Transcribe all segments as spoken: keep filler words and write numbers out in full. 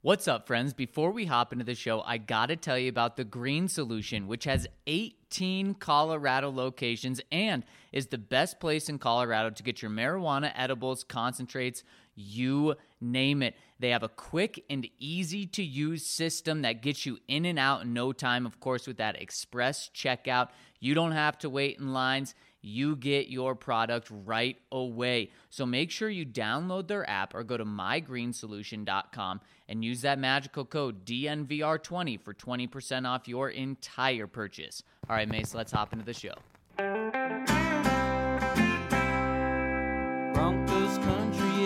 What's up, friends? Before we hop into the show, I gotta tell you about the Green Solution, which has eighteen Colorado locations and is the best place in Colorado to get your marijuana edibles, concentrates, you name it. They have a quick and easy-to-use system that gets you in and out in no time. Of course, with that express checkout, you don't have to wait in lines. You get your product right away. So make sure you download their app or go to my green solution dot com and use that magical code D N V R twenty for twenty percent off your entire purchase. All right, Mace, let's hop into the show. Broncos country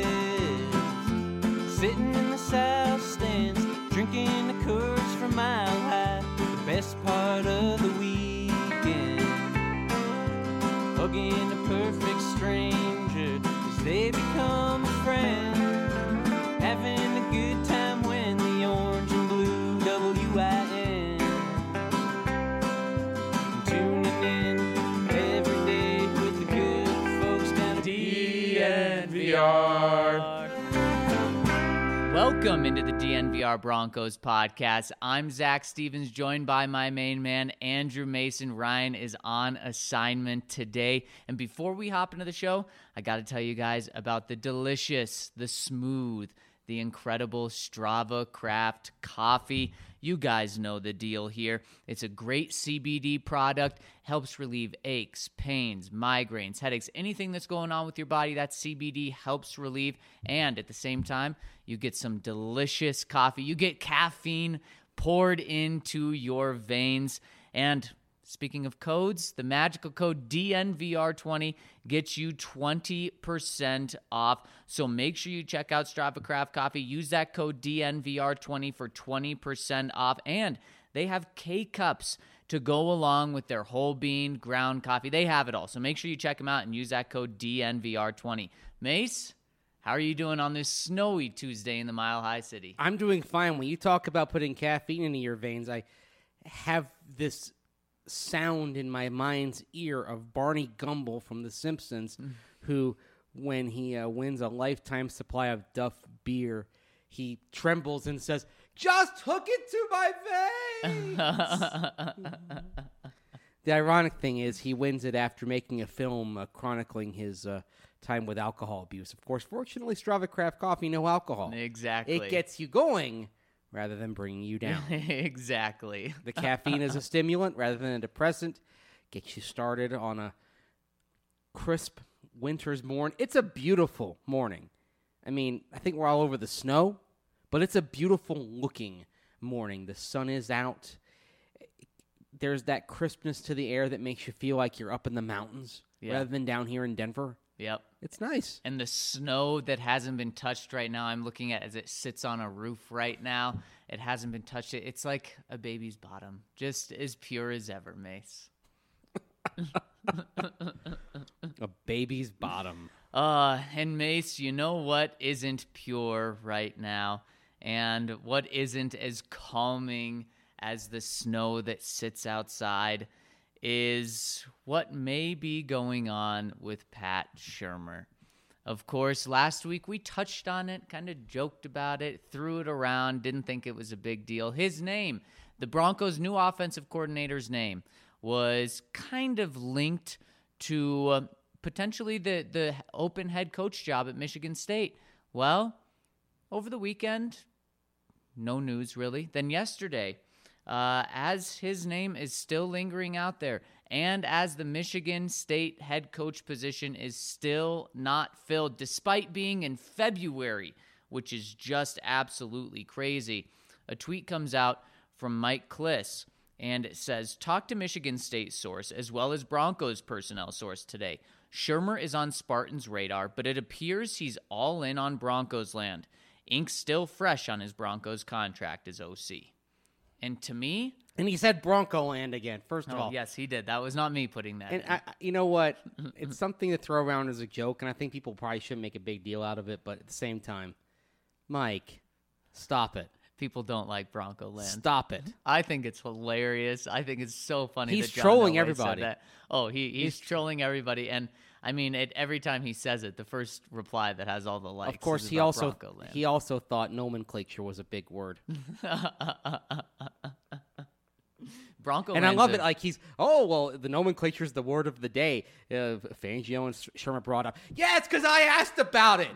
is sitting in the south stands, drinking the Coors from Mile High, the best part of the weekend. Hugging a perfect stranger as they become a friend. Having a good time when the orange and blue W I N. Tuning in every day with the good folks down at D N V R. Welcome into the D N V R Broncos podcast. I'm Zach Stevens, joined by my main man, Andrew Mason. Ryan is on assignment today. And before we hop into the show, I got to tell you guys about the delicious, the smooth, the incredible Strava Craft coffee. You guys know the deal here. It's a great C B D product, helps relieve aches, pains, migraines, headaches, anything that's going on with your body, that C B D helps relieve. And at the same time, you get some delicious coffee. You get caffeine poured into your veins. And speaking of codes, the magical code D N V R twenty gets you twenty percent off. So make sure you check out Strava Craft Coffee. Use that code D N V R twenty for twenty percent off. And they have K-Cups to go along with their whole bean ground coffee. They have it all. So make sure you check them out and use that code D N V R twenty. Mace, how are you doing on this snowy Tuesday in the Mile High City? I'm doing fine. When you talk about putting caffeine into your veins, I have this sound in my mind's ear of Barney Gumble from The Simpsons, mm. who, when he uh, wins a lifetime supply of Duff beer, he trembles and says, "Just hook it to my veins!" The ironic thing is he wins it after making a film uh, chronicling his uh, time with alcohol abuse. Of course, fortunately, Strava Craft Coffee, no alcohol. Exactly. It gets you going rather than bringing you down. Exactly. The caffeine is a stimulant rather than a depressant. Gets you started on a crisp winter's morning. It's a beautiful morning. I mean, I think we're all over the snow, but it's a beautiful looking morning. The sun is out. There's that crispness to the air that makes you feel like you're up in the mountains yeah. rather than down here in Denver. Yep. It's nice. And the snow that hasn't been touched right now, I'm looking at as it sits on a roof right now. It hasn't been touched. It's like a baby's bottom, just as pure as ever, Mace. A baby's bottom. Uh, and Mace, you know what isn't pure right now? And what isn't as calming as the snow that sits outside is what may be going on with Pat Shurmur. Of course, last week we touched on it, kind of joked about it, threw it around, didn't think it was a big deal. His name, the Broncos' new offensive coordinator's name, was kind of linked to uh, potentially the, the open head coach job at Michigan State. Well, over the weekend, no news really. Then yesterday, Uh, as his name is still lingering out there, and as the Michigan State head coach position is still not filled, despite being in February, which is just absolutely crazy. A tweet comes out from Mike Klis, and it says, "Talk to Michigan State source, as well as Broncos personnel source today. Shurmur is on Spartan's radar, but it appears he's all in on Broncos land. Ink's still fresh on his Broncos contract as O C." And to me... And he said Bronco land again, first of oh, all. Yes, he did. That was not me putting that and in. I, you know what? It's something to throw around as a joke, and I think people probably shouldn't make a big deal out of it, but at the same time, Mike, stop it. people don't like Bronco Land. Stop it. I think it's hilarious. I think it's so funny. He's that John trolling Elway everybody. Said that. Oh, he, he's, he's trolling everybody. And I mean, it, every time he saes it, the first reply that has all the likes. Of course, is he about also Bronco Land. he also thought nomenclature was a big word. Bronco And I Land's love a- it. Like he's, oh, well, the nomenclature is the word of the day. Uh, Fangio and Shermer brought up. Yeah, it's because I asked about it.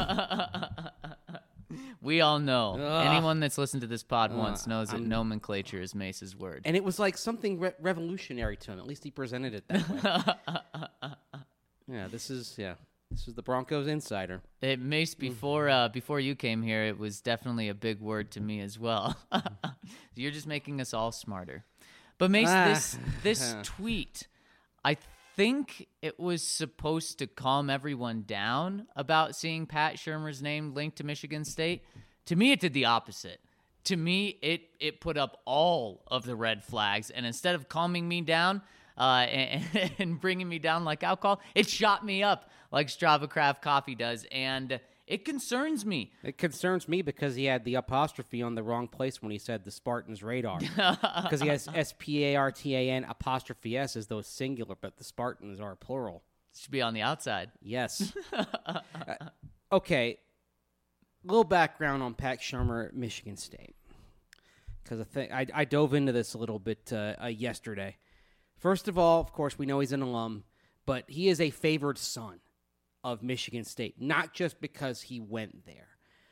We all know. Ugh. Anyone that's listened to this pod Ugh, once knows that I'm- nomenclature is Mace's word. And it was like something re- revolutionary to him. At least he presented it that way. Yeah, this is, yeah, this is the Broncos insider. It, Mace, before uh, before you came here, it was definitely a big word to me as well. You're just making us all smarter. But Mace, Ah. this this tweet, I think it was supposed to calm everyone down about seeing Pat Shurmur's name linked to Michigan State. To me, it did the opposite. To me, it it put up all of the red flags, and instead of calming me down uh, and, and bringing me down like alcohol, it shot me up like Strava Craft Coffee does, and it concerns me. It concerns me because he had the apostrophe on the wrong place when he said the Spartans radar. Because he has S P A R T A N apostrophe S as though it's singular, but the Spartans are plural. It should be on the outside. Yes. uh, okay. Little background on Pat Shurmur at Michigan State. Because I, think I, I dove into this a little bit uh, uh, yesterday. First of all, of course, we know he's an alum, but he is a favored son of Michigan State, not just because he went there.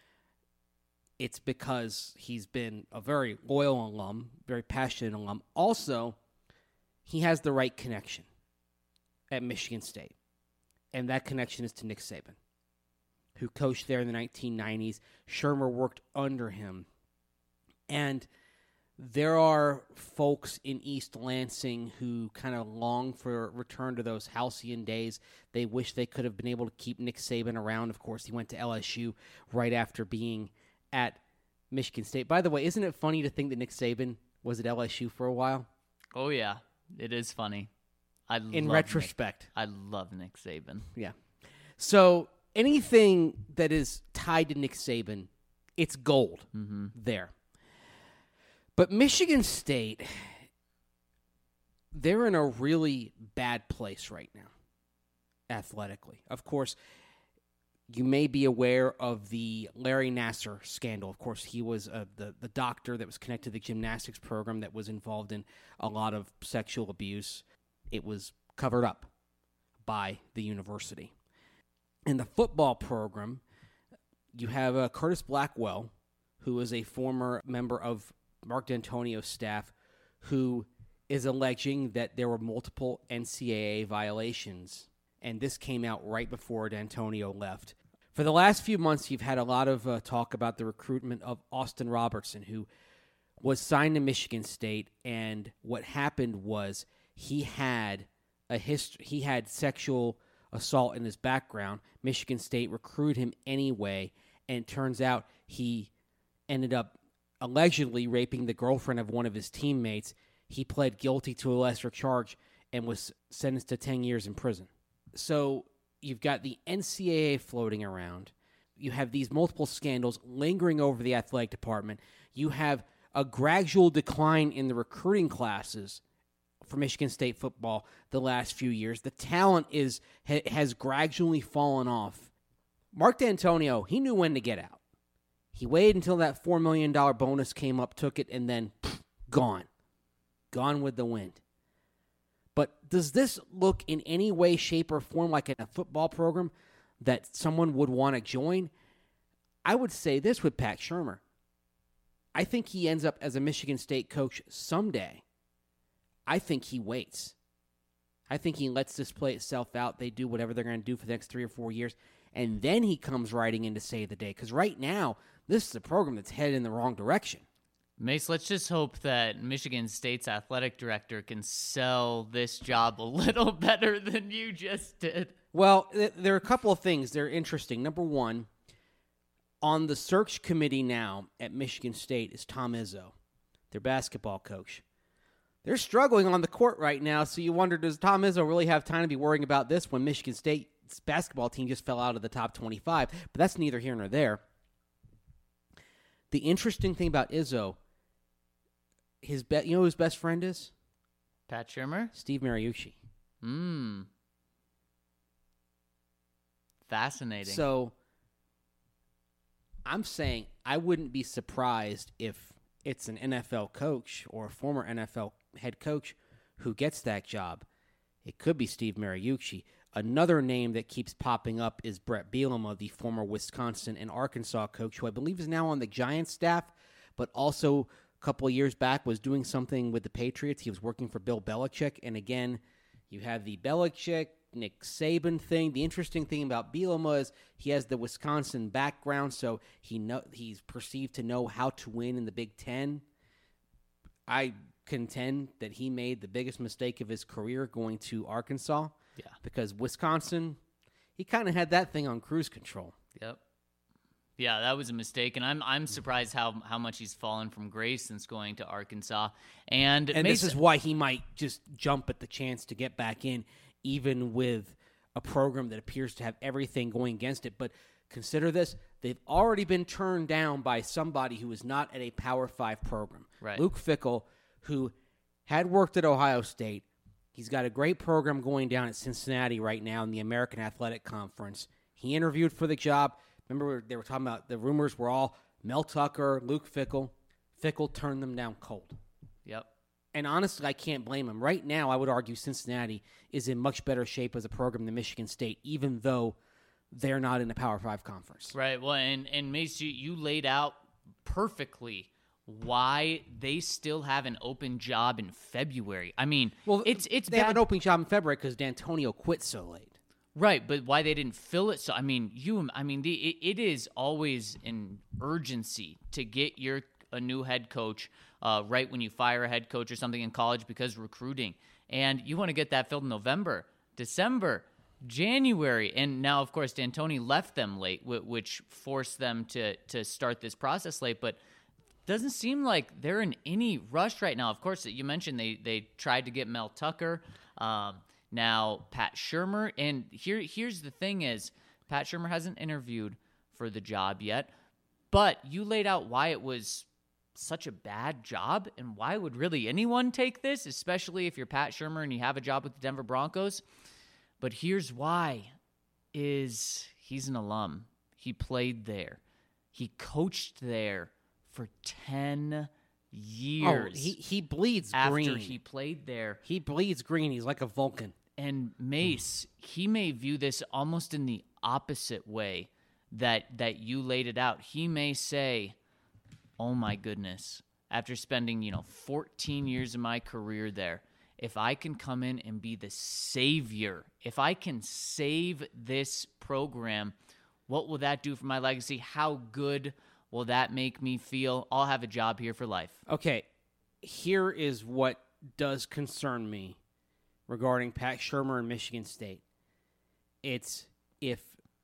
It's because he's been a very loyal alum, very passionate alum. Also, he has the right connection at Michigan State, and that connection is to Nick Saban, who coached there in the nineteen nineties. Shurmur worked under him, and there are folks in East Lansing who kind of long for a return to those halcyon days. They wish they could have been able to keep Nick Saban around. Of course, he went to L S U right after being at Michigan State. By the way, isn't it funny to think that Nick Saban was at L S U for a while? Oh, yeah. It is funny. I In love retrospect. Nick. I love Nick Saban. Yeah. So anything that is tied to Nick Saban, it's gold Mm-hmm. there. But Michigan State, they're in a really bad place right now, athletically. Of course, you may be aware of the Larry Nassar scandal. Of course, he was uh, the, the doctor that was connected to the gymnastics program that was involved in a lot of sexual abuse. It was covered up by the university. In the football program, you have uh, Curtis Blackwell, who is a former member of Mark D'Antonio's staff, who is alleging that there were multiple N C double A violations, and this came out right before D'Antonio left. For the last few months, you've had a lot of uh, talk about the recruitment of Austin Robertson, who was signed to Michigan State, and what happened was he had a hist- he had sexual assault in his background. Michigan State recruited him anyway, and it turns out he ended up allegedly raping the girlfriend of one of his teammates. He pled guilty to a lesser charge and was sentenced to ten years in prison. So you've got the N C double A floating around. You have these multiple scandals lingering over the athletic department. You have a gradual decline in the recruiting classes for Michigan State football the last few years. The talent is ha, has gradually fallen off. Mark D'Antonio, he knew when to get out. He waited until that four million dollars bonus came up, took it, and then pff, gone. Gone with the wind. But does this look in any way, shape, or form like a football program that someone would want to join? I would say this with Pat Shurmur. I think he ends up as a Michigan State coach someday. I think he waits. I think he lets this play itself out. They do whatever they're going to do for the next three or four years, and then he comes riding in to save the day. Because right now, this is a program that's headed in the wrong direction. Mace, let's just hope that Michigan State's athletic director can sell this job a little better than you just did. Well, th- there are a couple of things that are interesting. Number one, on the search committee now at Michigan State is Tom Izzo, their basketball coach. They're struggling on the court right now, so you wonder, does Tom Izzo really have time to be worrying about this when Michigan State's basketball team just fell out of the top twenty-five? But that's neither here nor there. The interesting thing about Izzo, his be- you know who his best friend is? Pat Shurmur? Steve Mariucci. Hmm. Fascinating. So I'm saying I wouldn't be surprised if it's an N F L coach or a former N F L head coach who gets that job. It could be Steve Mariucci. Another name that keeps popping up is Brett Bielema, the former Wisconsin and Arkansas coach, who I believe is now on the Giants staff, but also a couple of years back was doing something with the Patriots. He was working for Bill Belichick. And again, you have the Belichick, Nick Saban thing. The interesting thing about Bielema is he has the Wisconsin background, so he know, he's perceived to know how to win in the Big Ten. I contend that he made the biggest mistake of his career going to Arkansas. Yeah. Because Wisconsin, he kind of had that thing on cruise control. Yep. Yeah, that was a mistake, and I'm I'm surprised how how much he's fallen from grace since going to Arkansas. And And Mason, this is why he might just jump at the chance to get back in, even with a program that appears to have everything going against it. But consider this, they've already been turned down by somebody who is not at a Power Five program. Right. Luke Fickell, who had worked at Ohio State. He's got a great program going down at Cincinnati right now in the American Athletic Conference. He interviewed for the job. Remember, they were talking about the rumors were all Mel Tucker, Luke Fickell. Fickell turned them down cold. Yep. And honestly, I can't blame him. Right now, I would argue Cincinnati is in much better shape as a program than Michigan State, even though they're not in the Power Five conference. Right. Well, and, and Mace, you, you laid out perfectly why they still have an open job in February. I mean, Well, it's it's they bad. have an open job in February because D'Antonio quit so late. Right, but why they didn't fill it? So I mean, you, I mean, the, it, it is always an urgency to get your a new head coach uh, right when you fire a head coach or something in college because recruiting, and you want to get that filled in November, December, January, and now of course D'Antoni left them late, which forced them to to start this process late, but. Doesn't seem like they're in any rush right now. Of course, you mentioned they they tried to get Mel Tucker, um, now Pat Shurmur, and here here's the thing: is Pat Shurmur hasn't interviewed for the job yet, but you laid out why it was such a bad job and why would really anyone take this, especially if you're Pat Shurmur and you have a job with the Denver Broncos. But here's why: is he's an alum. He played there. He coached there for ten years. Oh, he, he bleeds after green. he played there. He bleeds green. He's like a Vulcan. And Mace, he may view this almost in the opposite way that that you laid it out. He may say, "Oh my goodness, after spending, you know, fourteen years of my career there, if I can come in and be the savior, if I can save this program, what will that do for my legacy? How good will that make me feel? I'll have a job here for life." Okay, here is what does concern me regarding Pat Shurmur and Michigan State. It's if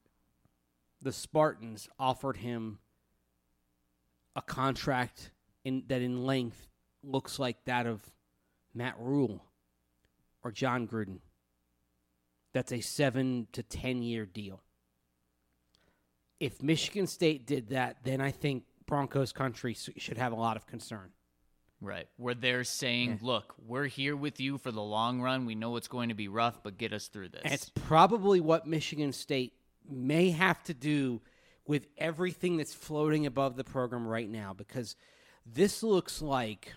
the Spartans offered him a contract in, that in length looks like that of Matt Rule or John Gruden. That's a seven to ten year deal. If Michigan State did that, then I think Broncos country should have a lot of concern. Right. Where they're saying, Yeah. look, we're here with you for the long run. We know it's going to be rough, but get us through this. And it's probably what Michigan State may have to do with everything that's floating above the program right now, because this looks like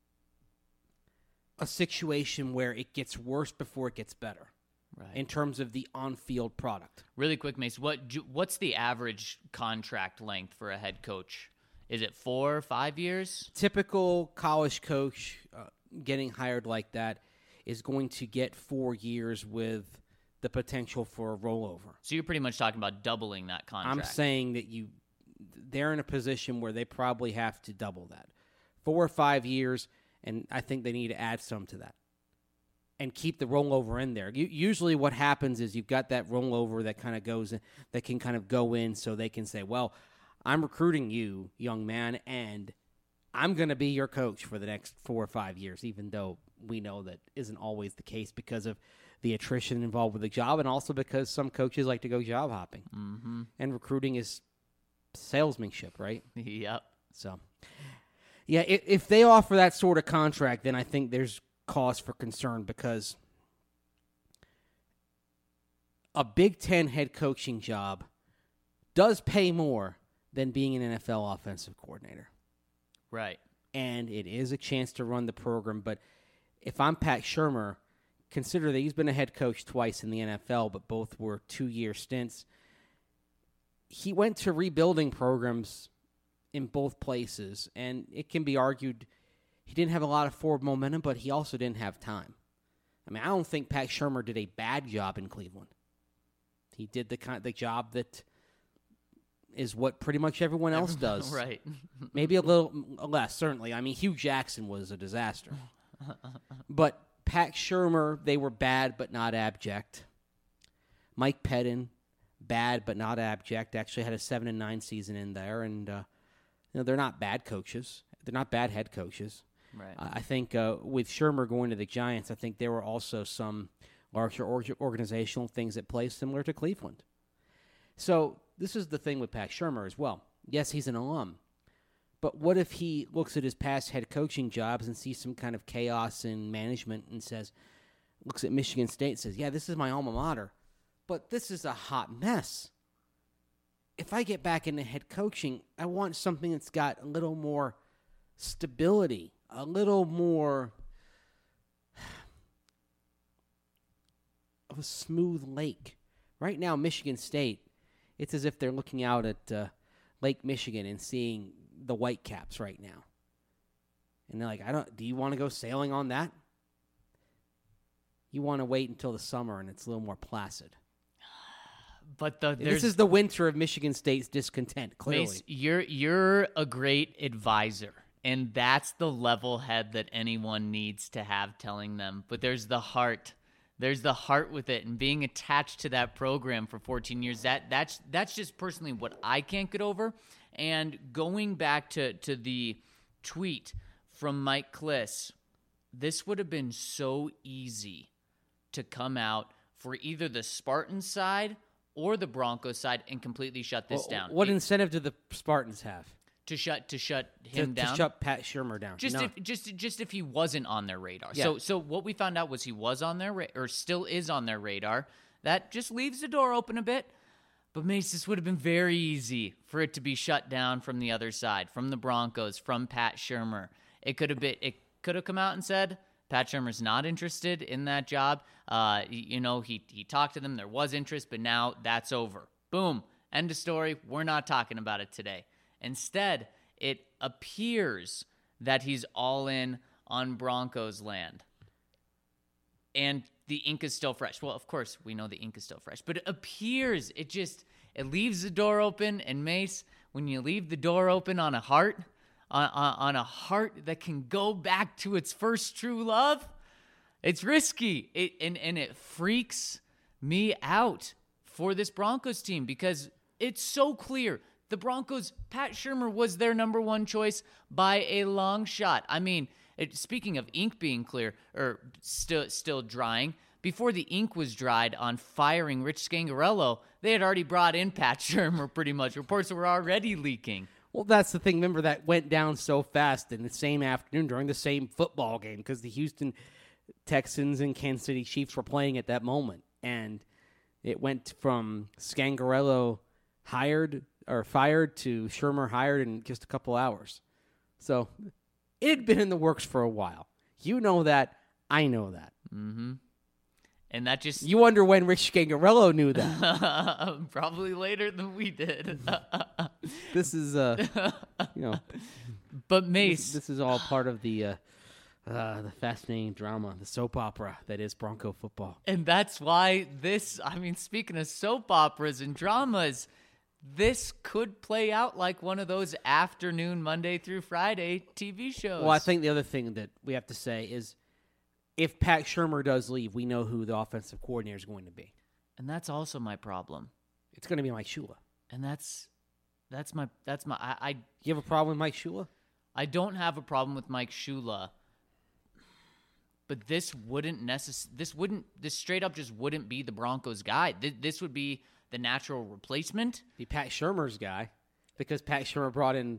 a situation where it gets worse before it gets better. Right. In terms of the on-field product. Really quick, Mace, what do- what's the average contract length for a head coach? Is it four or five years? Typical college coach uh, getting hired like that is going to get four years with the potential for a rollover. So you're pretty much talking about doubling that contract. I'm saying that you they're in a position where they probably have to double that. Four or five years, and I think they need to add some to that. And keep the rollover in there. You, usually what happens is you've got that rollover that kind of goes in, that can kind of go in so they can say, well, I'm recruiting you, young man, and I'm going to be your coach for the next four or five years, even though we know that isn't always the case because of the attrition involved with the job and also because some coaches like to go job hopping. Mm-hmm. And recruiting is salesmanship, right? Yep. So, yeah, if, if they offer that sort of contract, then I think there's cause for concern because a Big Ten head coaching job does pay more than being an N F L offensive coordinator. Right. And it is a chance to run the program. But if I'm Pat Shurmur, consider that he's been a head coach twice in the N F L, but both were two-year stints. He went to rebuilding programs in both places, and it can be argued he didn't have a lot of forward momentum, but he also didn't have time. I mean, I don't think Pat Shurmur did a bad job in Cleveland. He did the kind the job that is what pretty much everyone else does. Right. Maybe a little less, certainly. I mean, Hugh Jackson was a disaster. But Pat Shurmur, they were bad but not abject. Mike Pettin, bad but not abject. Actually had a seven and nine season in there, and uh, you know they're not bad coaches. They're not bad head coaches. Right. I think uh, with Shurmur going to the Giants, I think there were also some larger org- organizational things at play similar to Cleveland. So this is the thing with Pat Shurmur as well. Yes, he's an alum. But what if he looks at his past head coaching jobs and sees some kind of chaos in management and says, looks at Michigan State and says, yeah, this is my alma mater, but this is a hot mess. If I get back into head coaching, I want something that's got a little more stability, a little more of a smooth lake. Right now, Michigan State, it's as if they're looking out at uh, Lake Michigan and seeing the Whitecaps right now. And they're like, I don't, do you want to go sailing on that? You want to wait until the summer and it's a little more placid. But the, this is the winter of Michigan State's discontent, clearly. Mace, you're, you're a great advisor, and that's the level head that anyone needs to have telling them. But there's the heart. There's the heart with it, and being attached to that program for fourteen years, that that's that's just personally what I can't get over. And going back to, to the tweet from Mike Klis, this would have been so easy to come out for either the Spartans side or the Broncos side and completely shut this well, down. What it, incentive do the Spartans have? To shut to shut him to, down. To shut Pat Shurmur down. Just no. if just just if he wasn't on their radar. Yeah. So so what we found out was he was on their ra- or still is on their radar. That just leaves the door open a bit. But Mace, this would have been very easy for it to be shut down from the other side, from the Broncos, from Pat Shurmur. It could have been it could have come out and said Pat Shurmur's not interested in that job. Uh, you know, he he talked to them. There was interest, but now that's over. Boom. End of story. We're not talking about it today. Instead, it appears that he's all in on Broncos land. And the ink is still fresh. Well, of course, we know the ink is still fresh. But it appears, it just, it leaves the door open. And Mace, when you leave the door open on a heart, on, on, on a heart that can go back to its first true love, it's risky. It, and, and it freaks me out for this Broncos team because it's so clear. The Broncos, Pat Shurmur was their number one choice by a long shot. I mean, it, speaking of ink being clear, or still still drying, before the ink was dried on firing Rich Scangarello, they had already brought in Pat Shurmur pretty much. Reports were already leaking. Well, that's the thing. Remember, that went down so fast in the same afternoon during the same football game because the Houston Texans and Kansas City Chiefs were playing at that moment. And it went from Scangarello hired or fired to Shurmur hired in just a couple hours. So it had been in the works for a while. You know that. I know that. Mm-hmm. And that just... You wonder when Rich Scangarello knew that. Probably later than we did. This is, uh, you know... But Mace... This, this is all part of the... Uh, Uh, the fascinating drama, the soap opera that is Bronco football. And that's why this, I mean, speaking of soap operas and dramas, this could play out like one of those afternoon Monday through Friday T V shows. Well, I think the other thing that we have to say is if Pat Shurmur does leave, we know who the offensive coordinator is going to be. And that's also my problem. It's going to be Mike Shula. And that's, that's my, that's my, I, I, You have a problem with Mike Shula? I don't have a problem with Mike Shula. But this wouldn't necess- This wouldn't. This straight up just wouldn't be the Broncos guy. Th- this would be the natural replacement. Be Pat Shurmur's guy, because Pat Shurmur brought in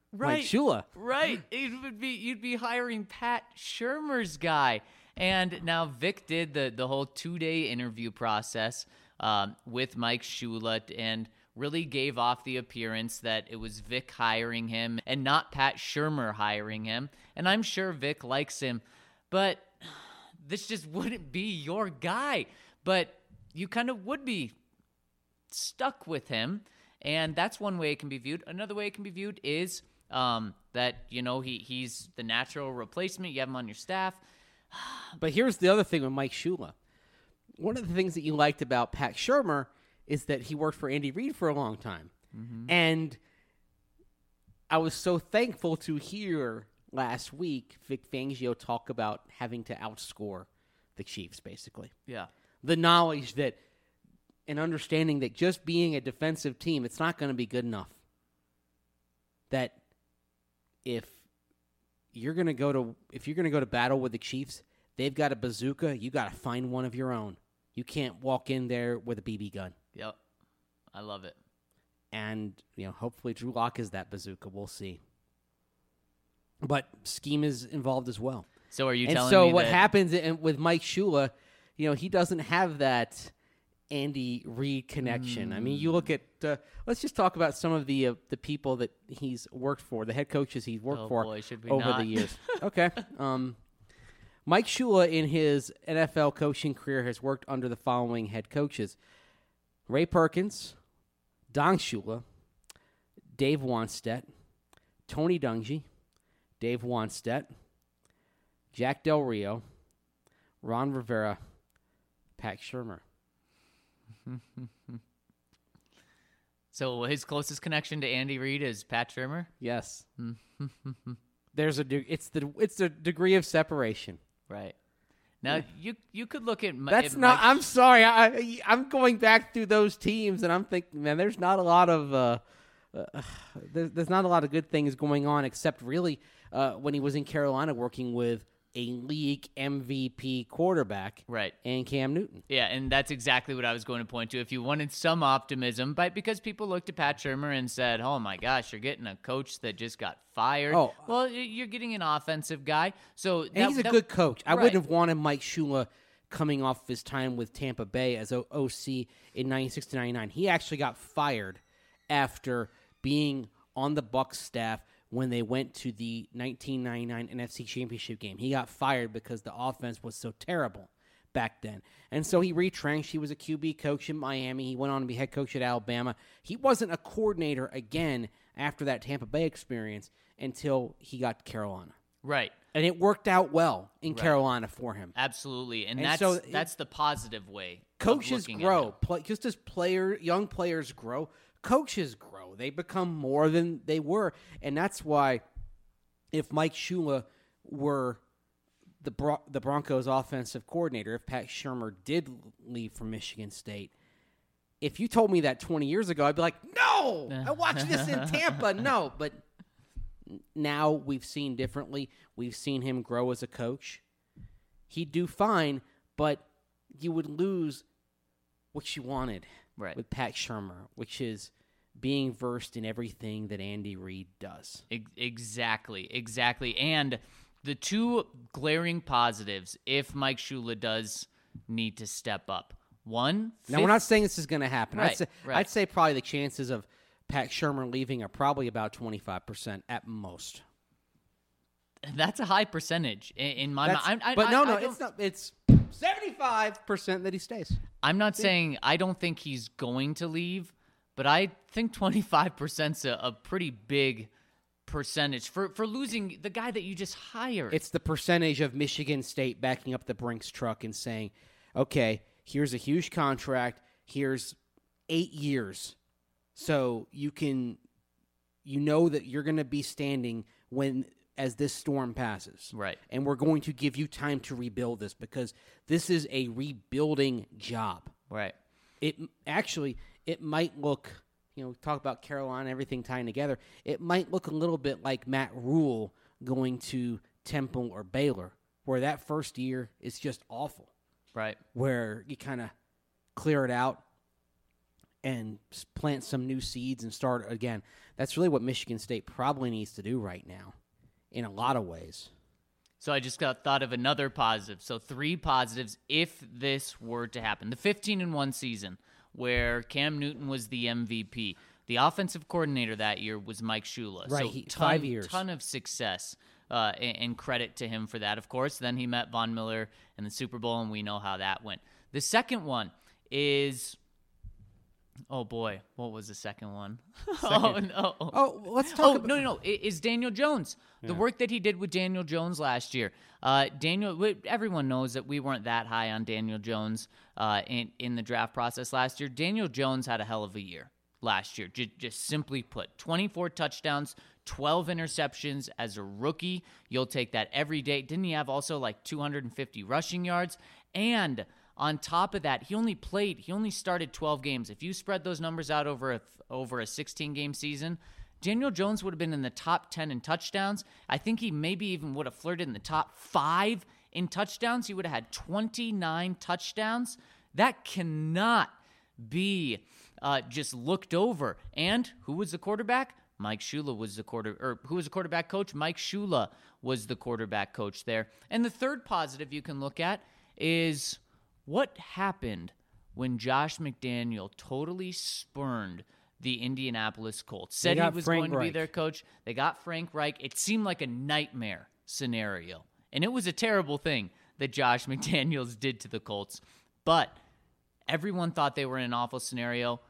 Right. Mike Shula. Right. It would be you'd be hiring Pat Shurmur's guy. And now Vic did the the whole two-day interview process um, with Mike Shula and really gave off the appearance that it was Vic hiring him and not Pat Shurmur hiring him. And I'm sure Vic likes him, but this just wouldn't be your guy. But you kind of would be stuck with him, and that's one way it can be viewed. Another way it can be viewed is um, that, you know, he he's the natural replacement. You have him on your staff. But here's the other thing with Mike Shula. One of the things that you liked about Pat Shurmur is that he worked for Andy Reid for a long time. Mm-hmm. And I was so thankful to hear last week Vic Fangio talk about having to outscore the Chiefs, basically. Yeah. The knowledge that and understanding that just being a defensive team, it's not going to be good enough. That if you're going to go to if you're going to go to battle with the Chiefs, they've got a bazooka, you got to find one of your own. You can't walk in there with a B B gun. Yep. I love it. And, you know, hopefully Drew Lock is that bazooka. We'll see. But scheme is involved as well. So are you and telling so me what that... happens in, with Mike Shula, you know, he doesn't have that Andy Reid connection. Mm. I mean, you look at uh, let's just talk about some of the uh, the people that he's worked for, the head coaches he's worked oh for boy, should we over not? the years. Okay. Um, Mike Shula in his N F L coaching career has worked under the following head coaches: Ray Perkins, Don Shula, Dave Wannstedt, Tony Dungy, Dave Wannstedt, Jack Del Rio, Ron Rivera, Pat Shurmur. So his closest connection to Andy Reid is Pat Shurmur? Yes. There's a de- it's the it's the degree of separation. Right. Now yeah. you you could look at my, That's at not Mike I'm sorry. I I'm going back through those teams and I'm thinking, man, there's not a lot of uh, uh there's, there's not a lot of good things going on except really uh, when he was in Carolina working with a league M V P quarterback, right, and Cam Newton. Yeah, and that's exactly what I was going to point to. If you wanted some optimism, but because people looked at Pat Shurmur and said, "Oh my gosh, you're getting a coach that just got fired." Oh, well, you're getting an offensive guy, so that, and he's a that, good coach. I right. wouldn't have wanted Mike Shula coming off his time with Tampa Bay as O C in ninety-six to ninety-nine. He actually got fired after being on the Bucs staff when they went to the nineteen ninety-nine N F C Championship game. He got fired because the offense was so terrible back then. And so he retrenched. He was a Q B coach in Miami. He went on to be head coach at Alabama. He wasn't a coordinator again after that Tampa Bay experience until he got to Carolina. Right. And it worked out well in right. Carolina for him. Absolutely. And, and that's so that's the positive way. Coaches grow. Play, just as player, young players grow, coaches grow. They become more than they were. And that's why if Mike Shula were the Bro- the Broncos offensive coordinator, if Pat Shurmur did leave from Michigan State, if you told me that twenty years ago, I'd be like, no, I watched this in Tampa. No, but now we've seen differently. We've seen him grow as a coach. He'd do fine, but you would lose what you wanted right. with Pat Shurmur, which is being versed in everything that Andy Reid does. Exactly, exactly. And the two glaring positives, if Mike Shula does need to step up. One, now fifth, we're not saying this is going to happen. Right, I'd, say, right. I'd say probably the chances of Pat Shurmur leaving are probably about twenty-five percent at most. That's a high percentage in, in my mind. But I, no, I, no, I it's not. It's seventy-five percent that he stays. I'm not yeah. saying I don't think he's going to leave, but I think twenty-five percent is a, a pretty big percentage for, for losing the guy that you just hired. It's the percentage of Michigan State backing up the Brinks truck and saying, okay, here's a huge contract. Here's eight years. So you can, you know that you're going to be standing when, as this storm passes. Right. And we're going to give you time to rebuild this because this is a rebuilding job. Right. It actually, it might look, you know, talk about Carolina, everything tying together. It might look a little bit like Matt Rule going to Temple or Baylor, where that first year is just awful. Right. Where you kind of clear it out and plant some new seeds and start again. That's really what Michigan State probably needs to do right now in a lot of ways. So I just got thought of another positive. So three positives if this were to happen. The fifteen and one season where Cam Newton was the M V P. The offensive coordinator that year was Mike Shula. Right, so he, ton, five years. Ton of success, uh, and, and credit to him for that, of course. Then he met Von Miller in the Super Bowl, and we know how that went. The second one is... Oh, boy. What was the second one? Second. Oh, no. Oh, let's talk Oh, about... no, no, no. It is Daniel Jones. The Yeah. work that he did with Daniel Jones last year. Uh, Daniel, we- everyone knows that we weren't that high on Daniel Jones uh, in, in the draft process last year. Daniel Jones had a hell of a year last year, J- just simply put. twenty-four touchdowns, twelve interceptions as a rookie. You'll take that every day. Didn't he have also like two hundred fifty rushing yards? And... on top of that, he only played, he only started twelve games. If you spread those numbers out over a, over a sixteen-game season, Daniel Jones would have been in the top ten in touchdowns. I think he maybe even would have flirted in the top five in touchdowns. He would have had twenty-nine touchdowns. That cannot be uh, just looked over. And who was the quarterback? Mike Shula was the quarter, or who was the quarterback coach? Mike Shula was the quarterback coach there. And the third positive you can look at is... what happened when Josh McDaniel totally spurned the Indianapolis Colts? Said he was Frank going to be Reich. their coach. They got Frank Reich. It seemed like a nightmare scenario. And it was a terrible thing that Josh McDaniels did to the Colts. But everyone thought they were in an awful scenario.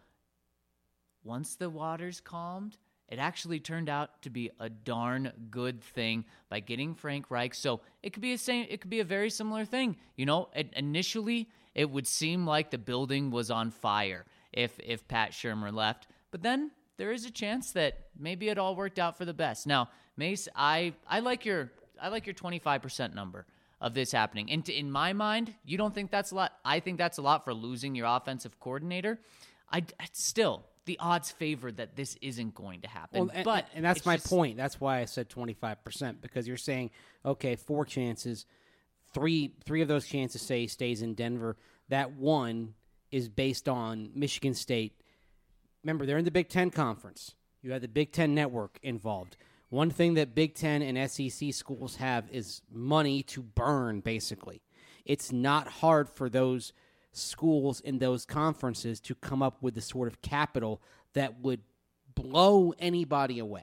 Once the waters calmed, it actually turned out to be a darn good thing by getting Frank Reich. So it could be a same. It could be a very similar thing. You know, it, initially it would seem like the building was on fire if if Pat Shurmur left, but then there is a chance that maybe it all worked out for the best. Now, Mace, I I like your I like your twenty-five percent number of this happening. And to, in my mind, you don't think that's a lot. I think that's a lot for losing your offensive coordinator. I still. The odds favor that this isn't going to happen. Well, and, but and that's it's my just, point. That's why I said twenty-five percent, because you're saying, okay, four chances, three three of those chances say he stays in Denver. That one is based on Michigan State. Remember, they're in the Big Ten Conference. You have the Big Ten Network involved. One thing that Big Ten and S E C schools have is money to burn, basically. It's not hard for those schools in those conferences to come up with the sort of capital that would blow anybody away.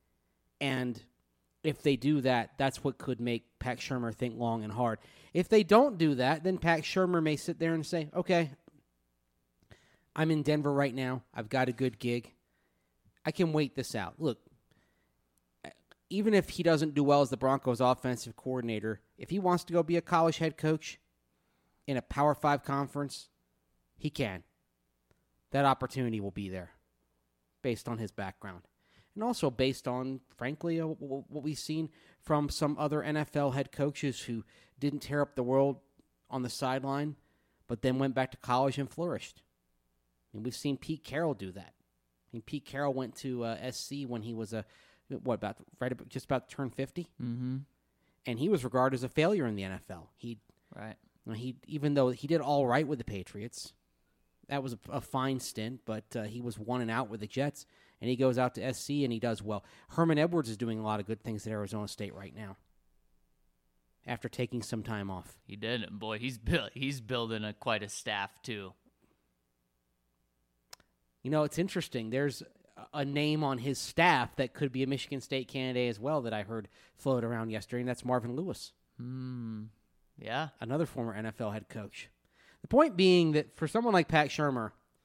And if they do that, that's what could make Pat Shurmur think long and hard. If they don't do that, then Pat Shurmur may sit there and say, okay, I'm in Denver right now. I've got a good gig. I can wait this out. Look, even if he doesn't do well as the Broncos offensive coordinator, if he wants to go be a college head coach in a Power Five conference, he can. That opportunity will be there based on his background. And also based on, frankly, uh, what we've seen from some other N F L head coaches who didn't tear up the world on the sideline, but then went back to college and flourished. And we've seen Pete Carroll do that. I mean, Pete Carroll went to uh, S C when he was a, what, about right about, just about to turn fifty? Mm-hmm. And he was regarded as a failure in the N F L. He Right. He even though he did all right with the Patriots, that was a, a fine stint, but uh, he was one and out with the Jets, and he goes out to S C and he does well. Herman Edwards is doing a lot of good things at Arizona State right now after taking some time off. He did. Boy, he's built, he's building a quite a staff too. You know, it's interesting. There's a name on his staff that could be a Michigan State candidate as well that I heard float around yesterday, and that's Marvin Lewis. Hmm. Yeah. Another former N F L head coach. The point being that for someone like Pat Shurmur,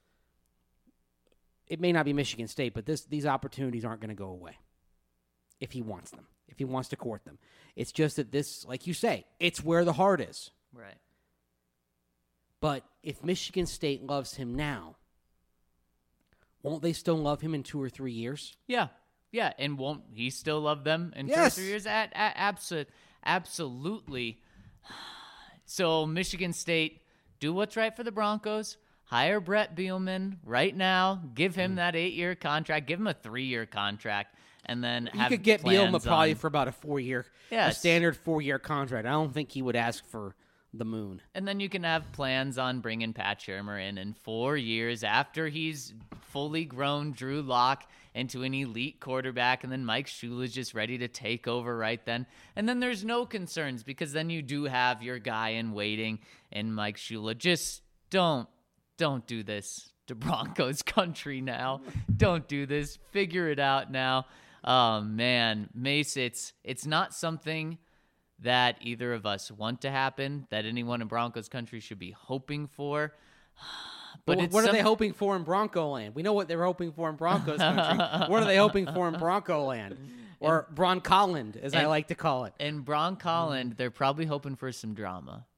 it may not be Michigan State, but this these opportunities aren't going to go away if he wants them, if he wants to court them. It's just that this, like you say, it's where the heart is. Right. But if Michigan State loves him now, won't they still love him in two or three years? Yeah. Yeah. And won't he still love them in Yes. two or three years? At, at, abso- absolutely. So Michigan State, do what's right for the Broncos. Hire Brett Bielema right now. Give him that eight-year contract. Give him a three-year contract, and then You have could get plans Bielema probably on- for about a four-year, Yes. a standard four-year contract. I don't think he would ask for the moon. And then you can have plans on bringing Pat Shurmur in in four years after he's fully grown Drew Lock into an elite quarterback, and then Mike Shula's just ready to take over right then. And then there's no concerns because then you do have your guy in waiting and Mike Shula. Just don't, don't do this to Broncos country now. Don't do this. Figure it out now. Oh, man. Mace, it's it's not something that either of us want to happen, that anyone in Broncos country should be hoping for. But well, it's what some- are they hoping for in Bronco Land? We know what they're hoping for in Broncos country. What are they hoping for in Bronco Land? Or Broncolland, as I and- like to call it. In Broncolland, they're probably hoping for some drama.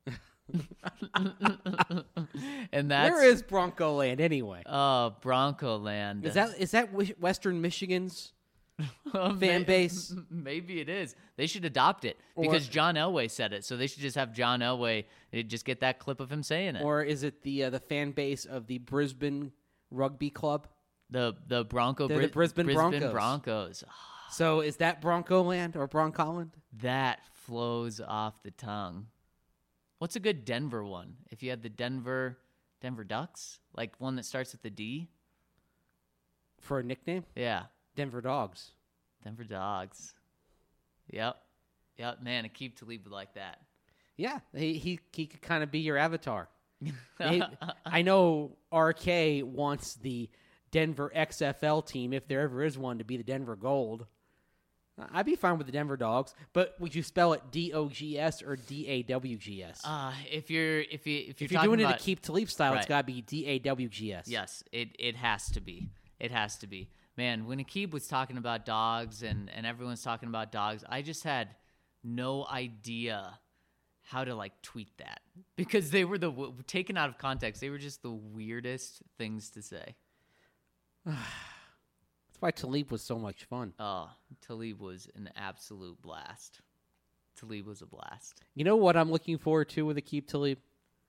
And that's Where is Bronco Land anyway? oh Bronco Land. Is that is that wi- Western Michigan's fan fan base? Maybe it is. They should adopt it because John Elway said it. So they should just have John Elway just get that clip of him saying it. Or is it the uh, the fan base of the Brisbane Rugby Club? the the Bronco They're the Bris- Brisbane Broncos. Broncos. So is that Bronco Land or Broncolland? That flows off the tongue. What's a good Denver one? If you had the Denver Denver Ducks, like one that starts with the D. For a nickname? Yeah, Denver Dogs. Denver Dogs. Yep, yep. Man, Aqib Talib would like that. Yeah, he he, he could kind of be your avatar. He- I know R K wants the Denver X F L team, if there ever is one, to be the Denver Gold. I'd be fine with the Denver Dogs, but would you spell it D O G S or D A W G S? Uh, if you're if you if you're, if you're talking doing about, it to keep Talib style, it's Right. got to be D A W G S. yes, it it has to be. It has to be. Man, when Aqib was talking about dogs and and everyone's talking about dogs, I just had no idea how to like tweet that because they were the taken out of context. They were just the weirdest things to say. That's why Talib was so much fun. Oh, Talib was an absolute blast. Talib was a blast. You know what I'm looking forward to with Aqib Talib?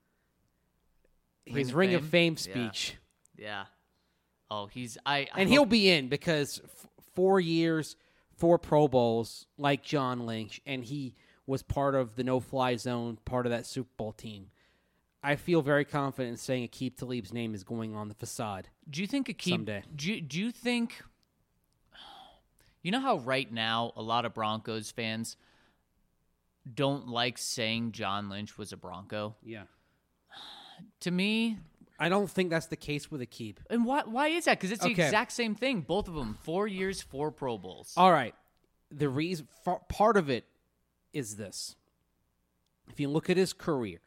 His of Ring of Fame? Fame Yeah. speech. Yeah. Oh, he's I, I And hope- he'll be in because f- four years, four Pro Bowls, like John Lynch, and he was part of the no-fly zone, part of that Super Bowl team. I feel very confident in saying Aqib Talib's name is going on the facade. Do you think Aqib? Someday. Do you, do you think? You know how right now a lot of Broncos fans don't like saying John Lynch was a Bronco. Yeah. To me, I don't think that's the case with Aqib. and why why is that? Because it's the Okay. exact same thing. Both of them, four years, four Pro Bowls. All right. The reason, fa- part of it is this. If you look at his career,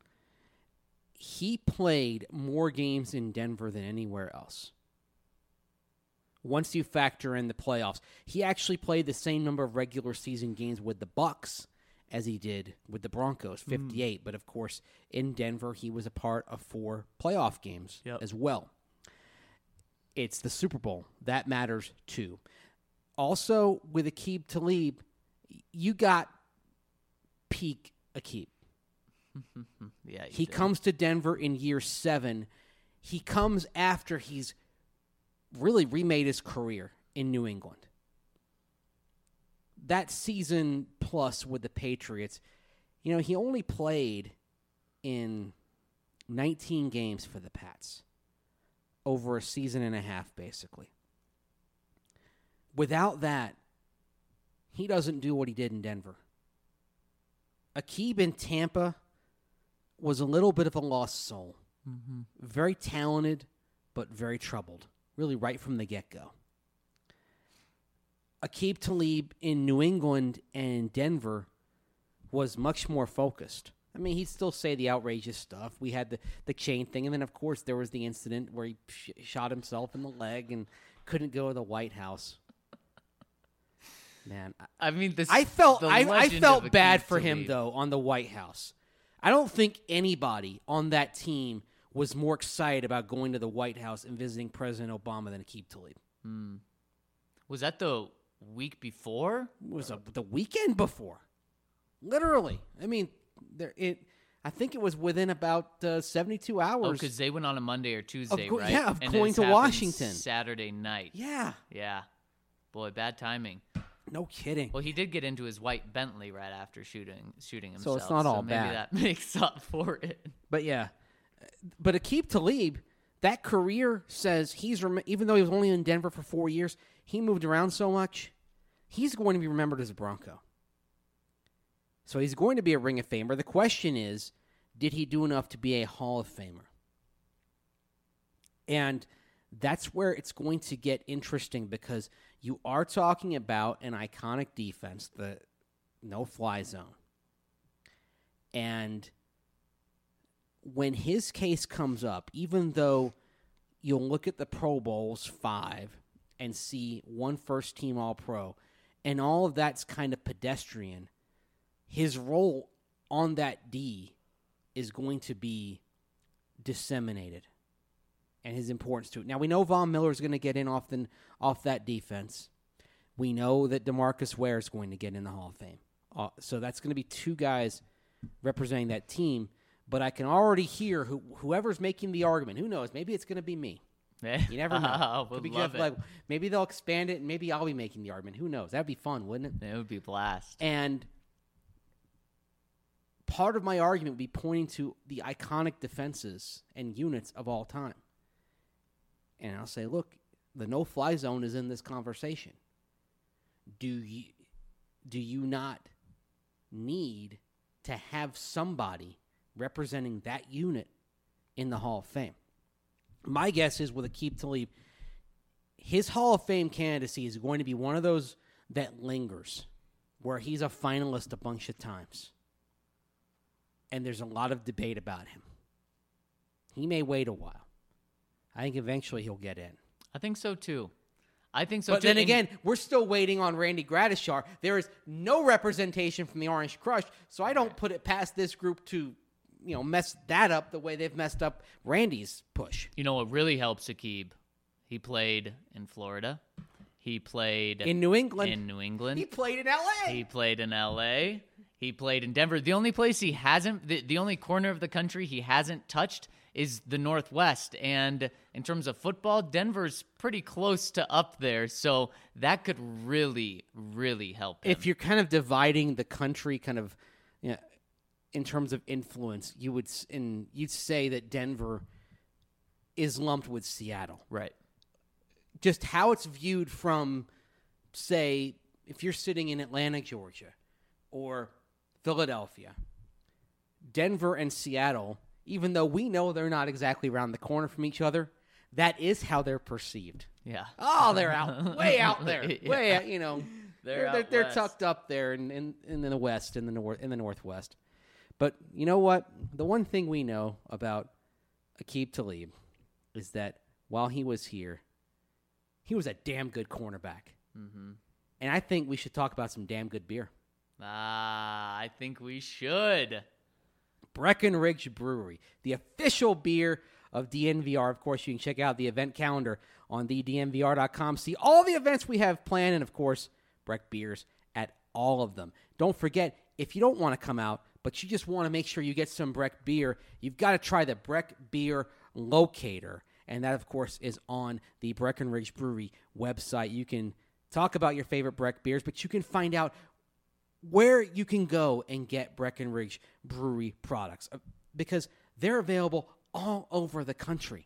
he played more games in Denver than anywhere else. Once you factor in the playoffs, he actually played the same number of regular season games with the Bucks as he did with the Broncos, fifty-eight. Mm. But of course, in Denver, he was a part of four playoff games Yep. as well. It's the Super Bowl. That matters too. Also, with Aqib Talib, you got peak Aqib. yeah, He did. comes to Denver in year seven. He comes after he's really remade his career in New England. That season plus with the Patriots, you know, he only played in nineteen games for the Pats over a season and a half, basically. Without that, he doesn't do what he did in Denver. Aqib in Tampa was a little bit of a lost soul. Mm-hmm. Very talented, but very troubled, really right from the get-go. Aqib Talib in New England and Denver was much more focused. I mean, he'd still say the outrageous stuff. We had the, the chain thing, and then, of course, there was the incident where he sh- shot himself in the leg and couldn't go to the White House. Man, I, I mean, this. I felt the I, I legend felt of bad Aqib for him Talib. though on the White House. I don't think anybody on that team was more excited about going to the White House and visiting President Obama than Aqib Talib. Was that the week before? It was a, the weekend before, literally. I mean, there it. I think it was within about uh, seventy-two Oh, hours. because they went on a Monday or Tuesday, go- right? yeah, of And going this to happened Washington. Saturday night. yeah, Yeah. Boy, bad timing. no kidding. Well, he did get into his white Bentley right after shooting shooting So himself. it's not all maybe bad. that makes up for it. But yeah, but Aqib Talib, that career says he's rem- even though he was only in Denver for four years, he moved around so much, he's going to be remembered as a Bronco. So he's going to be a Ring of Famer. The question is, did he do enough to be a Hall of Famer? And that's where it's going to get interesting because you are talking about an iconic defense, the no-fly zone. And when his case comes up, even though you'll look at the Pro Bowls five and see one first-team All-Pro, and all of that's kind of pedestrian, his role on that D is going to be disseminated, and his importance to it. Now, we know Von Miller is going to get in off, the, off that defense. We know that DeMarcus Ware is going to get in the Hall of Fame. Uh, so that's going to be two guys representing that team. But I can already hear who, whoever's making the argument. Who knows? Maybe it's going to be me. You never know. Would Could be love just it. like maybe they'll expand it, and maybe I'll be making the argument. Who knows? That'd be fun, wouldn't it? It would be blast. And part of my argument would be pointing to the iconic defenses and units of all time. And I'll say, look, the no-fly zone is in this conversation. Do you, do you not need to have somebody representing that unit in the Hall of Fame? My guess is with Aqib Talib, his Hall of Fame candidacy is going to be one of those that lingers, where he's a finalist a bunch of times. And there's a lot of debate about him. He may wait a while. I think eventually he'll get in. I think so, too. I think so, But too. then And- again, we're still waiting on Randy Gradishar. There is no representation from the Orange Crush, so I don't put it past this group to, you know, mess that up the way they've messed up Randy's push. You know what really helps Aqib? He played in Florida. He played In New England. in New England. He played in L A. He played in L A. He played in Denver. The only place he hasn't, the, the only corner of the country he hasn't touched is the Northwest. And in terms of football, Denver's pretty close to up there. So that could really, really help him. If you're kind of dividing the country kind of, you know, in terms of influence, you would s- in you'd say that Denver is lumped with Seattle. Right. Just how it's viewed from, say, if you're sitting in Atlanta, Georgia, or Philadelphia, Denver and Seattle, even though we know they're not exactly around the corner from each other, that is how they're perceived. Yeah. Oh, they're out, way out there, Yeah. way out, you know, They're they're out they're, they're west. tucked up there in, in in the west, in the north, in the northwest. But you know what? The one thing we know about Aqib Talib is that while he was here, he was a damn good cornerback. Mm-hmm. And I think we should talk about some damn good beer. Ah, I think we should. Breckenridge Brewery, the official beer of D N V R. Of course, you can check out the event calendar on the D N V R dot com. See all the events we have planned, and of course, Breck beers at all of them. Don't forget, if you don't want to come out, but you just want to make sure you get some Breck beer, you've got to try the Breck Beer Locator. And that, of course, is on the Breckenridge Brewery website. You can talk about your favorite Breck beers, but you can find out where you can go and get Breckenridge Brewery products uh, because they're available all over the country.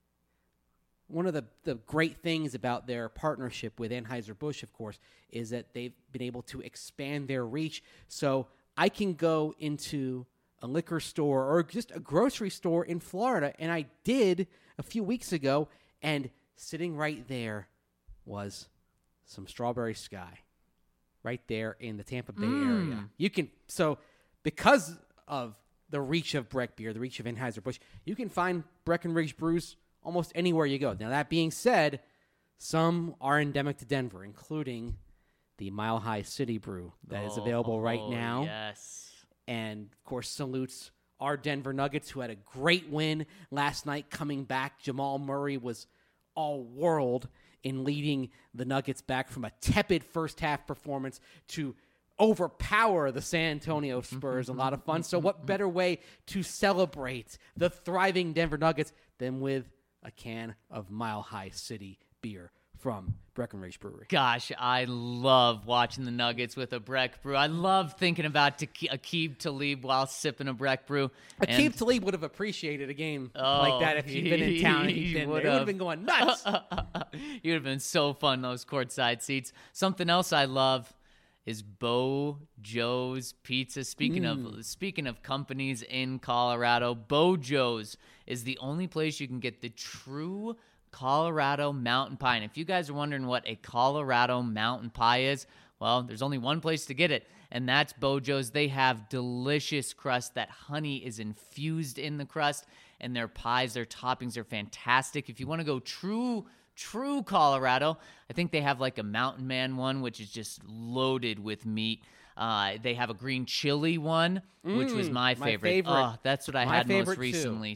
One of the, the great things about their partnership with Anheuser-Busch, of course, is that they've been able to expand their reach. So I can go into a liquor store or just a grocery store in Florida, and I did a few weeks ago, and sitting right there was some Strawberry Sky right there in the Tampa Bay Mm. area. You can, so because of the reach of Breck beer, the reach of Anheuser-Busch, you can find Breckenridge brews almost anywhere you go. Now, that being said, some are endemic to Denver, including the Mile High City Brew that is available right Oh, now. Yes. And, of course, salutes our Denver Nuggets, who had a great win last night coming back. Jamal Murray was all world in leading the Nuggets back from a tepid first-half performance to overpower the San Antonio Spurs. A lot of fun. So what better way to celebrate the thriving Denver Nuggets than with a can of Mile High City beer from Breckenridge Brewery. Gosh, I love watching the Nuggets with a Breck brew. I love thinking about Aqib Talib while sipping a Breck brew. Aqib Talib would have appreciated a game Oh, like that if he'd been in town and he he'd been there. He would've. would have been going nuts. You would have been so fun, those courtside seats. Something else I love is Bo Joe's Pizza. Speaking Mm. of speaking of companies in Colorado, Bo Joe's is the only place you can get the true Colorado mountain pie. And if you guys are wondering what a Colorado mountain pie is, well, there's only one place to get it, and that's Bo Joe's. They have delicious crust. That honey is infused in the crust, and their pies, their toppings are fantastic. If you want to go true True Colorado, I think they have like a Mountain Man one, which is just loaded with meat. Uh, they have a green chili one, which was Mm, my my favorite. favorite. Oh, that's what I My had most favorite, too. recently.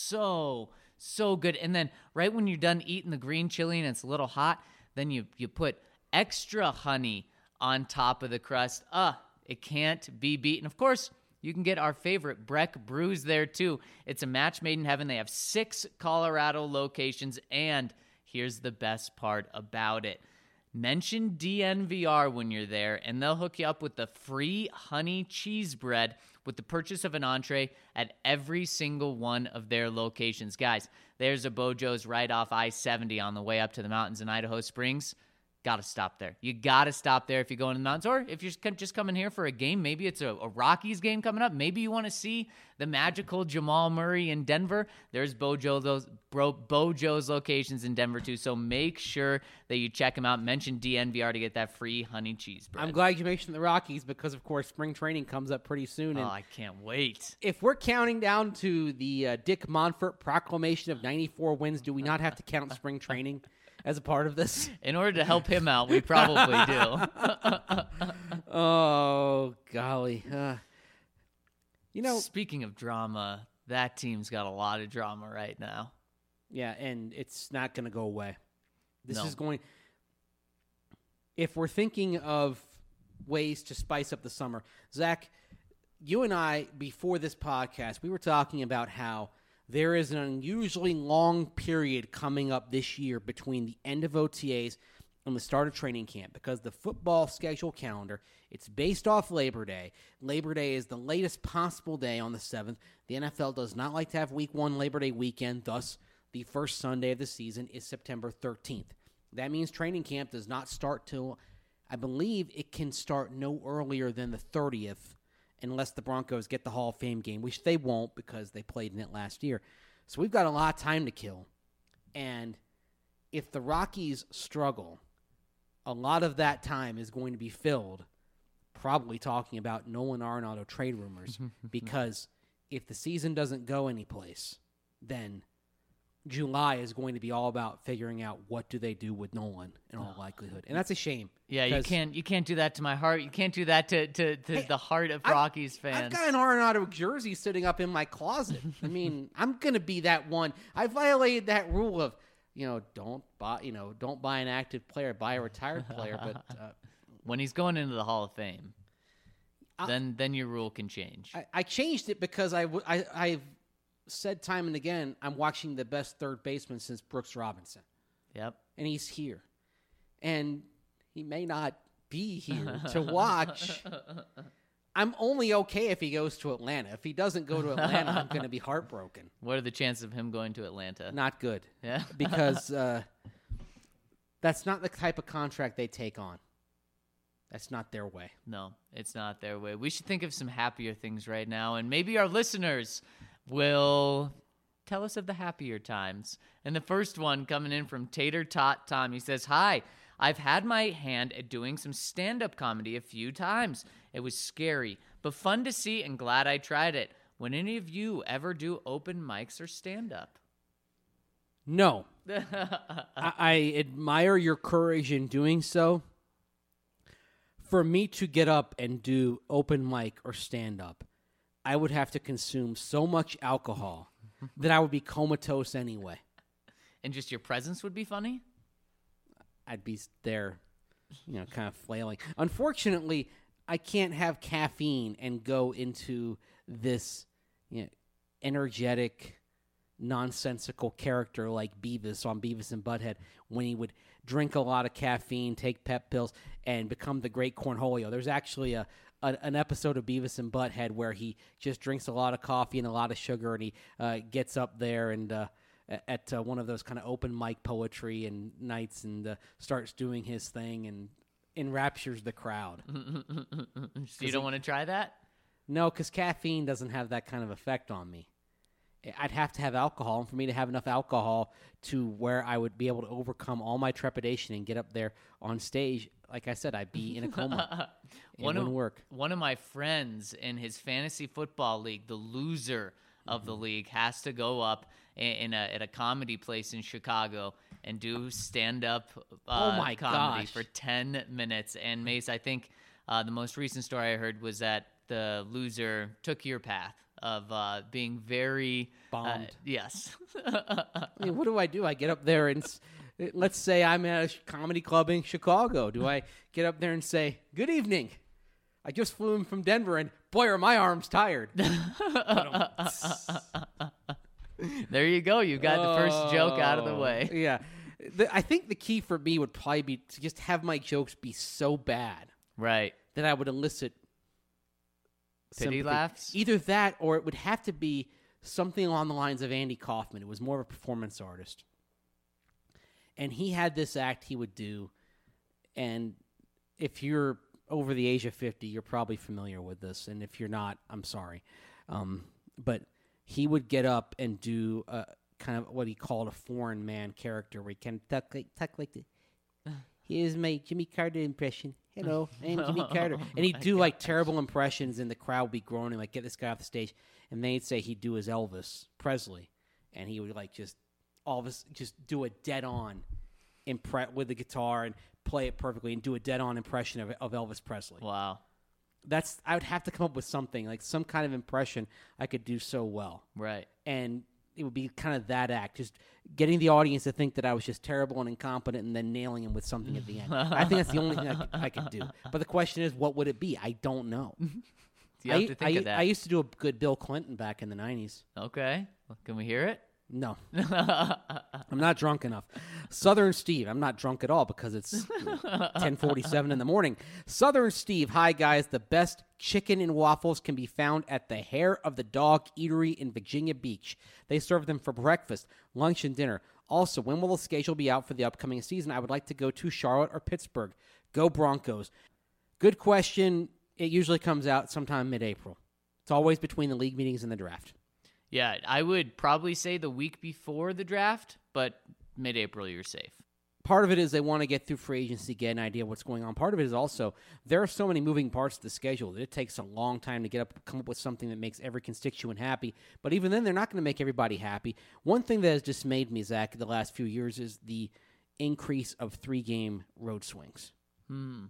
So, so good. And then right when you're done eating the green chili and it's a little hot, then you, you put extra honey on top of the crust. Ah, it can't be beaten. Of course, you can get our favorite Breck brews there too. It's a match made in heaven. They have six Colorado locations, and here's the best part about it. Mention D N V R when you're there, and they'll hook you up with the free honey cheese bread with the purchase of an entree at every single one of their locations. Guys, there's a Bo Joe's right off I seventy on the way up to the mountains in Idaho Springs. Got to stop there. You got to stop there if you're going to the mountains, or if you're just coming here for a game. Maybe it's a, a Rockies game coming up. Maybe you want to see the magical Jamal Murray in Denver. There's Bo Joe's, Bo, Bo Joe's locations in Denver too. So make sure that you check them out. Mention D N V R to get that free honey cheese bread. I'm glad you mentioned the Rockies because, of course, spring training comes up pretty soon. Oh, And I can't wait. if we're counting down to the uh, Dick Monfort proclamation of ninety-four wins, do we not have to count spring training as a part of this? In order to help him out, we probably do. Oh, golly. Uh, you know, Speaking of drama, that team's got a lot of drama right now. yeah, and it's not going to go away. This No. is going... If we're thinking of ways to spice up the summer, Zach, you and I, before this podcast, we were talking about how there is an unusually long period coming up this year between the end of O T As and the start of training camp because the football schedule calendar, it's based off Labor Day. Labor Day is the latest possible day on the seventh. The N F L does not like to have week one Labor Day weekend, thus the first Sunday of the season is September thirteenth. That means training camp does not start till, I believe it can start no earlier than the thirtieth, unless the Broncos get the Hall of Fame game, which they won't because they played in it last year. So we've got a lot of time to kill. And if the Rockies struggle, a lot of that time is going to be filled probably talking about Nolan Arenado trade rumors because if the season doesn't go anyplace, then July is going to be all about figuring out what do they do with Nolan in all likelihood. And that's a shame. Yeah, you 'cause can't you can't do that to my heart. You can't do that to, to, to Hey, the heart of I've- Rockies I've fans. got an Arenado jersey sitting up in my closet. I mean, I'm going to be that one. I violated that rule of, you know, don't buy, you know, don't buy an active player, buy a retired player. But uh, When he's going into the Hall of Fame, I- then then your rule can change. I, I changed it because I, w- I, I've said time and again, I'm watching the best third baseman since Brooks Robinson. Yep. And he's here. And he may not be here to watch. I'm only okay if he goes to Atlanta. If he doesn't go to Atlanta, I'm going to be heartbroken. What are the chances of him going to Atlanta? Not good. Yeah. Because uh, that's not the type of contract they take on. That's not their way. No, it's not their way. We should think of some happier things right now, and maybe our listeners will tell us of the happier times. And the first one coming in from Tater Tot Tom. He says, "Hi, I've had my hand at doing some stand-up comedy a few times. It was scary, but fun to see and glad I tried it. Would any of you ever do open mics or stand-up?" No. I, I admire your courage in doing so. For me to get up and do open mic or stand up, I would have to consume so much alcohol that I would be comatose anyway. And just your presence would be funny? I'd be there, you know, kind of flailing. Unfortunately, I can't have caffeine and go into this, you know, energetic nonsensical character like Beavis on Beavis and Butthead when he would drink a lot of caffeine, take pep pills, and become the great Cornholio. There's actually a, a an episode of Beavis and Butthead where he just drinks a lot of coffee and a lot of sugar, and he uh, gets up there and uh, at uh, one of those kind of open mic poetry and nights and uh, starts doing his thing and enraptures the crowd. So you don't want to try that? No, because caffeine doesn't have that kind of effect on me. I'd have to have alcohol, and for me to have enough alcohol to where I would be able to overcome all my trepidation and get up there on stage, like I said, I'd be in a coma. It one wouldn't of, work. One of my friends in his fantasy football league, the loser of the league, has to go up in, in a, at a comedy place in Chicago and do stand-up uh, Oh my comedy gosh. for ten minutes. And Mace, I think uh, the most recent story I heard was that the loser took your path of uh, being very Bombed. Uh, yes. I mean, what do I do? I get up there and s- let's say I'm at a sh- comedy club in Chicago. Do I get up there and say, "Good evening. I just flew in from Denver, and boy, are my arms tired." There you go. You got the first joke out of the Oh, way. Yeah. The, I think the key for me would probably be to just have my jokes be so bad Right. that I would elicit Pity sympathy. laughs? Either that, or it would have to be something along the lines of Andy Kaufman. It was more of a performance artist. And he had this act he would do, and if you're over the age of fifty, you're probably familiar with this, and if you're not, I'm sorry. Um, but he would get up and do a, kind of what he called a foreign man character, where he can talk like, talk like the, here's my Jimmy Carter impression. Hello, I'm Jimmy Carter. And he'd do like terrible impressions, and the crowd would be groaning, like, get this guy off the stage. And then he'd say he'd do his Elvis Presley, and he would like just all of us just do a dead on impre- with the guitar and play it perfectly and do a dead on impression of, of Elvis Presley. Wow. That's I would have to come up with something like some kind of impression I could do so well, Right. and it would be kind of that act, just getting the audience to think that I was just terrible and incompetent, and then nailing him with something at the end. I think that's the only thing I could, I could do. But the question is, what would it be? I don't know. You have I, to think I, of that. I used to do a good Bill Clinton back in the nineties. Okay. Well, can we hear it? No, I'm not drunk enough. Southern Steve, I'm not drunk at all because it's ten forty-seven in the morning. Southern Steve, hi guys. The best chicken and waffles can be found at the Hair of the Dog Eatery in Virginia Beach. They serve them for breakfast, lunch, and dinner. Also, when will the schedule be out for the upcoming season? I would like to go to Charlotte or Pittsburgh. Go Broncos. Good question. It usually comes out sometime mid-April. It's always between the league meetings and the draft. Yeah, I would probably say the week before the draft, but mid-April you're safe. Part of it is they want to get through free agency, get an idea of what's going on. Part of it is also there are so many moving parts to the schedule that it takes a long time to get up, come up with something that makes every constituent happy. But even then, they're not going to make everybody happy. One thing that has dismayed me, Zach, the last few years is the increase of three-game road swings. Hmm.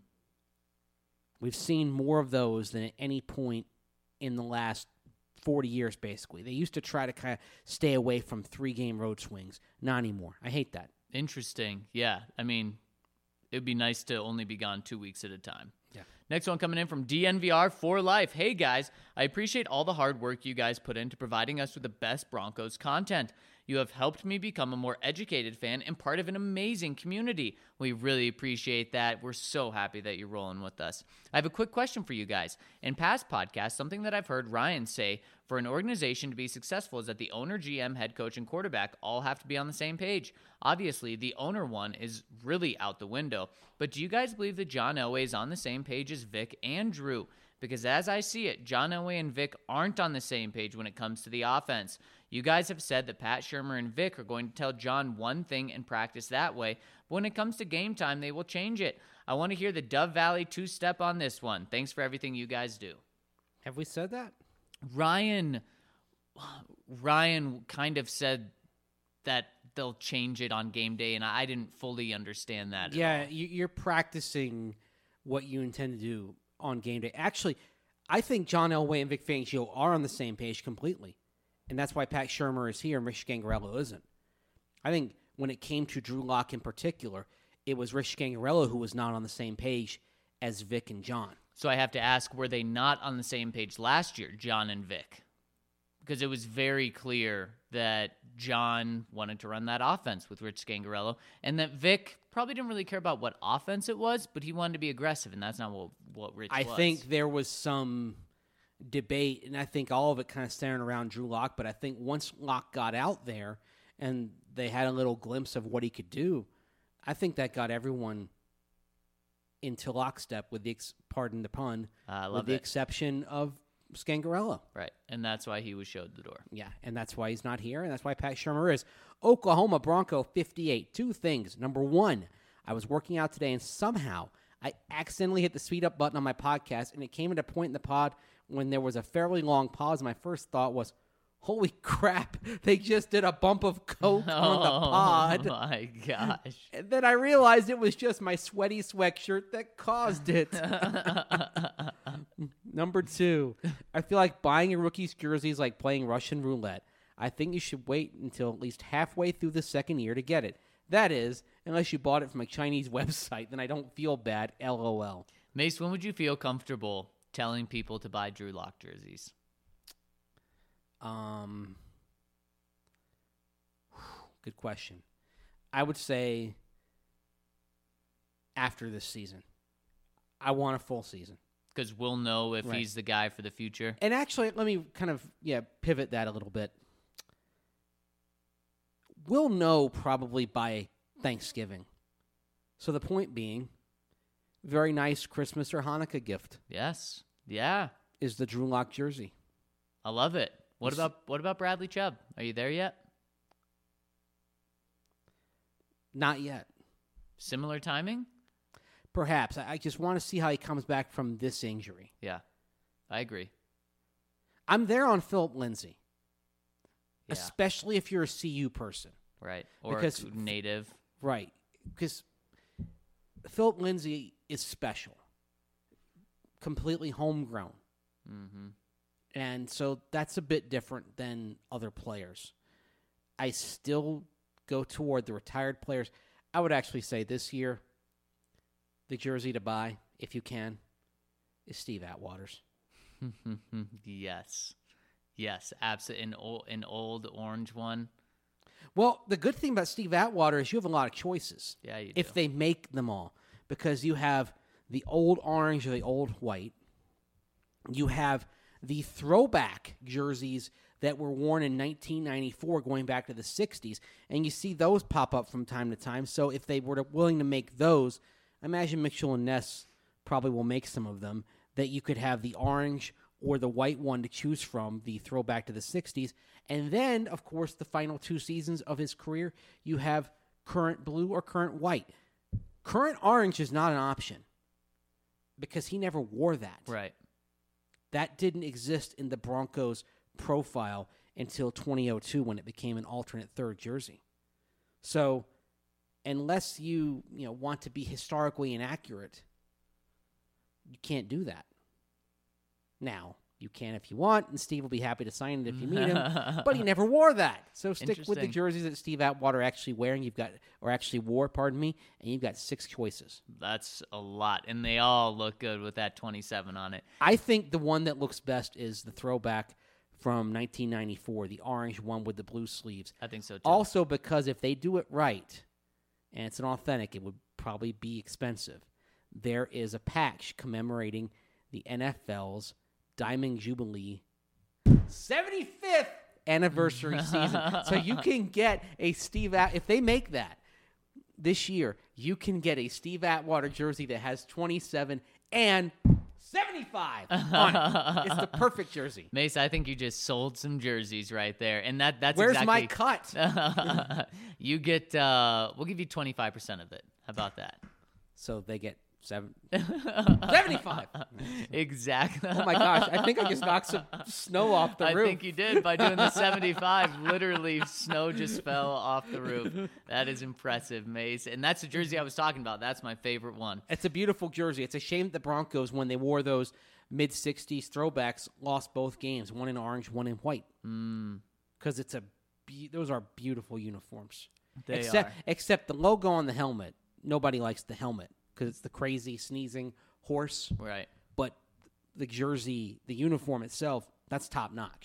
We've seen more of those than at any point in the last forty years, basically. They used to try to kind of stay away from three-game road swings. Not anymore. I hate that. Interesting. Yeah. I mean, it would be nice to only be gone two weeks at a time. Yeah. Next one coming in from D N V R for life. Hey guys, I appreciate all the hard work you guys put into providing us with the best Broncos content. You have helped me become a more educated fan and part of an amazing community. We really appreciate that. We're so happy that you're rolling with us. I have a quick question for you guys. In past podcasts, something that I've heard Ryan say for an organization to be successful is that the owner, G M, head coach, and quarterback all have to be on the same page. Obviously, the owner one is really out the window. But do you guys believe that John Elway is on the same page as Vic and Drew? Because as I see it, John Elway and Vic aren't on the same page when it comes to the offense. You guys have said that Pat Shurmur and Vic are going to tell John one thing and practice that way. But when it comes to game time, they will change it. I want to hear the Dove Valley two-step on this one. Thanks for everything you guys do. Have we said that? Ryan, Ryan kind of said that they'll change it on game day, and I didn't fully understand that. Yeah, at all. you- you're practicing what you intend to do on game day. Actually, I think John Elway and Vic Fangio are on the same page completely. And that's why Pat Shurmur is here and Rich Gangarello isn't. I think when it came to Drew Lock in particular, it was Rich Gangarello who was not on the same page as Vic and John. So I have to ask, were they not on the same page last year, John and Vic? Because it was very clear that John wanted to run that offense with Rich Scangarello, and that Vic probably didn't really care about what offense it was, but he wanted to be aggressive, and that's not what, what Rich I was. think there was some debate, and I think all of it kind of centered around Drew Lock, but I think once Lock got out there and they had a little glimpse of what he could do, I think that got everyone into lockstep with the, ex- pardon the pun, Uh, I with love the it. exception of Scangarello. Right, and that's why he was showed the door. Yeah, and that's why he's not here, and that's why Pat Shermer is. Oklahoma Bronco fifty-eight. Two things. Number one, I was working out today, and somehow I accidentally hit the speed up button on my podcast, and it came at a point in the pod when there was a fairly long pause. My first thought was, holy crap, they just did a bump of coke on the pod. Oh, my gosh. And then I realized it was just my sweaty sweatshirt that caused it. Number two, I feel like buying a rookie's jersey is like playing Russian roulette. I think you should wait until at least halfway through the second year to get it. That is, unless you bought it from a Chinese website, then I don't feel bad, LOL. Mace, when would you feel comfortable telling people to buy Drew Lock jerseys? Um, good question. I would say after this season. I want a full season. Because we'll know if Right. he's the guy for the future. And actually, let me kind of, yeah, pivot that a little bit. We'll know probably by Thanksgiving. So the point being, very nice Christmas or Hanukkah gift Yes. Yeah. is the Drew Lock jersey. I love it. What It's- about what about Bradley Chubb? Are you there yet? Not yet. Similar timing? Perhaps. I I just want to see how he comes back from this injury. Yeah. I agree. I'm there on Philip Lindsay, Yeah. especially if you're a C U person. Right. Or Because- a native. Right. Because Philip Lindsay is special, completely homegrown. Mm-hmm. And so that's a bit different than other players. I still go toward the retired players. I would actually say this year, the jersey to buy, if you can, is Steve Atwater's. Yes. Yes. Absolutely. An old, an old orange one. Well, the good thing about Steve Atwater is you have a lot of choices. Yeah, you do. If they make them all, because you have the old orange or the old white. You have the throwback jerseys that were worn in nineteen ninety-four going back to the sixties, and you see those pop up from time to time. So if they were to, willing to make those, I imagine Mitchell and Ness probably will make some of them, that you could have the orange or the white one to choose from, the throwback to the sixties. And then, of course, the final two seasons of his career, you have current blue or current white. Current orange is not an option because he never wore that. Right. That didn't exist in the Broncos profile until twenty oh two when it became an alternate third jersey. So unless you, you know, want to be historically inaccurate, you can't do that. Now, you can if you want, and Steve will be happy to sign it if you meet him, but he never wore that. So stick with the Interesting. jerseys that Steve Atwater actually wearing. You've got, or actually wore, pardon me, and you've got six choices. That's a lot. And they all look good with that twenty-seven on it. I think the one that looks best is the throwback from nineteen ninety-four, the orange one with the blue sleeves. I think so, too. Also, because if they do it right, and it's an authentic, it would probably be expensive. There is a patch commemorating the N F L's Diamond Jubilee seventy-fifth anniversary season. So you can get a Steve At- if they make that this year, you can get a Steve Atwater jersey that has twenty-seven and seventy-five on it. It's the perfect jersey. Mace, I think you just sold some jerseys right there. And that that's Where's exactly... my cut? You get, uh, we'll give you twenty-five percent of it. How about that? So they get seven, seventy-five. Exactly. Oh my gosh, I think I just knocked some snow off the I roof. think you did by doing the seventy-five. Literally, snow just fell off the roof. That is impressive, Mace. And that's the jersey I was talking about. That's my favorite one. It's a beautiful jersey. It's a shame that the Broncos, when they wore those mid-sixties throwbacks, lost both games, one in orange, one in white. Because it's a be- those are beautiful uniforms. They except, are. Except the logo on the helmet. Nobody likes the helmet because it's the crazy sneezing horse. Right. But the jersey, the uniform itself, that's top notch.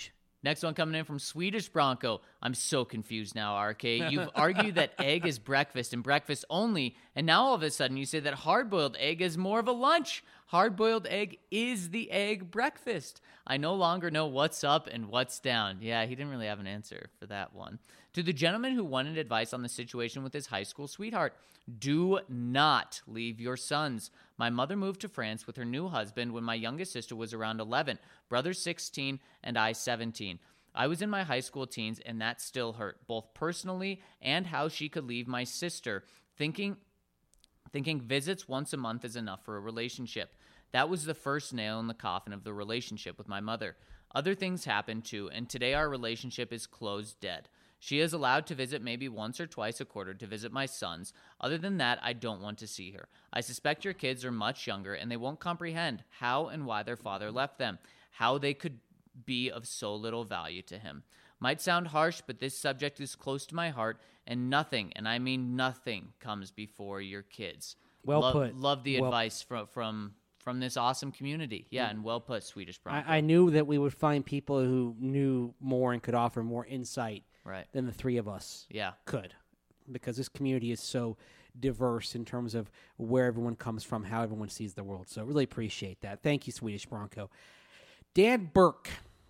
Next one coming in from Swedish Bronco. I'm so confused now, R K. You've argued that egg is breakfast and breakfast only, and now all of a sudden you say that hard-boiled egg is more of a lunch. Hard-boiled egg is the egg breakfast. I no longer know what's up and what's down. Yeah, he didn't really have an answer for that one. To the gentleman who wanted advice on the situation with his high school sweetheart, do not leave your sons. My mother moved to France with her new husband when my youngest sister was around eleven, brother sixteen, and I seventeen. I was in my high school teens, and that still hurt, both personally and how she could leave my sister, thinking, thinking visits once a month is enough for a relationship. That was the first nail in the coffin of the relationship with my mother. Other things happened too, and today our relationship is closed dead. She is allowed to visit maybe once or twice a quarter to visit my sons. Other than that, I don't want to see her. I suspect your kids are much younger, and they won't comprehend how and why their father left them, how they could be of so little value to him. Might sound harsh, but this subject is close to my heart, and nothing, and I mean nothing, comes before your kids. Well love, put. Love the Well- advice from from from this awesome community. Yeah, and well put, Swedish Bronco. I, I knew that we would find people who knew more and could offer more insight right. than the three of us Yeah. could, because this community is so diverse in terms of where everyone comes from, how everyone sees the world. So really appreciate that. Thank you, Swedish Bronco. Dan Burke,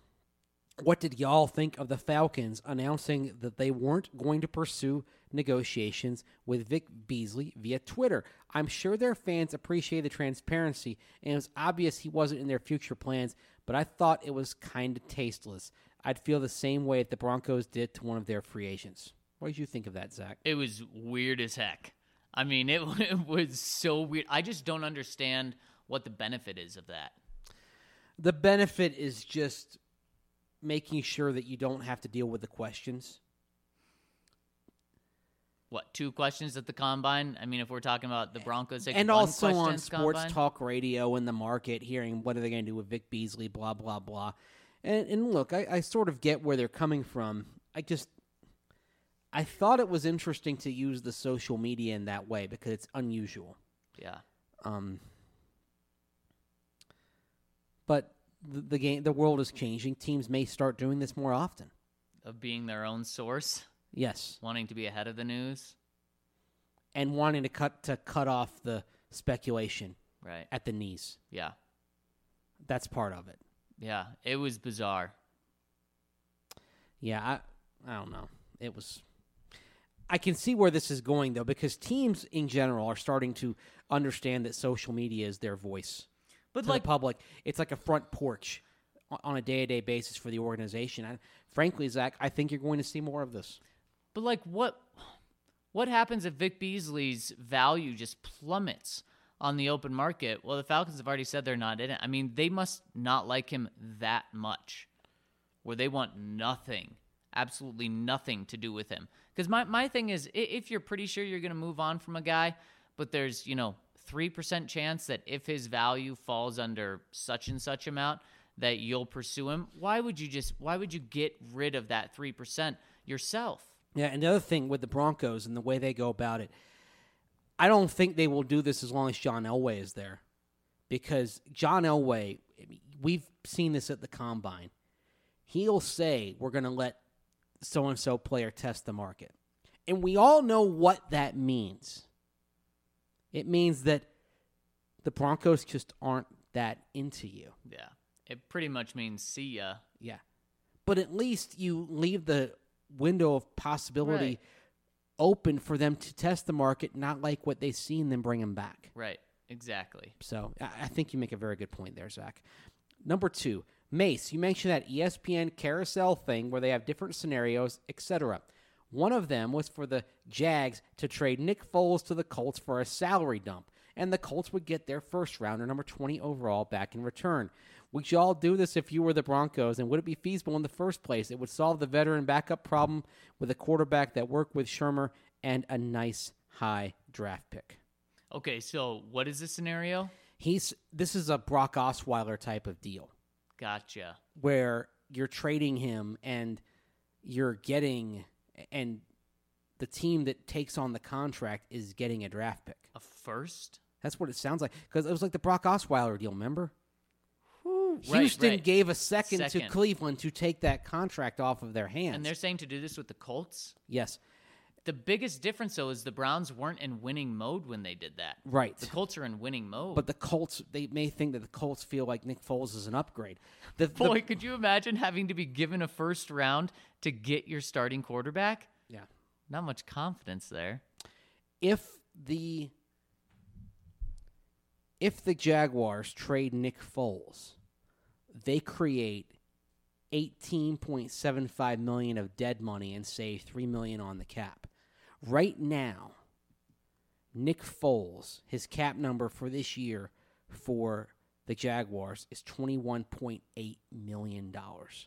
what did y'all think of the Falcons announcing that they weren't going to pursue negotiations with Vic Beasley via Twitter? I'm sure their fans appreciate the transparency, and it was obvious he wasn't in their future plans, but I thought it was kind of tasteless. I'd feel the same way that the Broncos did to one of their free agents. What did you think of that, Zach? It was weird as heck. I mean, it, it was so weird. I just don't understand what the benefit is of that. The benefit is just making sure that you don't have to deal with the questions. What, two questions at the Combine? I mean, if we're talking about the Broncos, And one also question on at the sports Combine? talk radio in the market, hearing what are they going to do with Vic Beasley, blah, blah, blah. And, and look, I, I sort of get where they're coming from. I just, I thought it was interesting to use the social media in that way because it's unusual. Yeah. Um, but the, the game, the world is changing. Teams may start doing this more often. Of being their own source, Yes, wanting to be ahead of the news. and wanting to cut to cut off the speculation Right. at the knees. Yeah. That's part of it. Yeah. It was bizarre. Yeah, I I don't know. It was. I can see where this is going though, because teams in general are starting to understand that social media is their voice But to like, the public. It's like a front porch on- on a day-to-day basis for the organization. I, frankly, Zach, I think you're going to see more of this. but like, what, what happens if Vic Beasley's value just plummets on the open market? Well, the Falcons have already said they're not in it. I mean, they must not like him that much, where they want nothing, absolutely nothing to do with him. Because my, my thing is, i- if you're pretty sure you're going to move on from a guy, but there's, you know, three percent chance that if his value falls under such and such amount, that you'll pursue him, why would you just, why would you get rid of that three percent yourself? Yeah, and the other thing with the Broncos and the way they go about it, I don't think they will do this as long as John Elway is there. Because John Elway, we've seen this at the Combine. He'll say, we're going to let so-and-so player test the market. And we all know what that means. It means that the Broncos just aren't that into you. Yeah. It pretty much means see ya. Yeah. But at least you leave the window of possibility Right. open for them to test the market, not like what they see and then bring them back. Right. Exactly. So I I think you make a very good point there, Zach. Number two, Mace, you mentioned that E S P N carousel thing where they have different scenarios, et cetera. One of them was for the Jags to trade Nick Foles to the Colts for a salary dump, and the Colts would get their first rounder, number twenty overall, back in return. Would you all do this if you were the Broncos, and would it be feasible in the first place? It would solve the veteran backup problem with a quarterback that worked with Shermer and a nice high draft pick. Okay, so what is the scenario? He's this is a Brock Osweiler type of deal Gotcha. where you're trading him and you're getting and the team that takes on the contract is getting a draft pick. A first? That's what it sounds like because it was like the Brock Osweiler deal. Remember? Whew. Who? Right, Houston right. gave a second, to Second. Cleveland to take that contract off of their hands. And they're saying to do this with the Colts? yes, The biggest difference, though, is the Browns weren't in winning mode when they did that. right. The Colts are in winning mode. But the Colts, they may think that the Colts feel like Nick Foles is an upgrade. The, the- Boy, could you imagine having to be given a first round to get your starting quarterback? yeah. Not much confidence there. If the if the Jaguars trade Nick Foles, they create eighteen point seven five million dollars of dead money and save three million dollars on the cap. Right now, Nick Foles, his cap number for this year for the Jaguars is twenty-one point eight million dollars.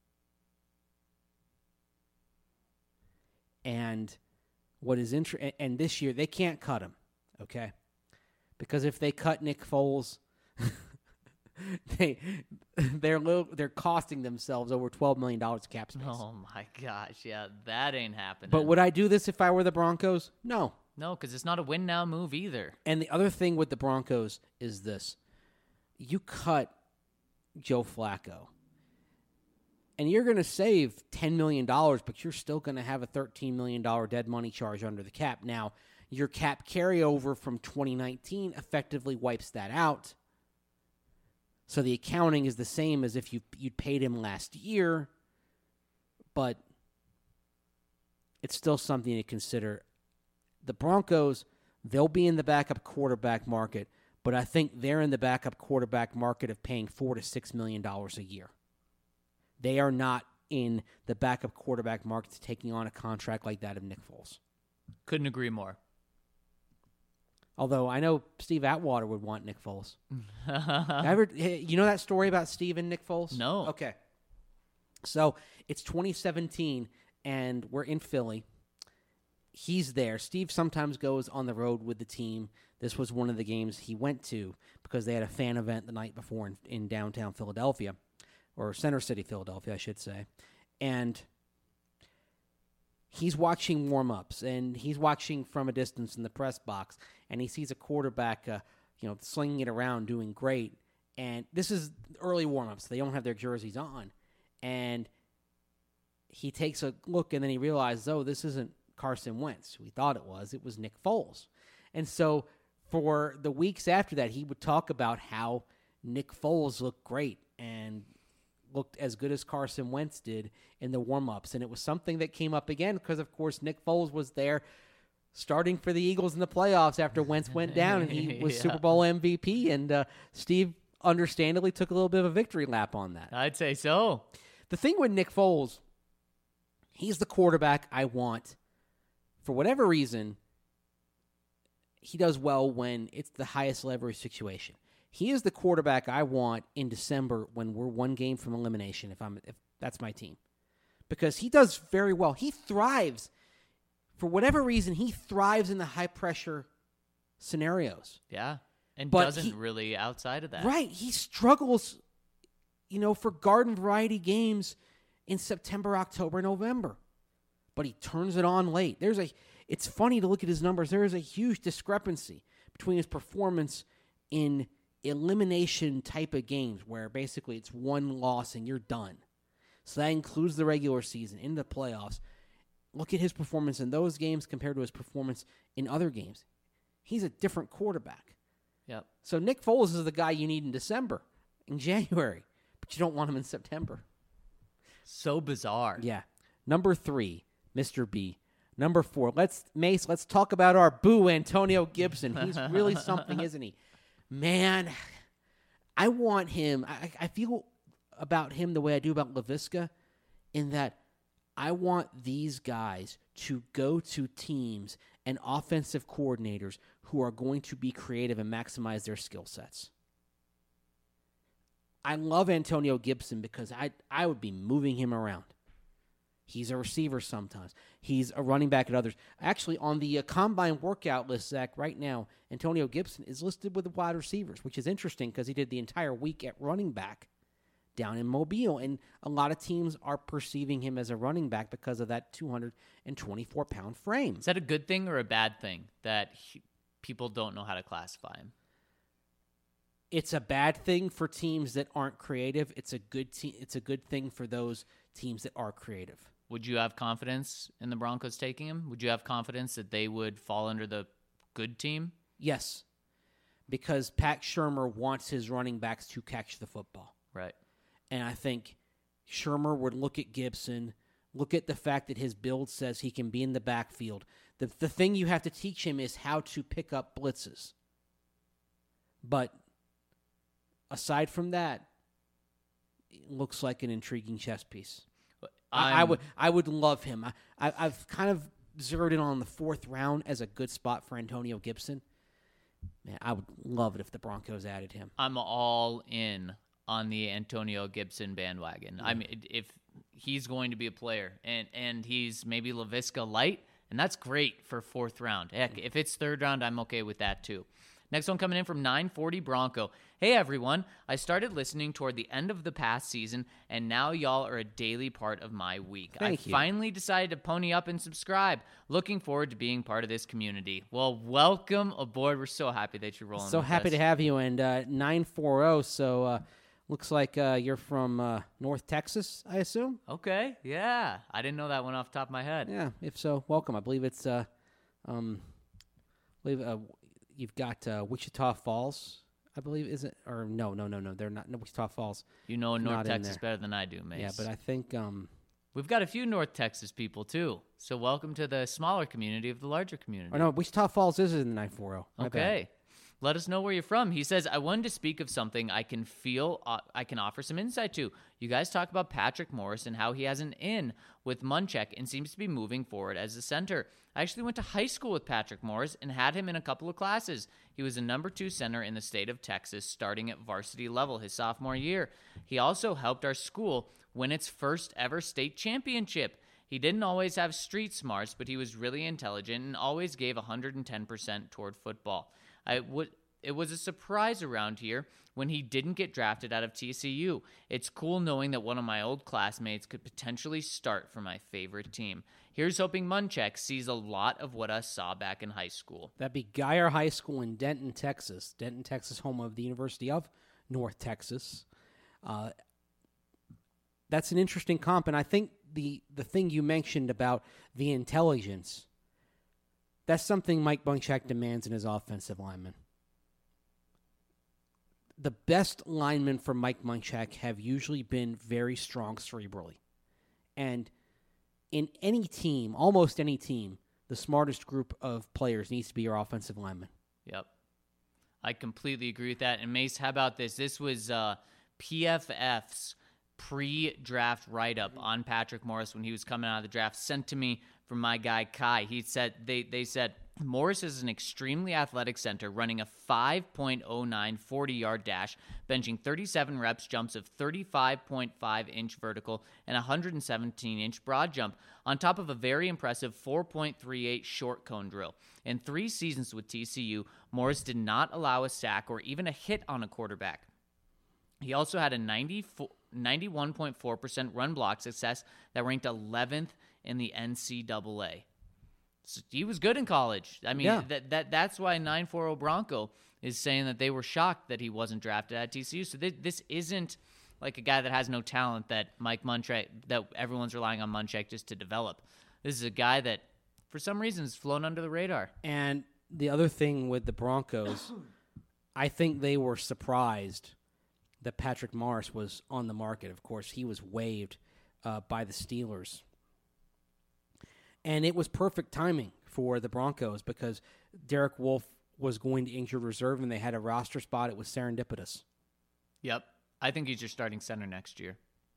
And what is inter- and this year they can't cut him, okay? Because if they cut Nick Foles, they they're little, they're costing themselves over twelve million dollars cap space. Oh, my gosh. Yeah, that ain't happening. But would I do this if I were the Broncos? No. No, because it's not a win-now move either. And the other thing with the Broncos is this. You cut Joe Flacco, and you're going to save ten million dollars, but you're still going to have a thirteen million dollars dead money charge under the cap. Now, your cap carryover from twenty nineteen effectively wipes that out. So the accounting is the same as if you, you'd paid him last year, but it's still something to consider. The Broncos, they'll be in the backup quarterback market, but I think they're in the backup quarterback market of paying four to six million dollars a year. They are not in the backup quarterback market taking on a contract like that of Nick Foles. Couldn't agree more. Although I know Steve Atwater would want Nick Foles. Ever, you know that story about Steve and Nick Foles? No. Okay. So it's twenty seventeen, and we're in Philly. He's there. Steve sometimes goes on the road with the team. This was one of the games he went to because they had a fan event the night before in, in downtown Philadelphia, or Center City, Philadelphia, I should say. And he's watching warm-ups, and he's watching from a distance in the press box, and he sees a quarterback, uh, you know, slinging it around, doing great. And this is early warm-ups. They don't have their jerseys on. And he takes a look, and then he realizes, oh, this isn't Carson Wentz. We thought it was. It was Nick Foles. And so for the weeks after that, he would talk about how Nick Foles looked great and looked as good as Carson Wentz did in the warm-ups. And it was something that came up again because, of course, Nick Foles was there starting for the Eagles in the playoffs after Wentz went down, and he was Yeah. Super Bowl M V P. And uh, Steve understandably took a little bit of a victory lap on that. I'd say so. The thing with Nick Foles, he's the quarterback I want. For whatever reason, he does well when it's the highest leverage situation. He is the quarterback I want in December when we're one game from elimination, if I'm if that's my team. Because he does very well. He thrives. For whatever reason, he thrives in the high-pressure scenarios. Yeah. And But doesn't he- really outside of that. Right. He struggles, you know, for garden variety games in September, October, November. But he turns it on late. There's a it's funny to look at his numbers. There is a huge discrepancy between his performance in elimination type of games where basically it's one loss and you're done. So that includes the regular season, in the playoffs. Look at his performance in those games compared to his performance in other games. He's a different quarterback. Yep. So Nick Foles is the guy you need in December, in January, but you don't want him in September. So bizarre. Yeah. Number three, Mister B. Number four, let's Mace. Let's talk about our boo, Antonio Gibson. He's really something, isn't he? Man, I want him. I, I feel about him the way I do about LaVisca, in that I want these guys to go to teams and offensive coordinators who are going to be creative and maximize their skill sets. I love Antonio Gibson because I I would be moving him around. He's a receiver sometimes. He's a running back at others. Actually, on the uh, combine workout list, Zach, right now, Antonio Gibson is listed with the wide receivers, which is interesting because he did the entire week at running back down in Mobile. And a lot of teams are perceiving him as a running back because of that two hundred twenty-four pound frame. Is that a good thing or a bad thing that he, people don't know how to classify him? it's a bad thing for teams that aren't creative. It's a good te- It's a good thing for those teams that are creative. Would you have confidence in the Broncos taking him? Would you have confidence that they would fall under the good team? Yes, because Pat Shurmur wants his running backs to catch the football. Right. And I think Shurmur would look at Gibson, look at the fact that his build says he can be in the backfield. The, the thing you have to teach him is how to pick up blitzes. But aside from that, it looks like an intriguing chess piece. I, I would I would love him. I, I, I've kind of zeroed in on the fourth round as a good spot for Antonio Gibson. Man, I would love it if the Broncos added him. I'm all in on the Antonio Gibson bandwagon. Yeah. I mean, if he's going to be a player and, and he's maybe LaVisca light, and that's great for fourth round. Heck, if it's third round, I'm okay with that too. Next one coming in from nine forty Bronco. Hey everyone, I started listening toward the end of the past season, and now y'all are a daily part of my week. Thank I you. finally decided to pony up and subscribe. Looking forward to being part of this community. Well, welcome aboard. We're so happy that you're rolling So with happy us. to have you. And uh, nine forty, so uh, looks like uh, you're from uh, North Texas, I assume? Okay, yeah. I didn't know that one off the top of my head. Yeah, if so, welcome. I believe it's, uh, um, I believe uh, you've got uh, Wichita Falls, I believe, is it? Or no, no, no, no, they're not. No, Wichita Falls. You know North Not in Texas there. better than I do, Mace. Yeah, but I think um, We've got a few North Texas people, too. So welcome to the smaller community of the larger community. or no, Wichita Falls is in the nine forty. My bad. Okay. Let us know where you're from. He says, I wanted to speak of something I can feel uh, I can offer some insight to. You guys talk about Patrick Morris and how he has an in with Munchak and seems to be moving forward as a center. I actually went to high school with Patrick Morris and had him in a couple of classes. He was a number two center in the state of Texas, starting at varsity level his sophomore year. He also helped our school win its first ever state championship. He didn't always have street smarts, but he was really intelligent and always gave one hundred ten percent toward football. I would. It was a surprise around here when he didn't get drafted out of T C U. It's cool knowing that one of my old classmates could potentially start for my favorite team. Here's hoping Munchak sees a lot of what I saw back in high school. That'd be Geyer High School in Denton, Texas. Denton, Texas, home of the University of North Texas. Uh, that's an interesting comp, and I think the, the thing you mentioned about the intelligence, that's something Mike Munchak demands in his offensive linemen. The best linemen for Mike Munchak have usually been very strong cerebrally. And in any team, almost any team, the smartest group of players needs to be your offensive lineman. Yep. I completely agree with that. And Mace, how about this? This was uh, P F F's pre-draft write-up on Patrick Morris when he was coming out of the draft, sent to me from my guy Kai. He said they they said Morris is an extremely athletic center running a five point oh nine forty-yard dash, benching thirty-seven reps, jumps of thirty-five point five inch vertical and one hundred seventeen inch broad jump, on top of a very impressive four point three eight short cone drill. In three seasons with T C U, Morris did not allow a sack or even a hit on a quarterback. He also had a ninety-one point four percent run block success that ranked eleventh in the N C double A. So he was good in college. I mean, Yeah. that that that's why nine forty Bronco is saying that they were shocked that he wasn't drafted at T C U. So this, this isn't like a guy that has no talent that Mike Munchak, that everyone's relying on Munchak just to develop. This is a guy that, for some reason, has flown under the radar. And the other thing with the Broncos, I think they were surprised that Patrick Morris was on the market. Of course, he was waived uh, by the Steelers. And it was perfect timing for the Broncos because Derek Wolfe was going to injured reserve and they had a roster spot. It was serendipitous. Yep. I think he's your starting center next year.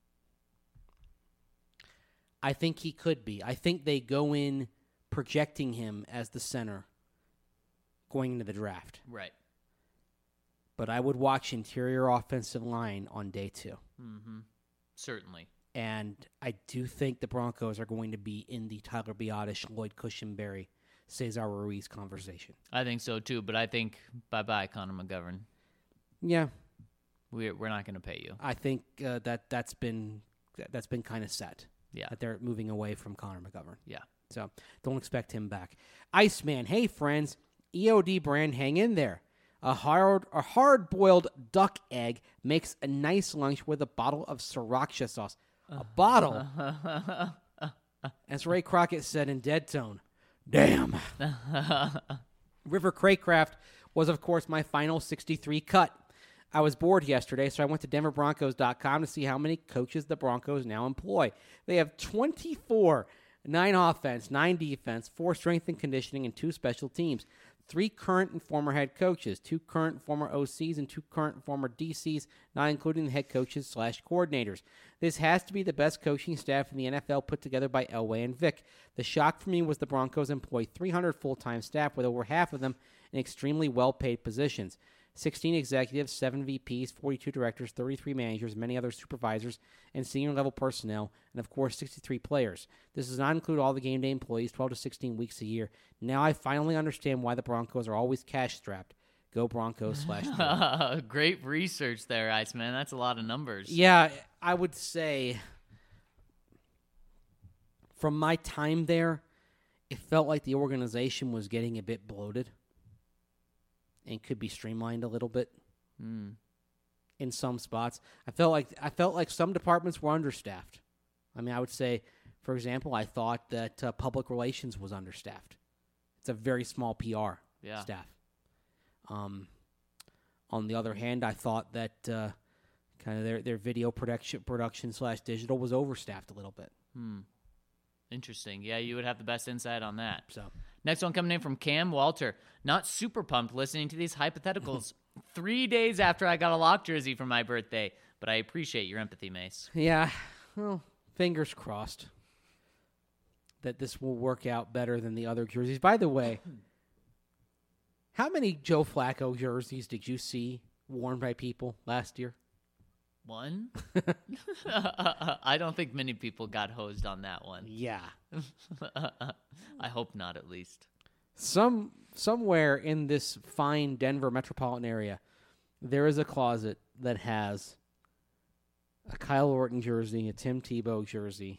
I think he could be. I think they go in projecting him as the center going into the draft. Right. But I would watch interior offensive line on day two. Mm-hmm. Certainly. And I do think the Broncos are going to be in the Tyler Biadasz, Lloyd Cushenberry, Cesar Ruiz conversation. I think so, too. But I think bye-bye, Connor McGovern. Yeah. We're, we're not going to pay you. I think uh, that, that's been that's been kind of set. Yeah. That they're moving away from Connor McGovern. Yeah. So don't expect him back. Iceman, hey, friends. E O D brand, hang in there. A hard, a hard-boiled duck egg makes a nice lunch with a bottle of sriracha sauce. A bottle? As Ray Crockett said in Dead Tone, damn. River Craycraft was, of course, my final sixty-three cut. I was bored yesterday, so I went to denver broncos dot com to see how many coaches the Broncos now employ. They have twenty-four, nine offense, nine defense, four strength and conditioning, and two special teams. Three current and former head coaches, two current and former O Cs, and two current and former D Cs, not including the head coaches slash coordinators. This has to be the best coaching staff in the N F L put together by Elway and Vic. The shock for me was the Broncos employ three hundred full-time staff, with over half of them in extremely well-paid positions. sixteen executives, seven V Ps, forty-two directors, thirty-three managers, many other supervisors and senior-level personnel, and, of course, sixty-three players. This does not include all the game day employees, twelve to sixteen weeks a year. Now I finally understand why the Broncos are always cash-strapped. Go Broncos slash Great research there, Iceman. That's a lot of numbers. Yeah, I would say from my time there, it felt like the organization was getting a bit bloated and could be streamlined a little bit Mm. in some spots. I felt like I felt like some departments were understaffed. I mean, I would say, for example, I thought that uh, public relations was understaffed. It's a very small P R Yeah. staff. Um, on the other hand, I thought that uh, kind of their, their video production production slash digital was overstaffed a little bit. Hmm. Interesting. Yeah, you would have the best insight on that. So Next one coming in from Cam Walter. Not super pumped listening to these hypotheticals three days after I got a lock jersey for my birthday, but I appreciate your empathy, Mace. yeah, well, fingers crossed that this will work out better than the other jerseys. By the way, how many Joe Flacco jerseys did you see worn by people last year? One? I don't think many people got hosed on that one. Yeah. I hope not, at least. Some somewhere in this fine Denver metropolitan area, there is a closet that has a Kyle Orton jersey, a Tim Tebow jersey,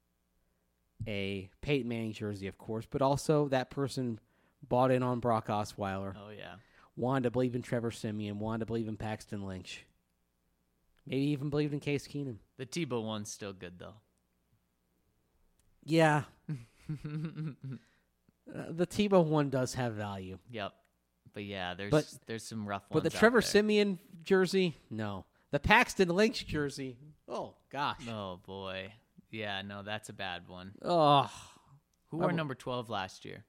a Peyton Manning jersey, of course, but also that person bought in on Brock Osweiler, Oh, yeah. wanted to believe in Trevor Siemian, wanted to believe in Paxton Lynch, maybe even believed in Case Keenum. The Tebow one's still good, though. Yeah. Uh, the Tebow one does have value. Yep. But, yeah, there's But- there's some rough ones But the out Trevor there. Siemian jersey, no. The Paxton Lynch jersey, oh, gosh. Oh, boy. Yeah, no, that's a bad one. Oh, Who wore I'm- number twelve last year?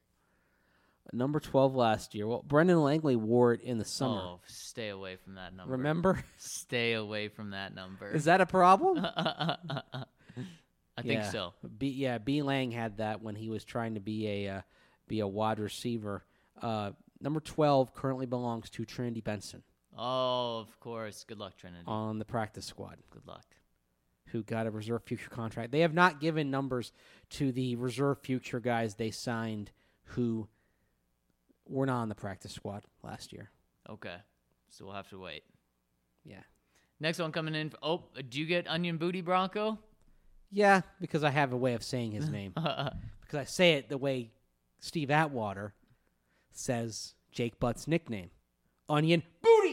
number twelve last year. Well, Brendan Langley wore it in the summer. Oh, stay away from that number. Remember? Stay away from that number. Is that a problem? I think Yeah. so. B, yeah, B. Lang had that when he was trying to be a uh, be a wide receiver. Uh, number twelve currently belongs to Trinity Benson Oh, of course. Good luck, Trinity. on the practice squad, Good luck. who got a reserve future contract. They have not given numbers to the reserve future guys they signed who were not on the practice squad last year. Okay. So we'll have to wait. Yeah. Next one coming in. Oh, do you get Onion Booty Bronco? Yeah, because I have a way of saying his name. Because I say it the way Steve Atwater says Jake Butt's nickname. Onion Booty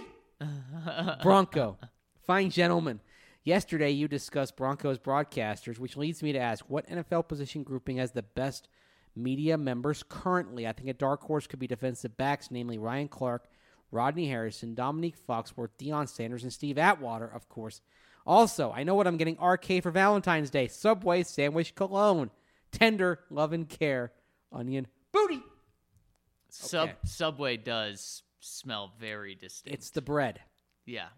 Bronco. Fine gentleman. Yesterday you discussed Broncos broadcasters, which leads me to ask, what N F L position grouping has the best media members currently? I think a dark horse could be defensive backs, namely Ryan Clark, Rodney Harrison, Dominique Foxworth, Deion Sanders, and Steve Atwater, of course. Also, I know what I'm getting R K for Valentine's Day. Subway Sandwich Cologne. Tender love and care. Onion Booty. Sub Okay. Subway does smell very distinct. It's the bread. yeah.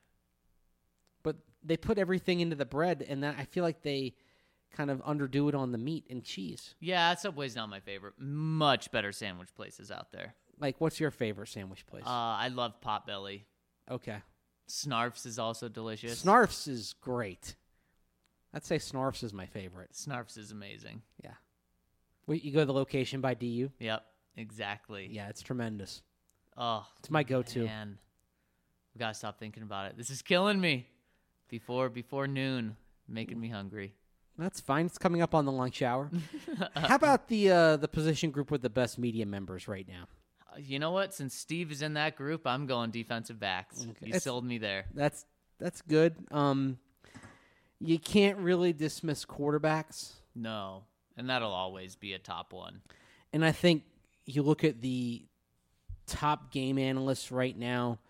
But they put everything into the bread, and that, I feel like they kind of underdo it on the meat and cheese. Yeah, Subway's not my favorite. Much better sandwich places out there. Like, what's your favorite sandwich place? Uh, I love Potbelly. okay. Snarf's is also delicious. Snarf's is great. I'd say Snarf's is my favorite. Snarf's is amazing. Yeah. Wait, you go to the location by D U? Yep, exactly. Yeah, it's tremendous. Oh, It's my go-to. man. We gotta stop thinking about it. This is killing me. Before before noon, making me hungry. That's fine. It's coming up on the lunch hour. How about the uh, the position group with the best media members right now? You know what? Since Steve is in that group, I'm going defensive backs. Okay. You It's- sold me there. That's that's good. Um, you can't really dismiss quarterbacks, No. And that'll always be a top one. and I think you look at the top game analysts right now.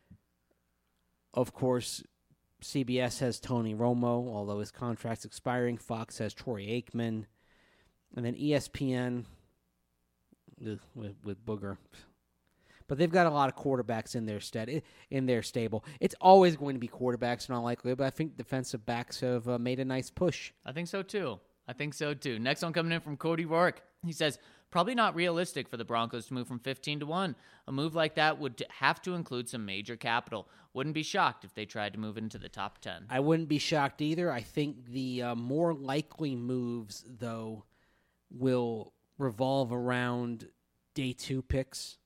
Of course, C B S has Tony Romo, although his contract's expiring. Fox has Troy Aikman, and then E S P N ugh, with, with Booger. But they've got a lot of quarterbacks in their stead, in their stable. It's always going to be quarterbacks in all likelihood, but I think defensive backs have uh, made a nice push. I think so too. I think so too. Next one coming in from Cody Rourke. He says, probably not realistic for the Broncos to move from fifteen to one. A move like that would t- have to include some major capital. Wouldn't be shocked if they tried to move into the top ten. I wouldn't be shocked either. I think the uh, more likely moves, though, will revolve around day two picks.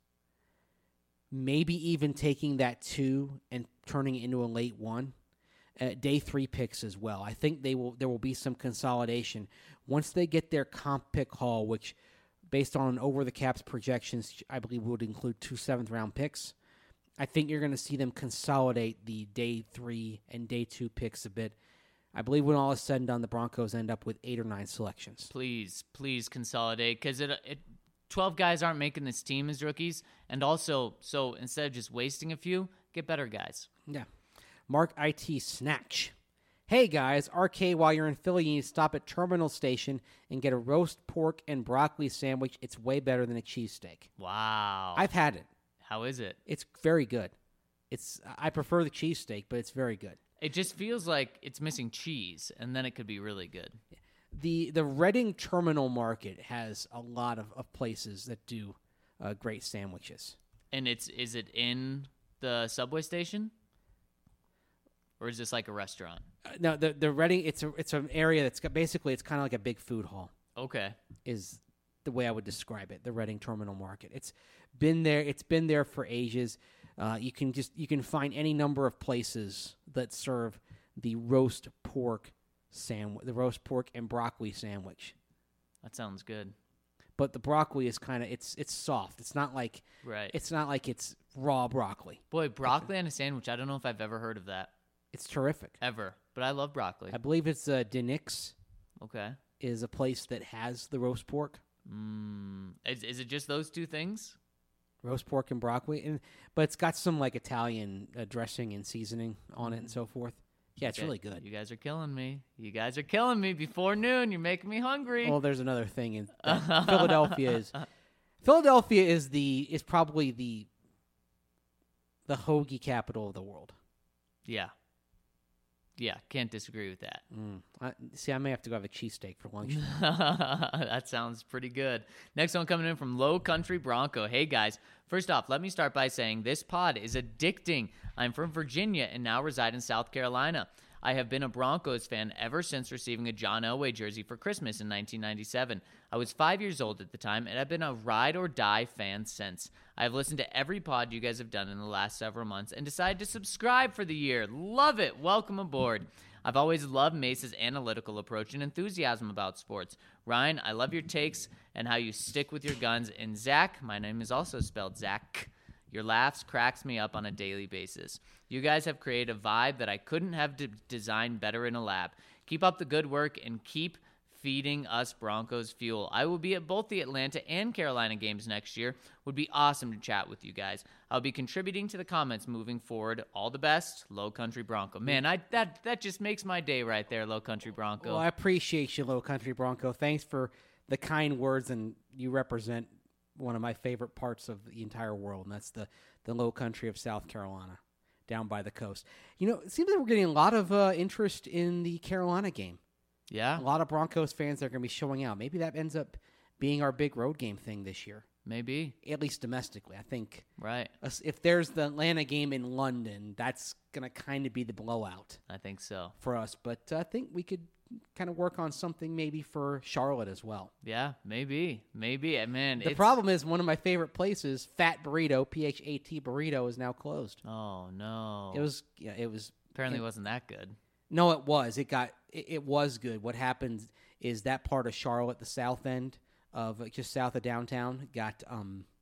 Maybe even taking that two and turning it into a late one. Uh, day three picks as well. I think they will. There will be some consolidation once they get their comp pick haul, which, based on over the caps projections, I believe would include two seventh round picks. I think you're going to see them consolidate the day three and day two picks a bit. I believe when all is said and done, the Broncos end up with eight or nine selections. Please, please consolidate because it, it, twelve guys aren't making this team as rookies. And also, so instead of just wasting a few, get better guys. Yeah. Mark I T Snatch. Hey guys, R K, while you're in Philly, you need to stop at Terminal Station and get a roast pork and broccoli sandwich. It's way better than a cheesesteak. Wow. I've had it. How is it? It's very good. It's I prefer the cheesesteak, but it's very good. It just feels like it's missing cheese, and then it could be really good. The the Reading Terminal Market has a lot of, of places that do uh, great sandwiches. And it's is it in the subway station? Or is this like a restaurant? Uh, no, the the Reading it's a it's an area that's got basically it's kind of like a big food hall. Okay. Is the way I would describe it. The Reading Terminal Market. It's been there. It's been there for ages. Uh, you can just you can find any number of places that serve the roast pork sandwich, the roast pork and broccoli sandwich. That sounds good. But the broccoli is kind of it's it's soft. It's not like Right. it's not like it's raw broccoli. Boy, broccoli and a sandwich. I don't know if I've ever heard of that. It's terrific. Ever. But I love broccoli. I believe it's uh, Denix Okay. is a place that has the roast pork, Mm. Is, is it just those two things? roast pork and broccoli, and but it's got some like Italian uh, dressing and seasoning on it and so forth. Yeah, it's Okay, really good. You guys are killing me. You guys are killing me before noon. You're making me hungry. Well, there's another thing in that Philadelphia is Philadelphia is the is probably the the hoagie capital of the world. yeah. Yeah, can't disagree with that. Mm. I, see, I may have to go have a cheesesteak for lunch. That sounds pretty good. Next one coming in from Low Country Bronco. Hey guys, first off, let me start by saying this pod is addicting. I'm from Virginia and now reside in South Carolina. I have been a Broncos fan ever since receiving a John Elway jersey for Christmas in nineteen ninety-seven. I was five years old at the time, and I've been a ride or die fan since. I have listened to every pod you guys have done in the last several months and decided to subscribe for the year. Love it. Welcome aboard. I've always loved Mace's analytical approach and enthusiasm about sports. Ryan, I love your takes and how you stick with your guns. And Zach, my name is also spelled Zach. Your laughs cracks me up on a daily basis. You guys have created a vibe that I couldn't have de- designed better in a lab. Keep up the good work and keep feeding us Broncos fuel. I will be at both the Atlanta and Carolina games next year. Would be awesome to chat with you guys. I'll be contributing to the comments moving forward. All the best, Low Country Bronco. Man, I that that just makes my day right there, Low Country Bronco. Well, I appreciate you, Low Country Bronco. Thanks for the kind words, and you represent one of my favorite parts of the entire world, and that's the, the low country of South Carolina, down by the coast. You know, it seems like we're getting a lot of uh, interest in the Carolina game. Yeah, A lot of Broncos fans are going to be showing out. Maybe that ends up being our big road game thing this year, maybe. at least domestically. I think Right. us- if there's the Atlanta game in London, that's going to kind of be the blowout I think so. for us. But uh, I think we could kind of work on something maybe for Charlotte as well. Yeah, maybe. Maybe. Uh, Man, The it's- problem is one of my favorite places, Fat Burrito, P H A T Burrito, is now closed. Oh, no. It was, yeah, it was. Apparently it- wasn't that good. No, it was. It got. It, it was good. What happened is that part of Charlotte, the south end of uh, just south of downtown, got um,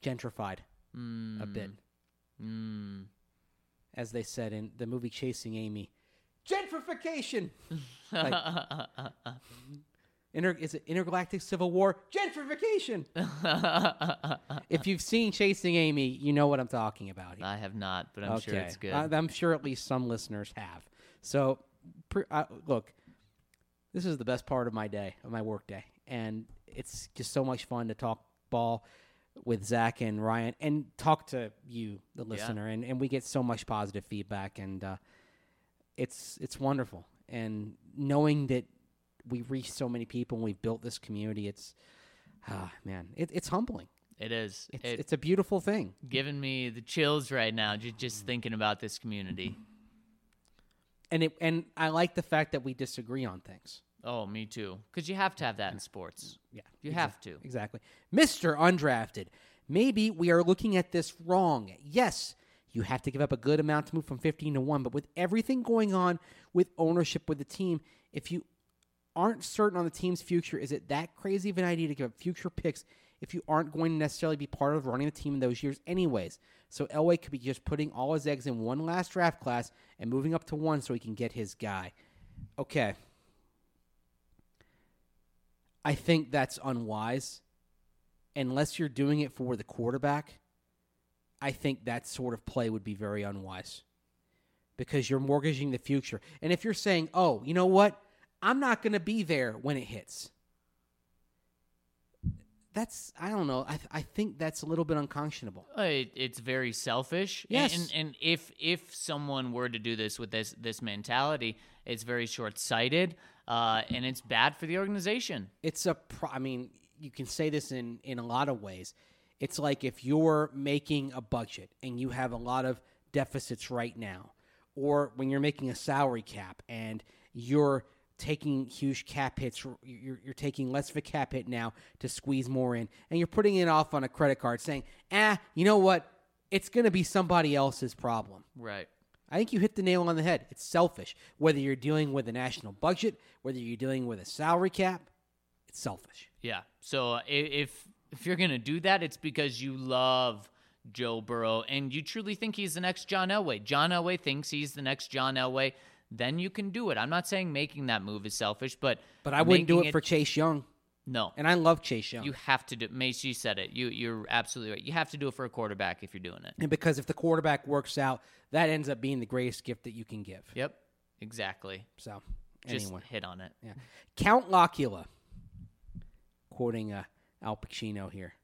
gentrified Mm. a bit. Mm. As they said in the movie Chasing Amy, gentrification. Like, inter, is it Intergalactic Civil War? Gentrification. If you've seen Chasing Amy, you know what I'm talking about here. I have not, but I'm sure it's good. I, I'm sure at least some listeners have. So, pre, uh, look, this is the best part of my day, of my work day, and it's just so much fun to talk ball with Zach and Ryan and talk to you, the listener, yeah. and, and we get so much positive feedback, and uh, it's it's wonderful. And knowing that we've reached so many people and we've built this community, it's, ah, man, it, it's humbling. It is. It's, it, it's a beautiful thing. Giving me the chills right now, just, just thinking about this community. And it and I like the fact that we disagree on things. Oh, me too. Because you have to have that in sports. Yeah. You exa- have to. Exactly. Mister Undrafted, maybe we are looking at this wrong. Yes, you have to give up a good amount to move from fifteen to one, but with everything going on with ownership with the team, if you aren't certain on the team's future, is it that crazy of an idea to give up future picks if you aren't going to necessarily be part of running the team in those years anyways? So Elway could be just putting all his eggs in one last draft class and moving up to one so he can get his guy. Okay. I think that's unwise. Unless you're doing it for the quarterback, I think that sort of play would be very unwise because you're mortgaging the future. And if you're saying, oh, you know what? I'm not going to be there when it hits. That's, I don't know. I th- I think that's a little bit unconscionable. Uh, It, it's very selfish. Yes. And, and, and if if someone were to do this with this this mentality, it's very short-sighted, uh, and it's bad for the organization. It's a, pro- I mean, you can say this in, in a lot of ways. It's like if you're making a budget and you have a lot of deficits right now, or when you're making a salary cap and you're taking huge cap hits, you're, you're taking less of a cap hit now to squeeze more in, and you're putting it off on a credit card saying, ah, you know what? It's going to be somebody else's problem. Right. I think you hit the nail on the head. It's selfish. Whether you're dealing with a national budget, whether you're dealing with a salary cap, it's selfish. Yeah. So uh, i- if if you're going to do that, it's because you love Joe Burrow and you truly think he's the next John Elway. John Elway thinks he's the next John Elway. Then you can do it. I'm not saying making that move is selfish, but But I wouldn't do making it for Chase Young. No. And I love Chase Young. You have to do. Mace, you said it. You you're absolutely right. You have to do it for a quarterback if you're doing it. And because if the quarterback works out, that ends up being the greatest gift that you can give. Yep. Exactly. So, Just anyway. hit on it. Yeah. Count Locula, quoting uh, Al Pacino here.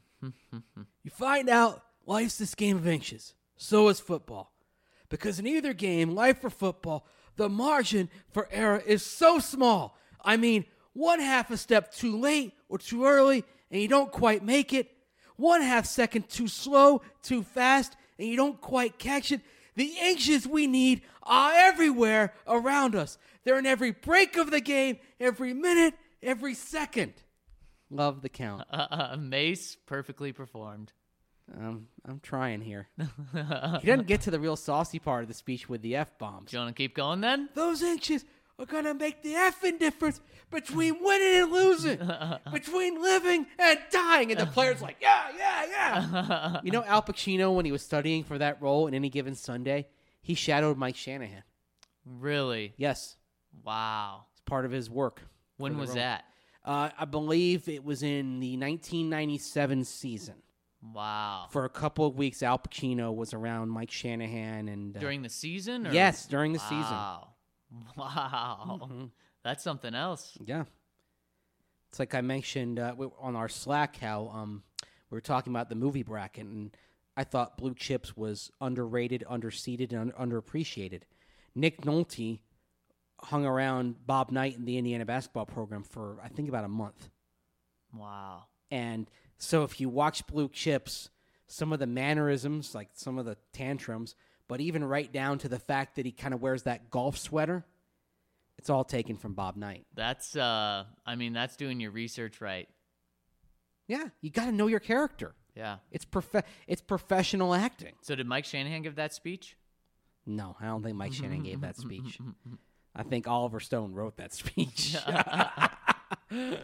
You find out life's this game of inches. So is football. Because in either game, life or football, the margin for error is so small. I mean, one half a step too late or too early, and you don't quite make it. One half second too slow, too fast, and you don't quite catch it. The inches we need are everywhere around us. They're in every break of the game, every minute, every second. Love the count. Uh, uh, Mace perfectly performed. Um, I'm trying here. He doesn't get to the real saucy part of the speech with the F-bombs. Do you want to keep going then? Those inches are going to make the effing difference between winning and losing, between living and dying. And the player's like, yeah, yeah, yeah. You know, Al Pacino, when he was studying for that role in Any Given Sunday, he shadowed Mike Shanahan. Really? Yes. Wow. It's part of his work. When the was role. that? Uh, I believe it was in the nineteen ninety-seven season. Wow. For a couple of weeks, Al Pacino was around Mike Shanahan. and uh, During the season? Or? Yes, during the Wow. Wow. Mm-hmm. That's something else. season. Yeah. It's like I mentioned uh, we- on our Slack how um, we were talking about the movie bracket, and I thought Blue Chips was underrated, underseated, and un- underappreciated. Nick Nolte hung around Bob Knight in the Indiana basketball program for, I think, about a month. Wow. And so if you watch Blue Chips, some of the mannerisms, like some of the tantrums, but even right down to the fact that he kind of wears that golf sweater, it's all taken from Bob Knight. That's, uh, I mean, that's doing your research right. Yeah, you got to know your character. Yeah. It's prof- It's professional acting. So did Mike Shanahan give that speech? No, I don't think Mike Shanahan gave that speech. I think Oliver Stone wrote that speech.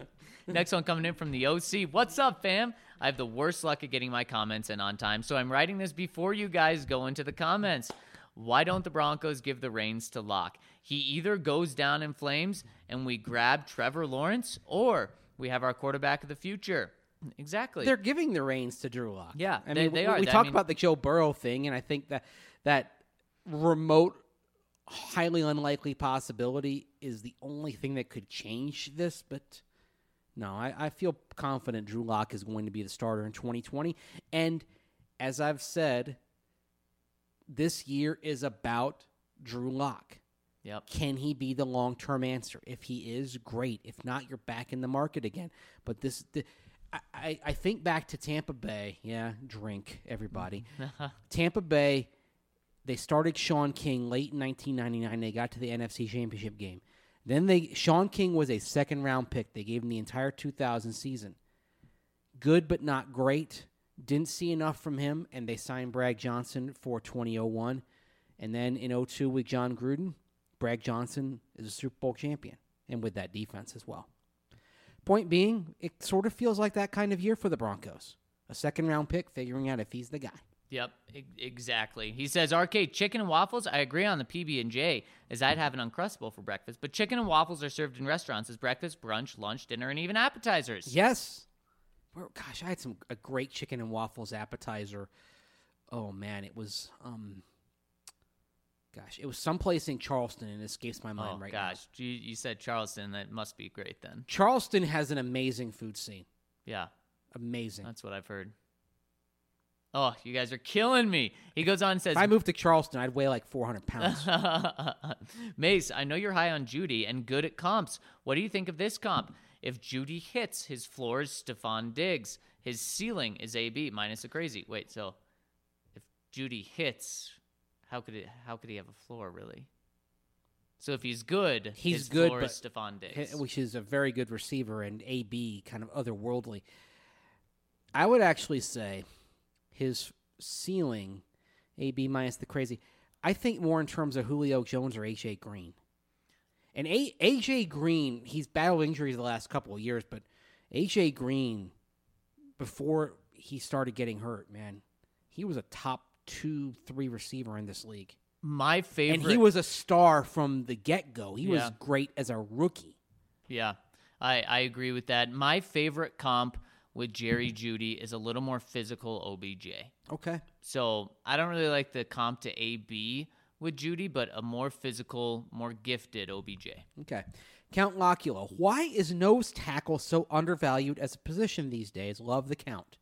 Next one coming in from the O C. What's up, fam? I have the worst luck at getting my comments in on time, so I'm writing this before you guys go into the comments. Why don't the Broncos give the reins to Locke? He either goes down in flames and we grab Trevor Lawrence, or we have our quarterback of the future. Exactly. They're giving the reins to Drew Lock. Yeah, I they, mean, they we, are. We I talked mean, about the Joe Burrow thing, and I think that that remote, highly unlikely possibility is the only thing that could change this. But no, I, I feel confident Drew Lock is going to be the starter in twenty twenty. And as I've said, this year is about Drew Lock. Yep. Can he be the long-term answer? If he is, great. If not, you're back in the market again. But this, the, I, I think back to Tampa Bay. Yeah, drink, everybody. Tampa Bay, they started Sean King late in nineteen ninety-nine. They got to the N F C Championship game. Then they Sean King was a second-round pick. They gave him the entire two thousand season. Good but not great. Didn't see enough from him, and they signed Bragg Johnson for twenty oh one. And then in oh two with John Gruden, Bragg Johnson is a Super Bowl champion, and with that defense as well. Point being, it sort of feels like that kind of year for the Broncos. A second-round pick figuring out if he's the guy. Yep, e- exactly. He says, Arcade, chicken and waffles? I agree on the P B and J, as I'd have an Uncrustable for breakfast, but chicken and waffles are served in restaurants as breakfast, brunch, lunch, dinner, and even appetizers. Yes. Well, gosh, I had some a great chicken and waffles appetizer. Oh, man, it was... um. Gosh, it was someplace in Charleston, and it escapes my mind oh, right gosh. now. You, you said Charleston. That must be great then. Charleston has an amazing food scene. Yeah. Amazing. That's what I've heard. Oh, you guys are killing me. He goes on and says... If I moved to Charleston, I'd weigh like four hundred pounds. Mace, I know you're high on Judy and good at comps. What do you think of this comp? If Judy hits, his floor is Stephon Diggs. His ceiling is A B minus a crazy. Wait, so if Judy hits... How could it? How could he have a floor, really? So if he's good, he's his good, floor but is Stephon Diggs, which is a very good receiver, and A B kind of otherworldly. I would actually say his ceiling, A B minus the crazy. I think more in terms of Julio Jones or A J Green. And A AJ Green, he's battled injuries the last couple of years, but A J Green, before he started getting hurt, man, he was a top two, three receiver in this league. My favorite. And he was a star from the get-go. He Yeah. was great as a rookie. Yeah, I, I agree with that. My favorite comp with Jerry Jeudy is a little more physical O B J. Okay. So I don't really like the comp to A B with Jeudy, but a more physical, more gifted O B J. Okay. Count Locula. Why is nose tackle so undervalued as a position these days? Love the count.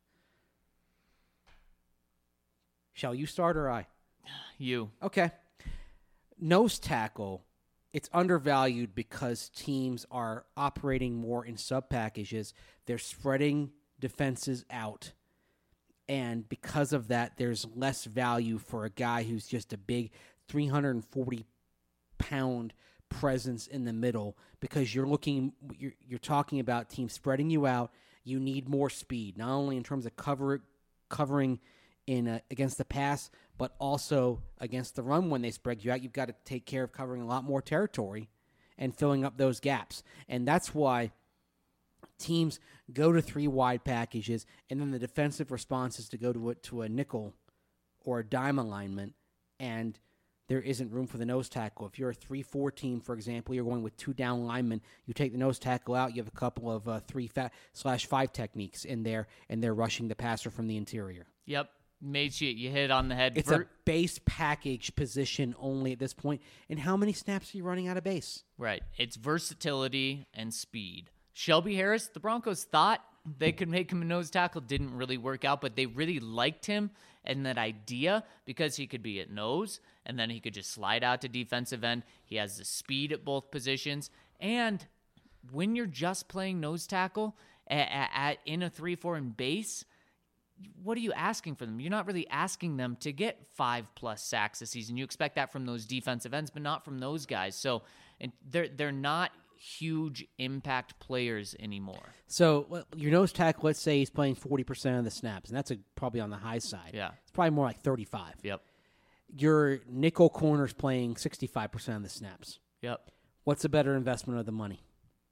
Shall you start or I? You. Okay. Nose tackle, it's undervalued because teams are operating more in sub-packages. They're spreading defenses out. And because of that, there's less value for a guy who's just a big three hundred forty pound presence in the middle, because you're looking, you're, you're talking about teams spreading you out. You need more speed, not only in terms of cover covering in uh, against the pass, but also against the run. When they spread you out, you've got to take care of covering a lot more territory and filling up those gaps. And that's why teams go to three wide packages, and then the defensive response is to go to a, to a nickel or a dime alignment, and there isn't room for the nose tackle. If you're a three four team, for example, you're going with two down linemen, you take the nose tackle out, you have a couple of uh, three fa- slash five techniques in there, and they're rushing the passer from the interior. Yep. Made you, you hit it on the head. It's Ver- a base package position only at this point. And how many snaps are you running out of base? Right. It's versatility and speed. Shelby Harris, the Broncos thought they could make him a nose tackle. Didn't really work out, but they really liked him and that idea because he could be at nose, and then he could just slide out to defensive end. He has the speed at both positions. And when you're just playing nose tackle at, at in a three four in base, what are you asking for them? You're not really asking them to get five-plus sacks a season. You expect that from those defensive ends, but not from those guys. So and they're they're not huge impact players anymore. So well, your nose tackle, let's say he's playing forty percent of the snaps, and that's a, probably on the high side. Yeah. It's probably more like thirty-five. Yep. Your nickel corner's playing sixty-five percent of the snaps. Yep. What's a better investment of the money?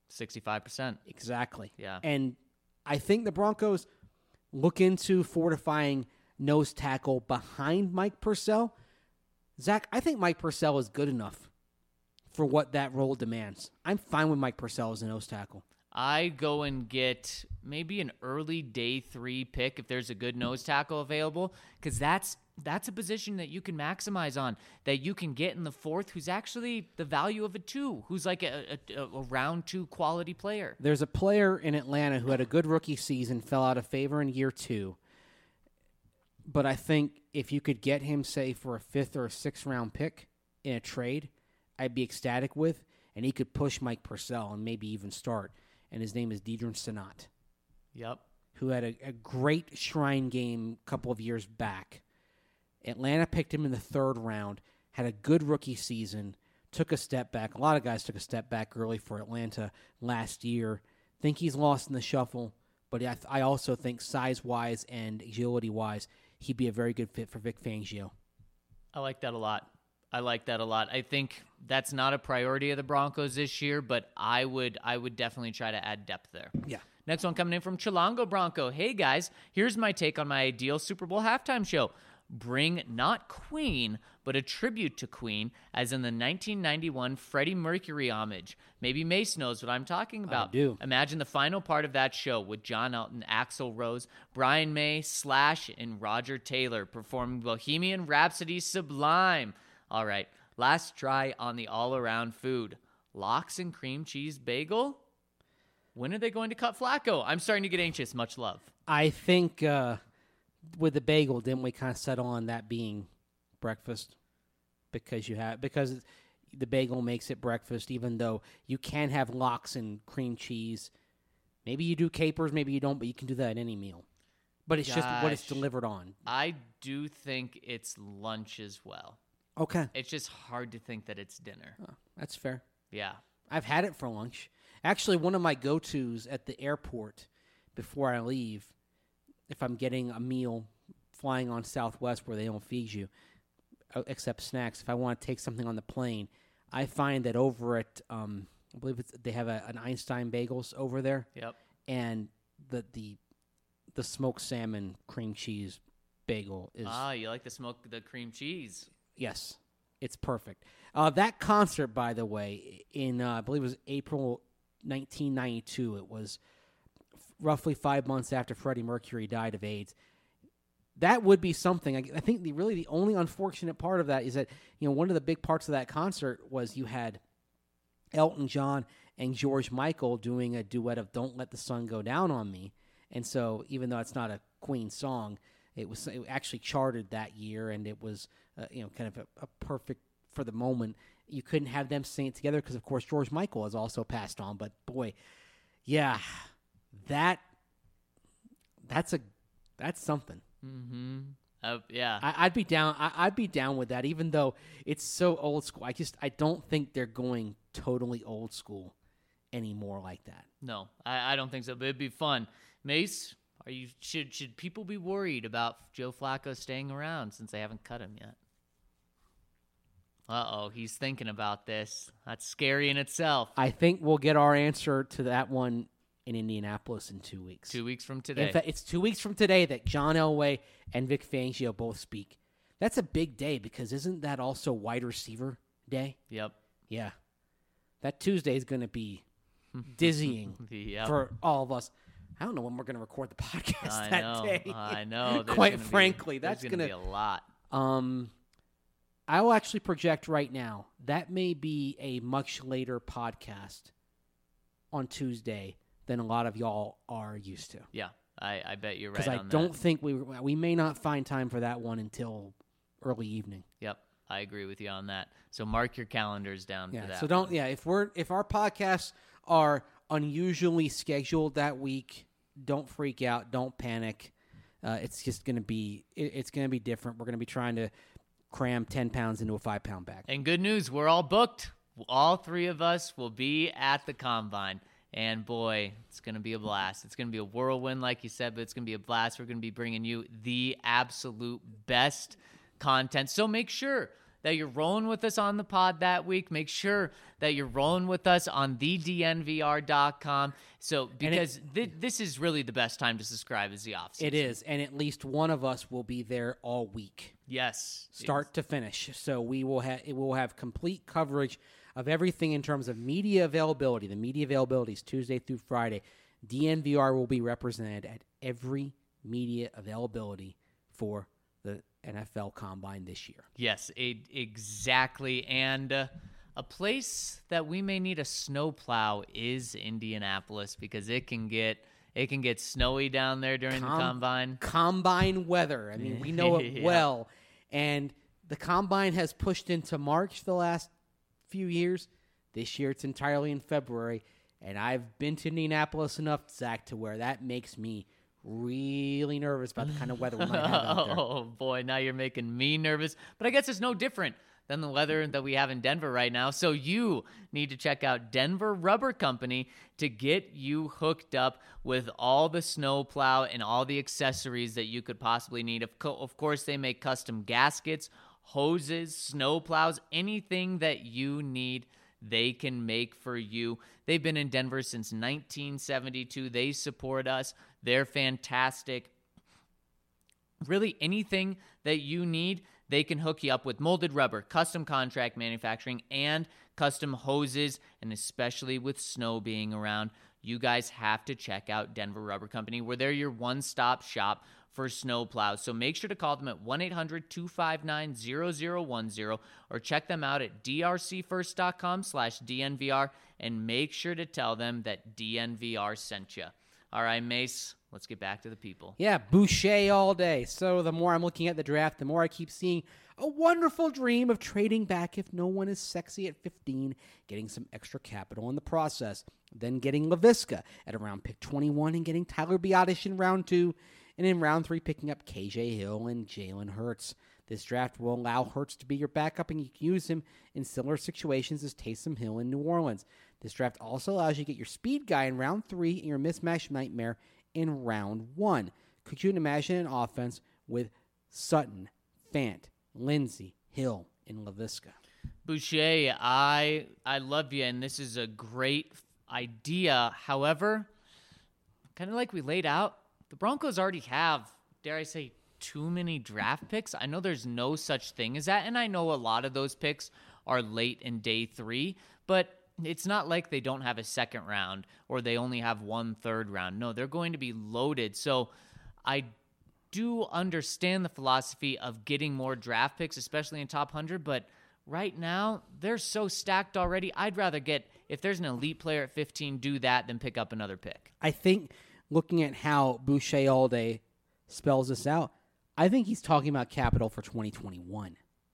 sixty-five percent. Exactly. Yeah. And I think the Broncos look into fortifying nose tackle behind Mike Purcell. Zach, I think Mike Purcell is good enough for what that role demands. I'm fine with Mike Purcell as a nose tackle. I go and get maybe an early day three pick if there's a good nose tackle available, because that's that's a position that you can maximize on, that you can get in the fourth, who's actually the value of a two, who's like a, a, a round two quality player. There's a player in Atlanta who had a good rookie season, fell out of favor in year two. But I think if you could get him, say, for a fifth or a sixth round pick in a trade, I'd be ecstatic with, and he could push Mike Purcell and maybe even start. And his name is Deidrin Senat. Yep. Who had a, a great Shrine game a couple of years back. Atlanta picked him in the third round, had a good rookie season, took a step back. A lot of guys took a step back early for Atlanta last year. Think he's lost in the shuffle, but I, I also think size-wise and agility-wise, he'd be a very good fit for Vic Fangio. I like that a lot. I like that a lot. I think that's not a priority of the Broncos this year, but I would I would definitely try to add depth there. Yeah. Next one coming in from Chilango Bronco. Hey, guys, here's my take on my ideal Super Bowl halftime show. Bring not Queen, but a tribute to Queen, as in the nineteen ninety-one Freddie Mercury homage. Maybe Mace knows what I'm talking about. I do. Imagine the final part of that show with John Elton, Axl Rose, Brian May, Slash, and Roger Taylor performing Bohemian Rhapsody Sublime. All right, last try on the all-around food. Lox and cream cheese bagel? When are they going to cut Flacco? I'm starting to get anxious. Much love. I think uh, with the bagel, didn't we kind of settle on that being breakfast? Because you have because the bagel makes it breakfast, even though you can have lox and cream cheese. Maybe you do capers, maybe you don't, but you can do that at any meal. But it's just what it's Gosh. delivered on. I do think it's lunch as well. Okay. It's just hard to think that it's dinner. Oh, that's fair. Yeah. I've had it for lunch. Actually, one of my go-tos at the airport before I leave, if I'm getting a meal flying on Southwest where they don't feed you, uh, except snacks, if I want to take something on the plane, I find that over at, um, I believe it's, they have a, an Einstein Bagels over there. Yep. And the the the smoked salmon cream cheese bagel is... Ah, you like the smoke, the cream cheese. Yes, it's perfect. Uh, that concert, by the way, in uh, I believe it was April nineteen ninety-two. It was f- roughly five months after Freddie Mercury died of AIDS. That would be something. I, I think the really the only unfortunate part of that is that, you know, one of the big parts of that concert was you had Elton John and George Michael doing a duet of "Don't Let the Sun Go Down on Me," and so even though it's not a Queen song, it was it actually charted that year, and it was uh, you know kind of a, a perfect for the moment. You couldn't have them sing it together because, of course, George Michael has also passed on. But boy, yeah, that that's a that's something. Mm-hmm. Uh, yeah. I, I'd be down. I, I'd be down with that, even though it's so old school. I just I don't think they're going totally old school anymore like that. No, I, I don't think so, but it'd be fun. Mace, are you should should people be worried about Joe Flacco staying around since they haven't cut him yet? Uh-oh, he's thinking about this. That's scary in itself. I think we'll get our answer to that one in Indianapolis in two weeks. Two weeks from today. In fact, it's two weeks from today that John Elway and Vic Fangio both speak. That's a big day because isn't that also wide receiver day? Yep. Yeah. That Tuesday is going to be dizzying Yep. for all of us. I don't know when we're going to record the podcast I that know. day. I know. There's Quite gonna be- frankly, there's that's gonna going be a lot. Um, I will actually project right now that may be a much later podcast on Tuesday than a lot of y'all are used to. Yeah, I, I bet you're right Because I on don't that. think we we may not find time for that one until early evening. Yep, I agree with you on that. So mark your calendars down Yeah. for that. So don't one. yeah if we're if our podcasts are unusually scheduled that week, don't freak out. Don't panic. Uh, it's just gonna be it, it's gonna be different. We're gonna be trying to cram ten pounds into a five pound bag. And good news, we're all booked. All three of us will be at the Combine. And boy, it's going to be a blast. It's going to be a whirlwind, like you said, but it's going to be a blast. We're going to be bringing you the absolute best content. So make sure that you're rolling with us on the pod that week. Make sure that you're rolling with us on the D N V R dot com. So, because it, th- this is really the best time to subscribe is the offseason. It is, and at least one of us will be there all week. Yes. Start to finish. So we will have it will have complete coverage of everything in terms of media availability. The media availability is Tuesday through Friday. D N V R will be represented at every media availability for the N F L Combine this year. Yes, it, exactly. And uh, a place that we may need a snowplow is Indianapolis, because it can get it can get snowy down there during Com- the Combine. Combine weather. I mean, we know it Yeah. well. And the Combine has pushed into March the last few years. This year it's entirely in February. And I've been to Indianapolis enough, Zach, to where that makes me really nervous about the kind of weather we might have out there. Oh, boy, now you're making me nervous. But I guess it's no different than the weather that we have in Denver right now. So you need to check out Denver Rubber Company to get you hooked up with all the snowplow and all the accessories that you could possibly need. Of, co- of course, they make custom gaskets, hoses, snowplows, anything that you need, they can make for you. They've been in Denver since nineteen seventy-two. They support us. They're fantastic. Really, anything that you need, they can hook you up with molded rubber, custom contract manufacturing, and custom hoses, and especially with snow being around, you guys have to check out Denver Rubber Company, where they're your one-stop shop for snow plows. So make sure to call them at one eight hundred two five nine zero zero one zero or check them out at drcfirst.com slash DNVR and make sure to tell them that D N V R sent you. All right, Mace, let's get back to the people. Yeah, Boucher all day. So the more I'm looking at the draft, the more I keep seeing a wonderful dream of trading back if no one is sexy at fifteen, getting some extra capital in the process, then getting LaVisca at around pick twenty-one and getting Tyler Biadasz in round two, and in round three picking up K J Hill and Jalen Hurts. This draft will allow Hurts to be your backup, and you can use him in similar situations as Taysom Hill in New Orleans. This draft also allows you to get your speed guy in round three and your mismatch nightmare in round one. Could you imagine an offense with Sutton, Fant, Lindsey, Hill, and LaVisca? Boucher, I I love you, and this is a great idea. However, kind of like we laid out, the Broncos already have, dare I say, too many draft picks. I know there's no such thing as that, and I know a lot of those picks are late in day three, but it's not like they don't have a second round or they only have one third round. No, they're going to be loaded. So I do understand the philosophy of getting more draft picks, especially in top one hundred, but right now they're so stacked already. I'd rather get, if there's an elite player at fifteen, do that than pick up another pick. I think looking at how Boucher all day spells this out, I think he's talking about capital for twenty twenty-one.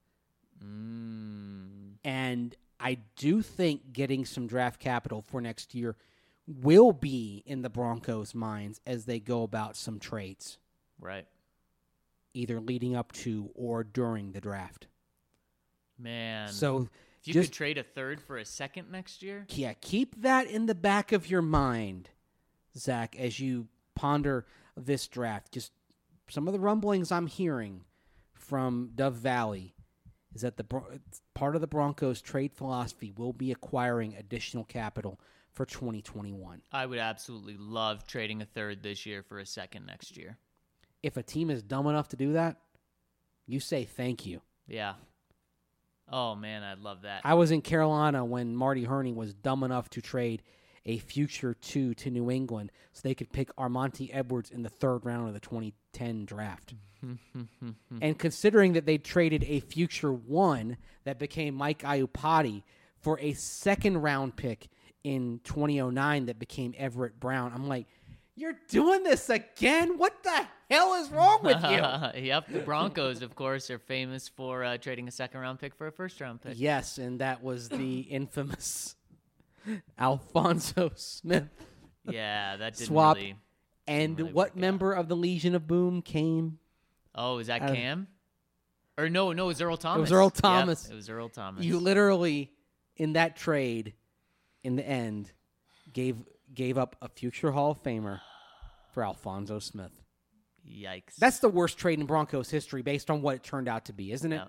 Mm. And I do think getting some draft capital for next year will be in the Broncos' minds as they go about some trades. Right. Either leading up to or during the draft. Man. So if you just, could trade a third for a second next year? Yeah, keep that in the back of your mind, Zach, as you ponder this draft. Just some of the rumblings I'm hearing from Dove Valley is that the part of the Broncos' trade philosophy will be acquiring additional capital for twenty twenty-one. I would absolutely love trading a third this year for a second next year. If a team is dumb enough to do that, you say thank you. Yeah. Oh, man, I'd love that. I was in Carolina when Marty Herney was dumb enough to trade a future two to New England so they could pick Armonte Edwards in the third round of the twenty ten draft. And considering that they traded a future one that became Mike Iupati for a second round pick in twenty oh nine that became Everett Brown, I'm like, you're doing this again? What the hell is wrong with you? Yep, the Broncos, of course, are famous for uh, trading a second-round pick for a first-round pick. Yes, and that was the infamous Alfonso Smith Yeah, that didn't swap. really... And really what work member of the Legion of Boom came? Oh, is that Uh, Cam? Or no, no, it was Earl Thomas. was Earl Yep, Thomas. it was Earl Thomas. You literally, in that trade, in the end, gave gave up a future Hall of Famer for Alfonso Smith. Yikes. That's the worst trade in Broncos history based on what it turned out to be, isn't it? Yeah.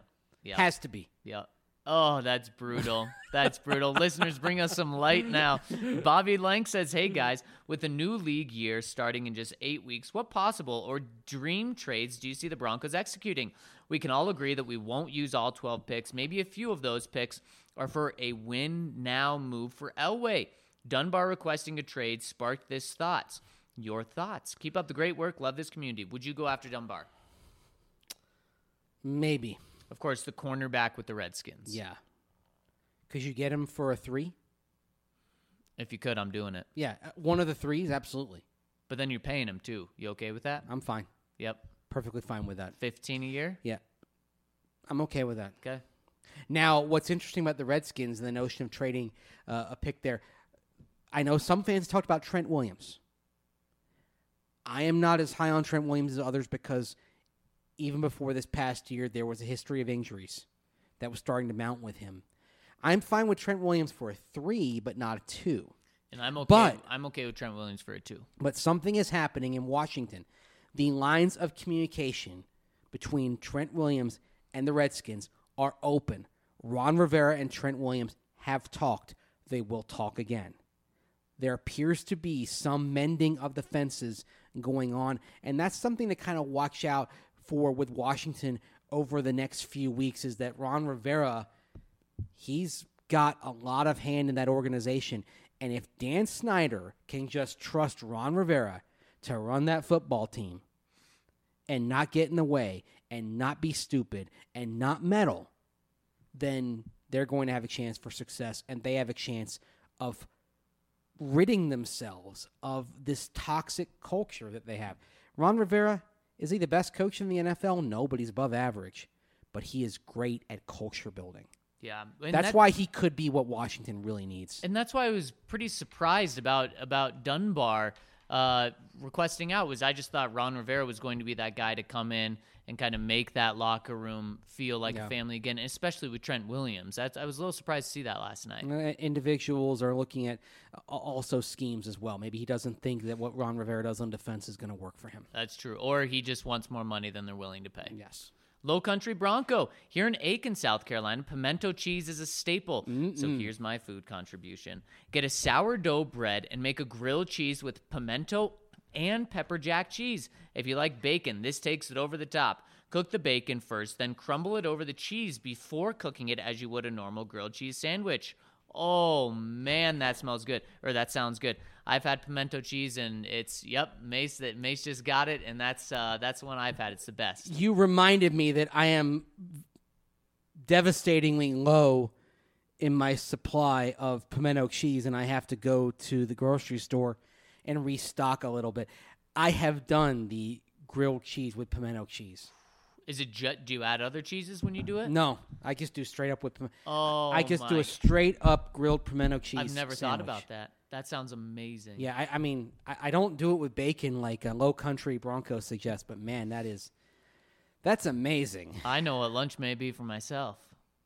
Yeah. Has to be. Yeah. Oh, that's brutal. That's brutal. Listeners, bring us some light now. Bobby Lang says, hey, guys, with the new league year starting in just eight weeks, what possible or dream trades do you see the Broncos executing? We can all agree that we won't use all twelve picks. Maybe a few of those picks are for a win-now move for Elway. Dunbar requesting a trade sparked this thoughts. Your thoughts. Keep up the great work. Love this community. Would you go after Dunbar? Maybe. Of course, the cornerback with the Redskins. Yeah. Could you get him for a three? If you could, I'm doing it. Yeah, uh, one of the threes, absolutely. But then you're paying him, too. You okay with that? I'm fine. Yep. Perfectly fine with that. fifteen a year? Yeah. I'm okay with that. Okay. Now, what's interesting about the Redskins and the notion of trading uh, a pick there, I know some fans talked about Trent Williams. I am not as high on Trent Williams as others because even before this past year, there was a history of injuries that was starting to mount with him. I'm fine with Trent Williams for a three, but not a two. And I'm okay. But- I'm okay with Trent Williams for a two. But something is happening in Washington. The lines of communication between Trent Williams and the Redskins are open. Ron Rivera and Trent Williams have talked. They will talk again. There appears to be some mending of the fences going on, and that's something to kind of watch out for with Washington over the next few weeks, is that Ron Rivera, he's got a lot of hand in that organization. And if Dan Snyder can just trust Ron Rivera to run that football team and not get in the way and not be stupid and not meddle, then they're going to have a chance for success, and they have a chance of ridding themselves of this toxic culture that they have. Ron Rivera, is he the best coach in the N F L? No, but he's above average. But he is great at culture building. Yeah. And That's that- why he could be what Washington really needs. And that's why I was pretty surprised about about Dunbar uh, requesting out. Was I just thought Ron Rivera was going to be that guy to come in and kind of make that locker room feel like Yeah. a family again, especially with Trent Williams. That's, I was a little surprised to see that last night. Uh, Individuals are looking at uh, also schemes as well. Maybe he doesn't think that what Ron Rivera does on defense is going to work for him. That's true. Or he just wants more money than they're willing to pay. Yes. Low Country Bronco. Here in Aiken, South Carolina, pimento cheese is a staple. So here's my food contribution. Get a sourdough bread and make a grilled cheese with pimento and pepper jack cheese. If you like bacon, this takes it over the top. Cook the bacon first, then crumble it over the cheese before cooking it as you would a normal grilled cheese sandwich. Oh, man, that smells good. Or that sounds good. I've had pimento cheese, and it's, yep, Mace that Mace just got it, and that's uh, that's the one I've had. It's the best. You reminded me that I am devastatingly low in my supply of pimento cheese, and I have to go to the grocery store and restock a little bit. I have done the grilled cheese with pimento cheese. Is it ju- do you add other cheeses when you do it? No, I just do straight up with pim- Oh, I just do my- a straight up grilled pimento cheese I've never thought sandwich. about that. That sounds amazing. Yeah, I, I mean, I, I don't do it with bacon like a Low Country Bronco suggests, but man, that is, that's amazing. I know what lunch may be for myself.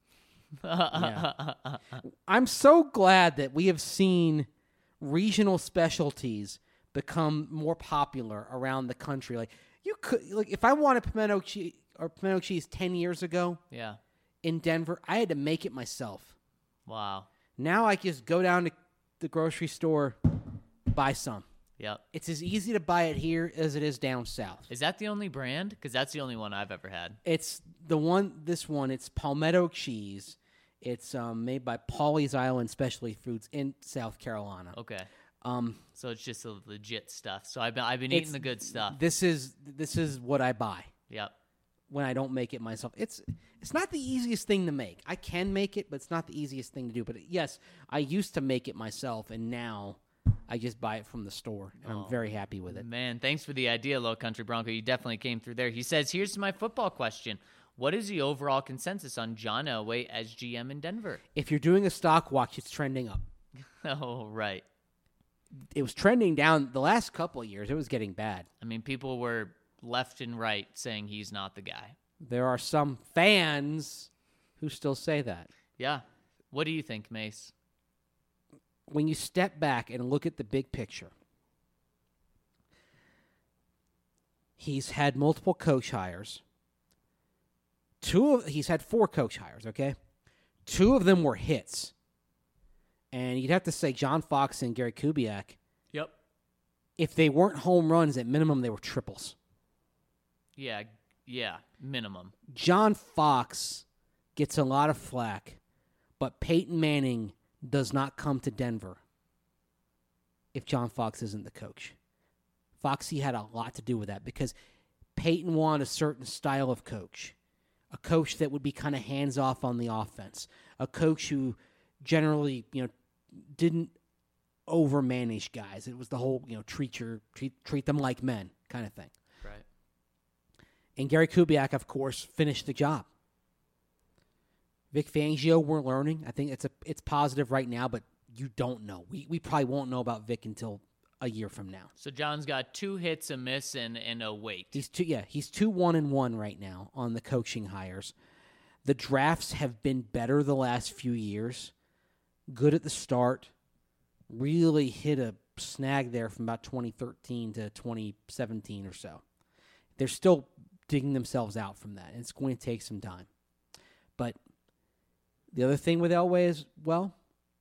Yeah. I'm so glad that we have seen regional specialties become more popular around the country. Like you could, like if I wanted pimento cheese or pimento cheese ten years ago Yeah. in Denver, I had to make it myself. Wow. Now I just go down to the grocery store, buy some. Yep. It's as easy to buy it here as it is down south. Is that the only brand? Because that's the only one I've ever had. It's the one, this one, it's Palmetto cheese. It's um, made by Pawleys Island Specialty Foods in South Carolina. Okay. Um, So it's just the legit stuff. So I've been I've been it's- eating the good stuff. This is this is what I buy Yep. when I don't make it myself. It's it's not the easiest thing to make. I can make it, but it's not the easiest thing to do. But yes, I used to make it myself, and now I just buy it from the store, and I'm very happy with it. Man, thanks for the idea, Low Country Bronco. You definitely came through there. He says, here's my football question. What is the overall consensus on John Elway as G M in Denver? If you're doing a stock watch, it's trending up. Oh, right. It was trending down the last couple of years. It was getting bad. I mean, people were left and right saying he's not the guy. There are some fans who still say that. Yeah. What do you think, Mace? When you step back and look at the big picture, he's had multiple coach hires. two of he's had four coach hires, okay? Two of them were hits. And you'd have to say John Fox and Gary Kubiak, Yep. if they weren't home runs, at minimum they were triples. Yeah, yeah, minimum. John Fox gets a lot of flack, but Peyton Manning does not come to Denver if John Fox isn't the coach. Foxy had a lot to do with that because Peyton wanted a certain style of coach, a coach that would be kind of hands-off on the offense, a coach who generally, you know, didn't overmanage guys. It was the whole, you know, treat your treat treat them like men kind of thing. Right. And Gary Kubiak, of course, finished the job. Vic Fangio, we're learning. I think it's a it's positive right now, but you don't know. We we probably won't know about Vic until a year from now. So John's got two hits, a miss, and, and a wait. He's two yeah, he's two one and one right now on the coaching hires. The drafts have been better the last few years. Good at the start. Really hit a snag there from about twenty thirteen to twenty seventeen or so. They're still digging themselves out from that, and it's going to take some time. But the other thing with Elway is, well,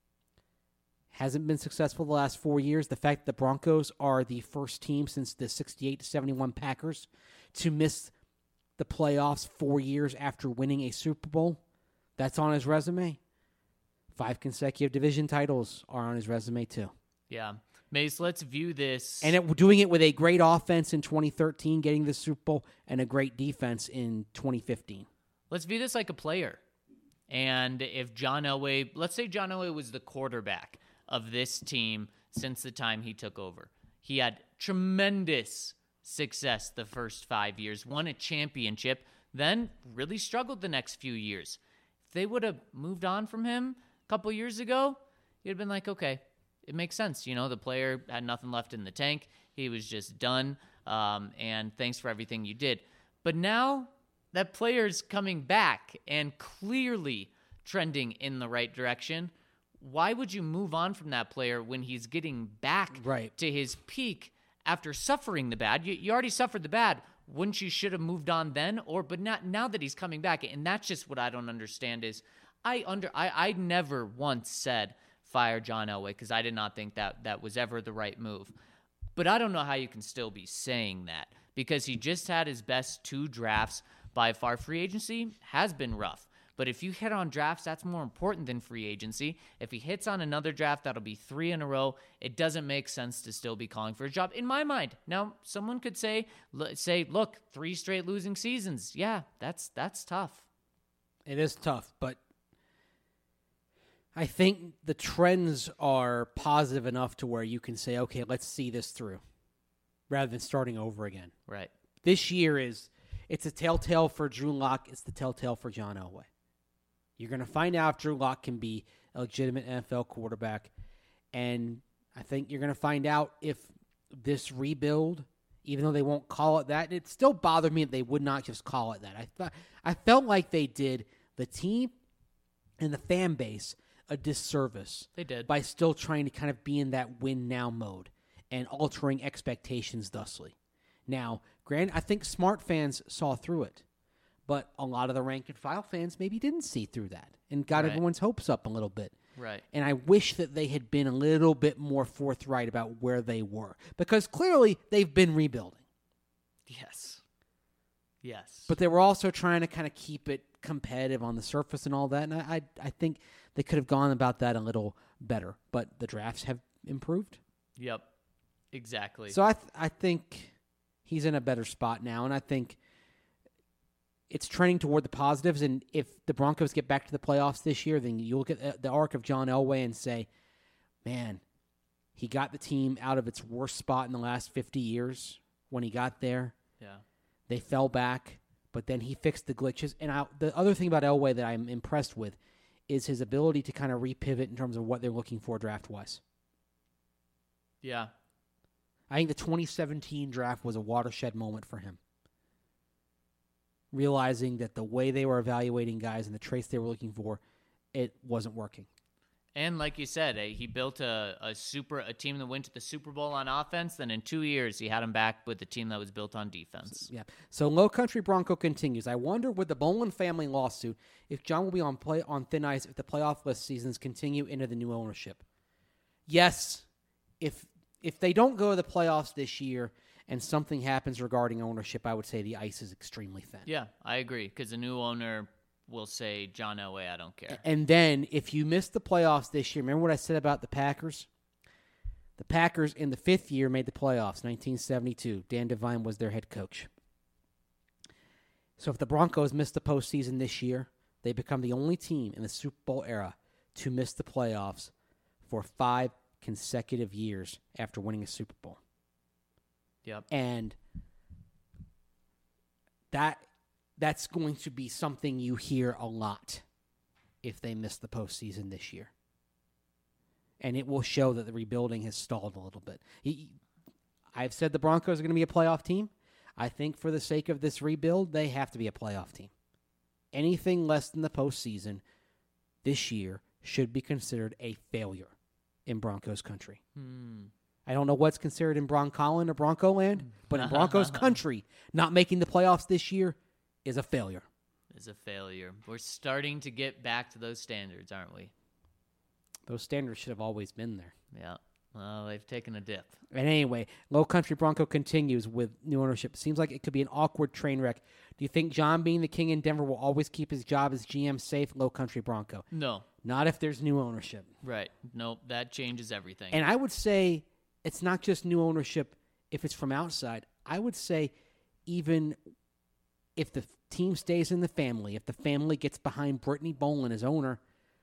hasn't been successful the last four years. The fact that the Broncos are the first team since the sixty-eight to seventy-one Packers to miss the playoffs four years after winning a Super Bowl, that's on his resume. Five consecutive division titles are on his resume too. Yeah. Mace, let's view this. And it, doing it with a great offense in twenty thirteen, getting the Super Bowl, and a great defense in twenty fifteen. Let's view this like a player. And if John Elway, let's say John Elway was the quarterback of this team since the time he took over. He had tremendous success the first five years, won a championship, then really struggled the next few years. If they would have moved on from him a couple years ago, you'd have been like, okay, it makes sense. You know, the player had nothing left in the tank. He was just done. Um, and thanks for everything you did. But now that player's coming back and clearly trending in the right direction. Why would you move on from that player when he's getting back right. to his peak after suffering the bad? You, you already suffered the bad. Wouldn't you should have moved on then? Or but not now that he's coming back, and that's just what I don't understand is I under I, I never once said fire John Elway because I did not think that that was ever the right move. But I don't know how you can still be saying that because he just had his best two drafts. By far, free agency has been rough. But if you hit on drafts, that's more important than free agency. If he hits on another draft, that'll be three in a row. It doesn't make sense to still be calling for a job, in my mind. Now, someone could say, say, look, three straight losing seasons. Yeah, that's that's tough. It is tough, but I think the trends are positive enough to where you can say, okay, let's see this through, rather than starting over again. Right. This year is, it's a telltale for Drew Lock. It's the telltale for John Elway. You're going to find out if Drew Lock can be a legitimate N F L quarterback, and I think you're going to find out if this rebuild, even though they won't call it that, it still bothered me that they would not just call it that. I thought I felt like they did the team and the fan base a disservice. They did. By still trying to kind of be in that win now mode and altering expectations thusly. Now, granted, I think smart fans saw through it, but a lot of the rank and file fans maybe didn't see through that and got Right. everyone's hopes up a little bit. Right. And I wish that they had been a little bit more forthright about where they were, because clearly they've been rebuilding. Yes. Yes. But they were also trying to kind of keep it competitive on the surface and all that, and I, I, I think they could have gone about that a little better. But the drafts have improved. Yep. Exactly. So I, th- I think he's in a better spot now, and I think it's trending toward the positives. And if the Broncos get back to the playoffs this year, then you look at the arc of John Elway and say, man, he got the team out of its worst spot in the last fifty years when he got there. Yeah. They fell back, but then he fixed the glitches. And I, the other thing about Elway that I'm impressed with is his ability to kind of repivot in terms of what they're looking for draft-wise. Yeah. I think the twenty seventeen draft was a watershed moment for him. Realizing that the way they were evaluating guys and the traits they were looking for, it wasn't working. And like you said, eh, he built a, a super a team that went to the Super Bowl on offense. Then in two years, he had him back with a team that was built on defense. Yeah. So Low Country Bronco continues. I wonder with the Bolin family lawsuit if John will be on play on thin ice if the playoff list seasons continue into the new ownership. Yes, if if they don't go to the playoffs this year and something happens regarding ownership, I would say the ice is extremely thin. Yeah, I agree because the new owner will say, John Elway, I don't care. And then if you miss the playoffs this year, remember what I said about the Packers? The Packers in the fifth year made the playoffs, nineteen seventy-two. Dan Devine was their head coach. So if the Broncos miss the postseason this year, they become the only team in the Super Bowl era to miss the playoffs for five consecutive years after winning a Super Bowl. Yep. And that that's going to be something you hear a lot if they miss the postseason this year. And it will show that the rebuilding has stalled a little bit. He, I've said the Broncos are going to be a playoff team. I think for the sake of this rebuild, they have to be a playoff team. Anything less than the postseason this year should be considered a failure in Broncos country. Hmm. I don't know what's considered in Broncolin or Bronco land, but in Broncos country, not making the playoffs this year is a failure. Is a failure. We're starting to get back to those standards, aren't we? Those standards should have always been there. Yeah. Well, they've taken a dip. And anyway, Low Country Bronco continues with new ownership. Seems like it could be an awkward train wreck. Do you think John, being the king in Denver, will always keep his job as G M safe? Low Country Bronco. No. Not if there's new ownership. Right. Nope. That changes everything. And I would say it's not just new ownership if it's from outside. I would say even if the team stays in the family, if the family gets behind Brittany Bolin as owner,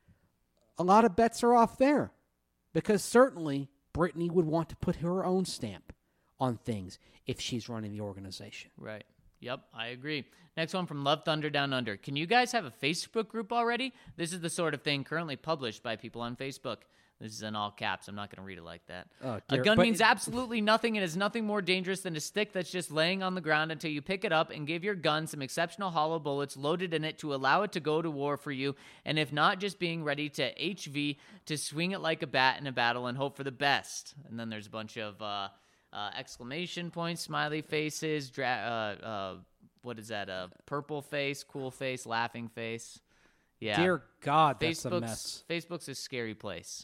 a lot of bets are off there. Because certainly Brittany would want to put her own stamp on things if she's running the organization. Right. Yep, I agree. Next one from Love Thunder Down Under. Can you guys have a Facebook group already? This is the sort of thing currently published by people on Facebook. This is in all caps. I'm not going to read it like that. Oh, a dear. gun But- means absolutely nothing and is nothing more dangerous than a stick that's just laying on the ground until you pick it up and give your gun some exceptional hollow bullets loaded in it to allow it to go to war for you, and if not, just being ready to H V to swing it like a bat in a battle and hope for the best. And then there's a bunch of uh, uh, exclamation points, smiley faces, dra- uh, uh, what is that, a purple face, cool face, laughing face. Yeah. Dear God, that's a Facebook's, mess. Facebook's a scary place.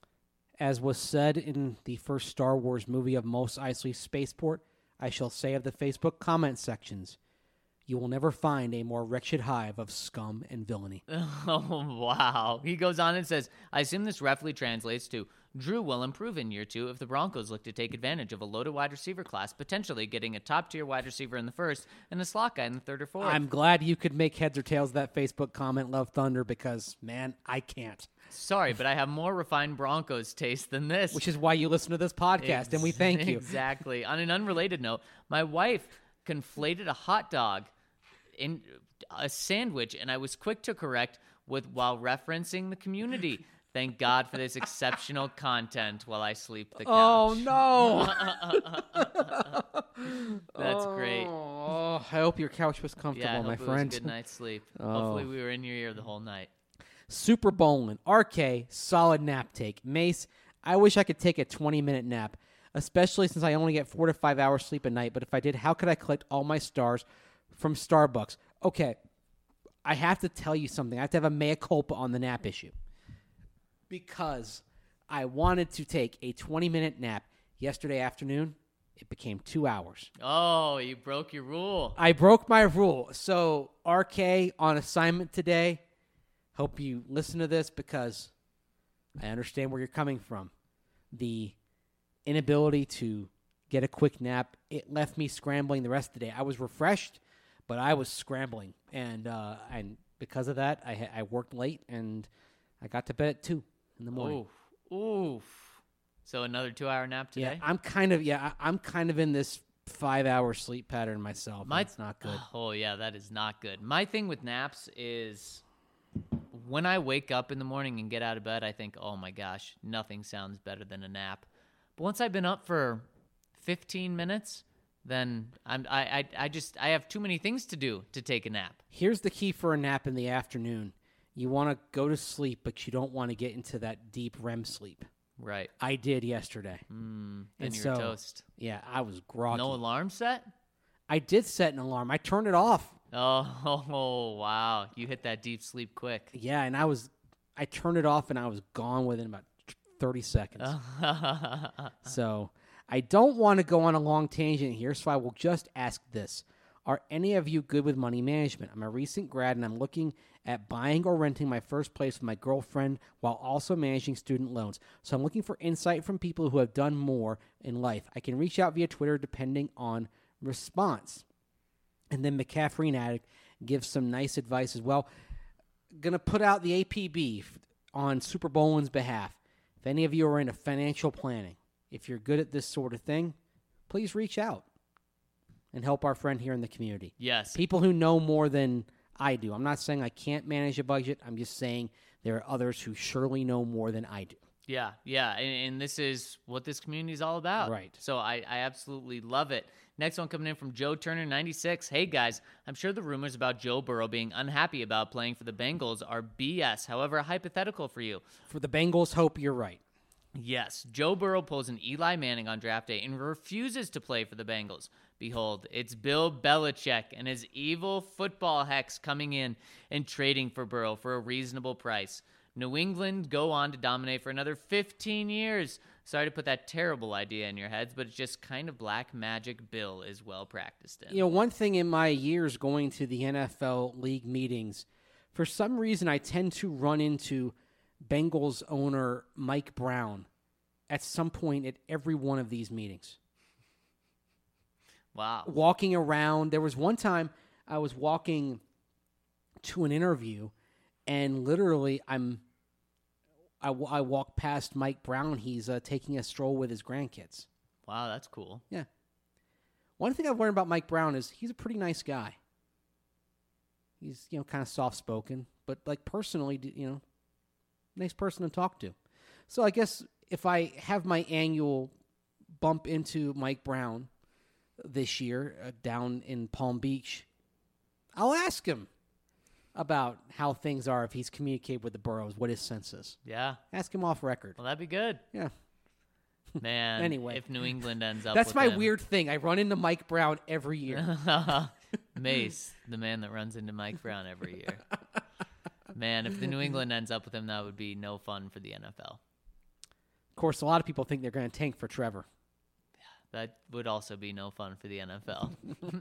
As was said in the first Star Wars movie of Mos Eisley Spaceport, I shall say of the Facebook comment sections, you will never find a more wretched hive of scum and villainy. Oh, wow. He goes on and says, I assume this roughly translates to, Drew will improve in year two if the Broncos look to take advantage of a loaded wide receiver class, potentially getting a top-tier wide receiver in the first and a slot guy in the third or fourth. I'm glad you could make heads or tails of that Facebook comment, Love Thunder, because, man, I can't. Sorry, but I have more refined Broncos taste than this. Which is why you listen to this podcast, and we thank you. Exactly. On an unrelated note, my wife conflated a hot dog in a sandwich, and I was quick to correct with while referencing the Community. Thank God for this exceptional content while I sleep the couch. Oh, no. That's great. Oh, I hope your couch was comfortable, Yeah, I hope my it friend. was a good night's sleep. Oh. Hopefully we were in your ear the whole night. Super Bowling, R K, solid nap take. Mace, I wish I could take a twenty-minute nap, especially since I only get four to five hours sleep a night. But if I did, how could I collect all my stars from Starbucks? Okay, I have to tell you something. I have to have a mea culpa on the nap issue. Because I wanted to take a twenty-minute nap yesterday afternoon. It became two hours. Oh, you broke your rule. I broke my rule. So, R K on assignment today. Hope you listen to this because I understand where you're coming from. The inability to get a quick nap, it left me scrambling the rest of the day. I was refreshed, but I was scrambling. And uh, and because of that, I, I worked late, and I got to bed at two in the morning. Oof. Oof. So another two-hour nap today? Yeah, I'm kind of yeah, I, I'm kind of in this five-hour sleep pattern myself. My, It's not good. Oh, yeah, that is not good. My thing with naps is when I wake up in the morning and get out of bed, I think, oh, my gosh, nothing sounds better than a nap. But once I've been up for fifteen minutes, then I'm, I, I, I just I have too many things to do to take a nap. Here's the key for a nap in the afternoon. You want to go to sleep, but you don't want to get into that deep R E M sleep. Right. I did yesterday. Mm, and and you're so, toast. Yeah, I was groggy. No alarm set? I did set an alarm. I turned it off. Oh, wow. You hit that deep sleep quick. Yeah, and I was, I turned it off and I was gone within about thirty seconds. So I don't want to go on a long tangent here, so I will just ask this. Are any of you good with money management? I'm a recent grad and I'm looking at buying or renting my first place with my girlfriend while also managing student loans. So I'm looking for insight from people who have done more in life. I can reach out via Twitter depending on response. And then McCaffrey Addict gives some nice advice as well. Going to put out the A P B on Super Bowlin's behalf. If any of you are into financial planning, if you're good at this sort of thing, please reach out and help our friend here in the community. Yes. People who know more than I do. I'm not saying I can't manage a budget. I'm just saying there are others who surely know more than I do. Yeah, yeah, and, and this is what this community is all about. Right. So I, I absolutely love it. Next one coming in from Joe Turner, ninety-six. Hey, guys, I'm sure the rumors about Joe Burrow being unhappy about playing for the Bengals are B S. However, hypothetical for you. For the Bengals, hope you're right. Yes, Joe Burrow pulls an Eli Manning on draft day and refuses to play for the Bengals. Behold, it's Bill Belichick and his evil football hex coming in and trading for Burrow for a reasonable price. New England go on to dominate for another fifteen years. Sorry to put that terrible idea in your heads, but it's just kind of black magic Bill is well practiced in. You know, one thing in my years going to the N F L league meetings, for some reason I tend to run into Bengals owner Mike Brown at some point at every one of these meetings. Wow. Walking around. There was one time I was walking to an interview, and literally I'm I, I walk past Mike Brown. He's uh, taking a stroll with his grandkids. Wow, that's cool. Yeah. One thing I've learned about Mike Brown is he's a pretty nice guy. He's, you know, kind of soft-spoken, but, like, personally, you know, nice person to talk to. So I guess if I have my annual bump into Mike Brown this year uh, down in Palm Beach, I'll ask him about how things are if he's communicated with the Burrows, what his sense is. Yeah. Ask him off record. Well, that'd be good. Yeah. Man, Anyway. if New England ends up That's with my him. weird thing. I run into Mike Brown every year. Mace, the man that runs into Mike Brown every year. Man, if the New England ends up with him, that would be no fun for the N F L. Of course, a lot of people think they're going to tank for Trevor. That would also be no fun for the N F L.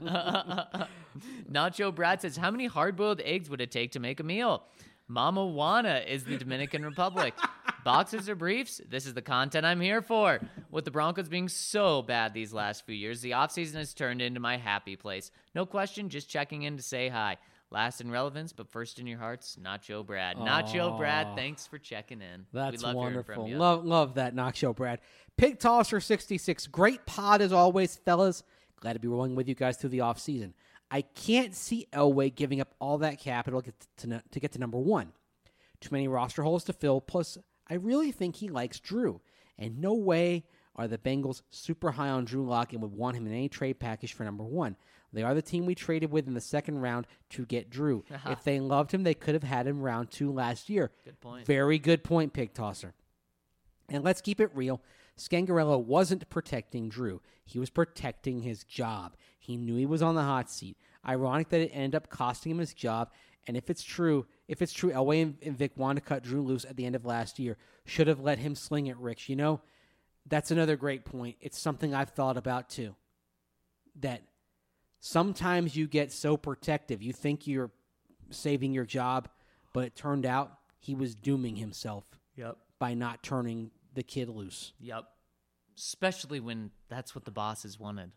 Nacho Brad says, how many hard-boiled eggs would it take to make a meal? Mama Juana is the Dominican Republic. Boxers or briefs? This is the content I'm here for. With the Broncos being so bad these last few years, the offseason has turned into my happy place. No question, just checking in to say hi. Last in relevance, but first in your hearts, Nacho Brad. Nacho Aw. Brad, thanks for checking in. That's we love hearing from wonderful. you. Love, love that Nacho Brad. Pig Tosser sixty-six. Great pod as always, fellas. Glad to be rolling with you guys through the offseason. I can't see Elway giving up all that capital to, to, to get to number one. Too many roster holes to fill. Plus, I really think he likes Drew. And no way are the Bengals super high on Drew Lock and would want him in any trade package for number one. They are the team we traded with in the second round to get Drew. Uh-huh. If they loved him, they could have had him round two last year. Good point. Very good point, Pig Tosser. And let's keep it real. Scangarello wasn't protecting Drew. He was protecting his job. He knew he was on the hot seat. Ironic that it ended up costing him his job. And if it's true, if it's true, Elway and, and Vic wanted to cut Drew loose at the end of last year. Should have let him sling it, Rich. You know, that's another great point. It's something I've thought about too. That sometimes you get so protective. You think you're saving your job, but it turned out he was dooming himself Yep. by not turning the kid loose. Yep. Especially when that's what the bosses wanted.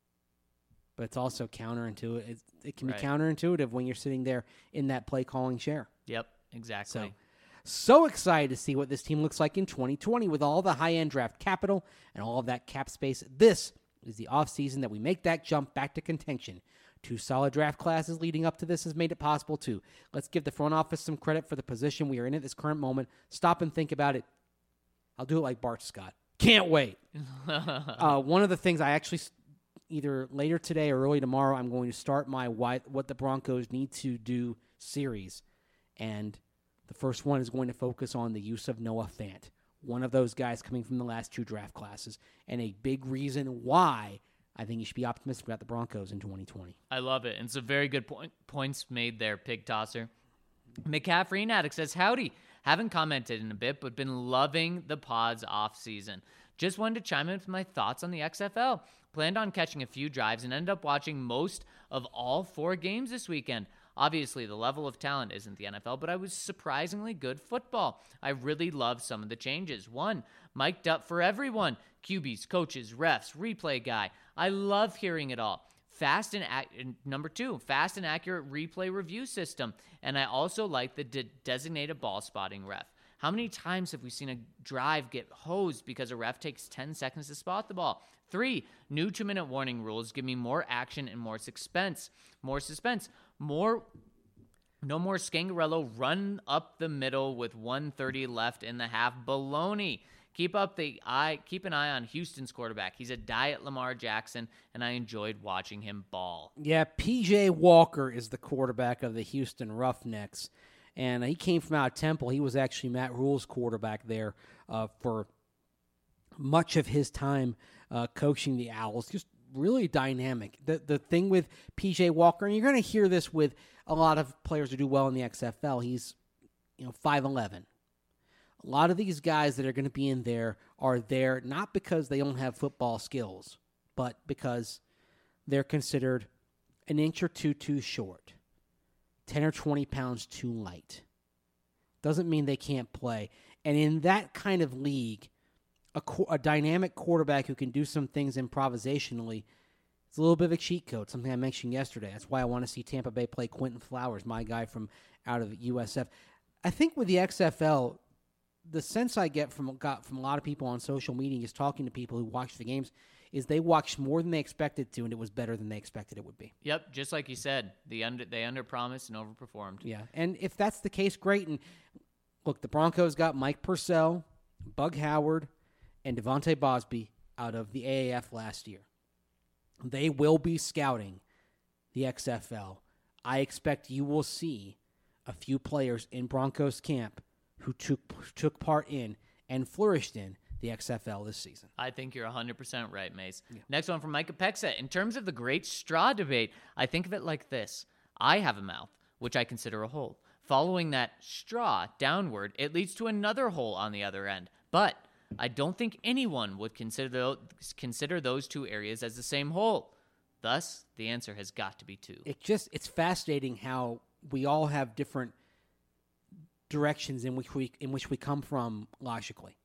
But it's also counterintuitive. It, it can Right. be counterintuitive when you're sitting there in that play calling chair. Yep, exactly. So, so excited to see what this team looks like in twenty twenty with all the high-end draft capital and all of that cap space. This is the offseason that we make that jump back to contention. Two solid draft classes leading up to this has made it possible too. Let's give the front office some credit for the position we are in at this current moment. Stop and think about it. I'll do it like Bart Scott. Can't wait. uh, one of the things I actually, either later today or early tomorrow, I'm going to start my why, What the Broncos Need to Do series. And The first one is going to focus on the use of Noah Fant, one of those guys coming from the last two draft classes, and a big reason why I think you should be optimistic about the Broncos in twenty twenty. I love it. And it's a very good point. Points made there, Pig Tosser. McCaffrey Addict says, howdy. Haven't commented in a bit, but been loving the pods off season. Just wanted to chime in with my thoughts on the X F L. Planned on catching a few drives and ended up watching most of all four games this weekend. Obviously, the level of talent isn't the N F L, but I was surprisingly good football. I really love some of the changes. One, mic'd up for everyone. Q Bs, coaches, refs, replay guy. I love hearing it all. Fast and, ac- number two, fast and accurate replay review system. And I also like the de- designated ball spotting ref. How many times have we seen a drive get hosed because a ref takes ten seconds to spot the ball? Three, new two-minute warning rules give me more action and more suspense. More suspense. More, no more Scangarello run up the middle with one thirty left in the half. Baloney. Keep up the eye. Keep an eye on Houston's quarterback. He's a diet Lamar Jackson, and I enjoyed watching him ball. Yeah, P J Walker is the quarterback of the Houston Roughnecks, and he came from out of Temple. He was actually Matt Rule's quarterback there uh, for much of his time uh, coaching the Owls. Just really dynamic. The the thing with P J Walker, and you're going to hear this with a lot of players who do well in the X F L. He's, you know, five eleven. A lot of these guys that are going to be in there are there not because they don't have football skills, but because they're considered an inch or two too short, ten or twenty pounds too light. Doesn't mean they can't play. And in that kind of league, a, a dynamic quarterback who can do some things improvisationally, it's a little bit of a cheat code, something I mentioned yesterday. That's why I want to see Tampa Bay play Quentin Flowers, my guy from out of U S F. I think with the X F L, the sense I get from got from a lot of people on social media, just talking to people who watch the games, is they watched more than they expected to, and it was better than they expected it would be. Yep, just like you said, the under they underpromised and overperformed. Yeah, and if that's the case, great. And look, the Broncos got Mike Purcell, Bug Howard, and Devontae Bosby out of the A A F last year. They will be scouting the X F L. I expect you will see a few players in Broncos camp who took took part in and flourished in the X F L this season. I think you're one hundred percent right, Mace. Yeah. Next one from Micah Pexa. In terms of the great straw debate, I think of it like this. I have a mouth, which I consider a hole. Following that straw downward, it leads to another hole on the other end. But I don't think anyone would consider consider those two areas as the same hole. Thus, the answer has got to be two. It just it's fascinating how we all have different directions in which we in which we come from logically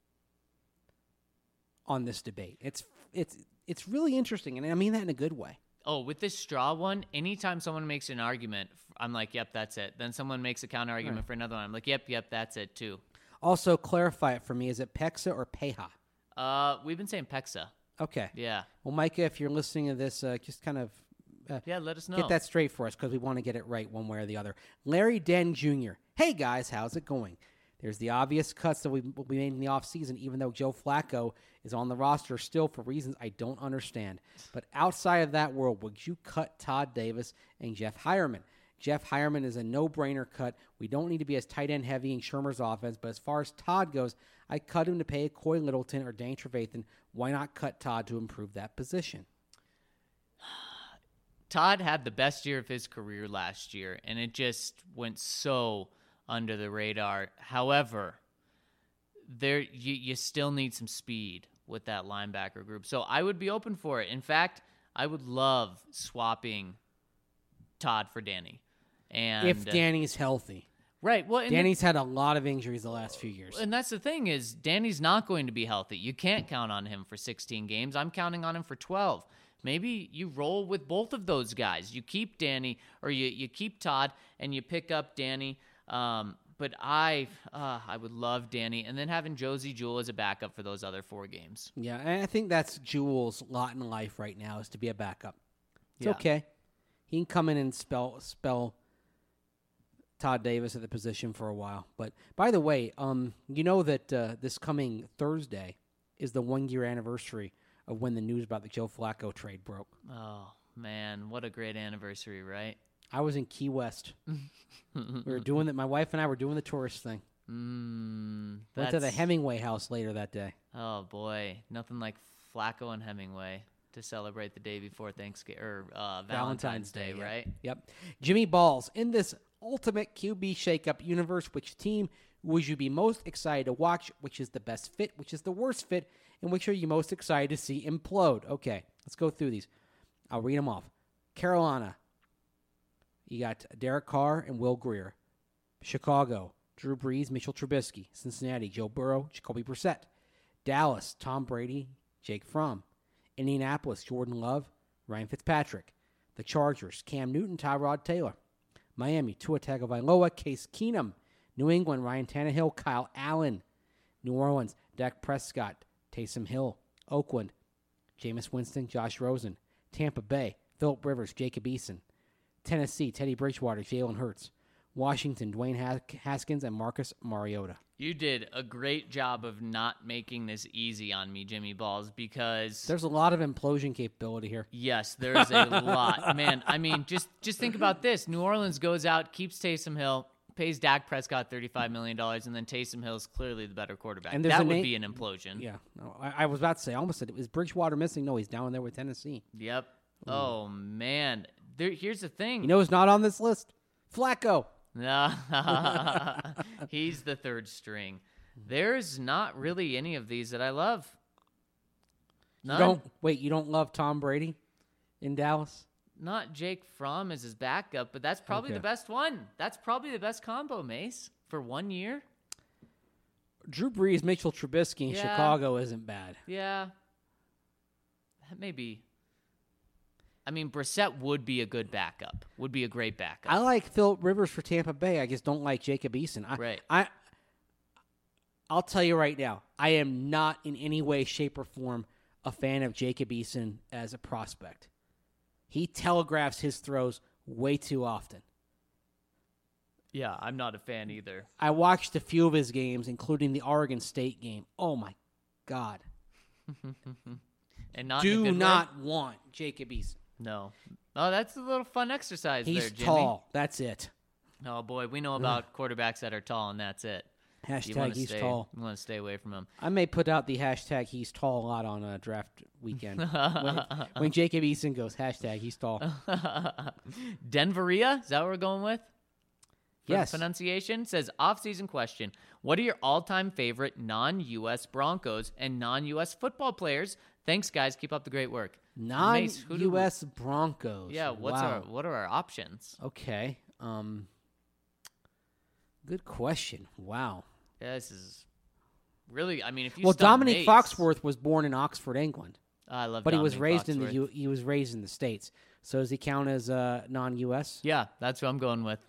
on this debate. It's it's it's really interesting, and I mean that in a good way. Oh, with this straw one, anytime someone makes an argument, I'm like, yep, that's it. Then someone makes a counter argument right. for another one. I'm like, yep, yep, that's it too. Also, clarify it for me. Is it Pexa or Peja? Uh, we've been saying Pexa. Okay. Yeah. Well, Micah, if you're listening to this, uh, just kind of uh, yeah, let us know. Get that straight for us because we want to get it right one way or the other. Larry Den Junior Hey, guys, how's it going? There's the obvious cuts that we we made in the offseason, even though Joe Flacco is on the roster still for reasons I don't understand. But outside of that world, would you cut Todd Davis and Jeff Hireman? Jeff Hireman is a no-brainer cut. We don't need to be as tight end heavy in Shermer's offense, but as far as Todd goes, I cut him to pay Coy Littleton or Dane Trevathan. Why not cut Todd to improve that position? Todd had the best year of his career last year, and it just went so under the radar. However, there you, you still need some speed with that linebacker group. So I would be open for it. In fact, I would love swapping Todd for Danny. And if Danny's healthy. Right. Well, Danny's the, had a lot of injuries the last few years. And that's the thing is Danny's not going to be healthy. You can't count on him for sixteen games. I'm counting on him for twelve. Maybe you roll with both of those guys. You keep Danny or you, you keep Todd and you pick up Danny. Um, but I uh, I would love Danny and then having Josie Jewell as a backup for those other four games. Yeah, and I think that's Jewell's lot in life right now is to be a backup. It's yeah. okay. He can come in and spell spell Todd Davis at the position for a while. But by the way, um, you know that uh, this coming Thursday is the one-year anniversary of when the news about the Joe Flacco trade broke. Oh, man, what a great anniversary, right? I was in Key West. we were doing that. My wife and I were doing the tourist thing. Mm, Went to the that's- Hemingway house later that day. Oh boy, nothing like Flacco and Hemingway to celebrate the day before Thanksgiving or uh, Valentine's, Valentine's Day, Day, yeah. right? Yep. Jimmy Balls, in this ultimate Q B shakeup universe, which team would you be most excited to watch? Which is the best fit? Which is the worst fit? And which are you most excited to see implode? Okay, let's go through these. I'll read them off. Carolina, you got Derek Carr and Will Grier. Chicago, Drew Brees, Mitchell Trubisky. Cincinnati, Joe Burrow, Jacoby Brissett. Dallas, Tom Brady, Jake Fromm. Indianapolis, Jordan Love, Ryan Fitzpatrick. The Chargers, Cam Newton, Tyrod Taylor. Miami, Tua Tagovailoa, Case Keenum. New England, Ryan Tannehill, Kyle Allen. New Orleans, Dak Prescott, Taysom Hill. Oakland, Jameis Winston, Josh Rosen. Tampa Bay, Phillip Rivers, Jacob Eason. Tennessee, Teddy Bridgewater, Jalen Hurts. Washington, Dwayne Haskins, and Marcus Mariota. You did a great job of not making this easy on me, Jimmy Balls, because There's a lot of implosion capability here. yes, there's a lot. Man, I mean, just just think about this. New Orleans goes out, keeps Taysom Hill, pays Dak Prescott thirty-five million dollars, and then Taysom Hill is clearly the better quarterback. And there's that a would name- be an implosion. Yeah, no, I, I was about to say, I almost said, is Bridgewater missing? No, he's down there with Tennessee. Yep. Oh, man. There, here's the thing. You know who's not on this list? Flacco. No, he's the third string. There's not really any of these that I love. You None. don't wait. You don't love Tom Brady in Dallas? Not Jake Fromm as his backup, but that's probably Okay. the best one. That's probably the best combo, Mace, for one year. Drew Brees, Mitchell Trubisky in Yeah. Chicago isn't bad. Yeah. That may be. I mean, Brissett would be a good backup. Would be a great backup. I like Phillip Rivers for Tampa Bay. I just don't like Jacob Eason. I, Right. I, I'll tell you right now, I am not in any way, shape, or form a fan of Jacob Eason as a prospect. He telegraphs his throws way too often. Yeah, I'm not a fan either. I watched a few of his games, including the Oregon State game. Oh, my God. And not in a Do good way? not want Jacob Eason. No. Oh, that's a little fun exercise He's there, Jimmy. tall. That's it. Oh boy, we know about quarterbacks that are tall, and that's it. You Hashtag wanna he's stay, tall. You want to stay away from him. I may put out the hashtag he's tall a lot on a draft weekend. when, when Jacob Eason goes, hashtag he's tall. Denveria, is that what we're going with? For Yes. the pronunciation says off-season question. What are your all-time favorite non-U S Broncos and non-U S football players? Thanks, guys. Keep up the great work. Mace, who do Non-U we- S Broncos. Yeah. What's wow. our what are our options? Okay. Um. Good question. Wow. Yeah, this is really. I mean, if you Well, stump Dominic Mace- Foxworth was born in Oxford, England, I love, but he was Dominic raised in the Foxworth. U- he was raised in the States. So does he count as uh, non-U S? Yeah, that's who I'm going with.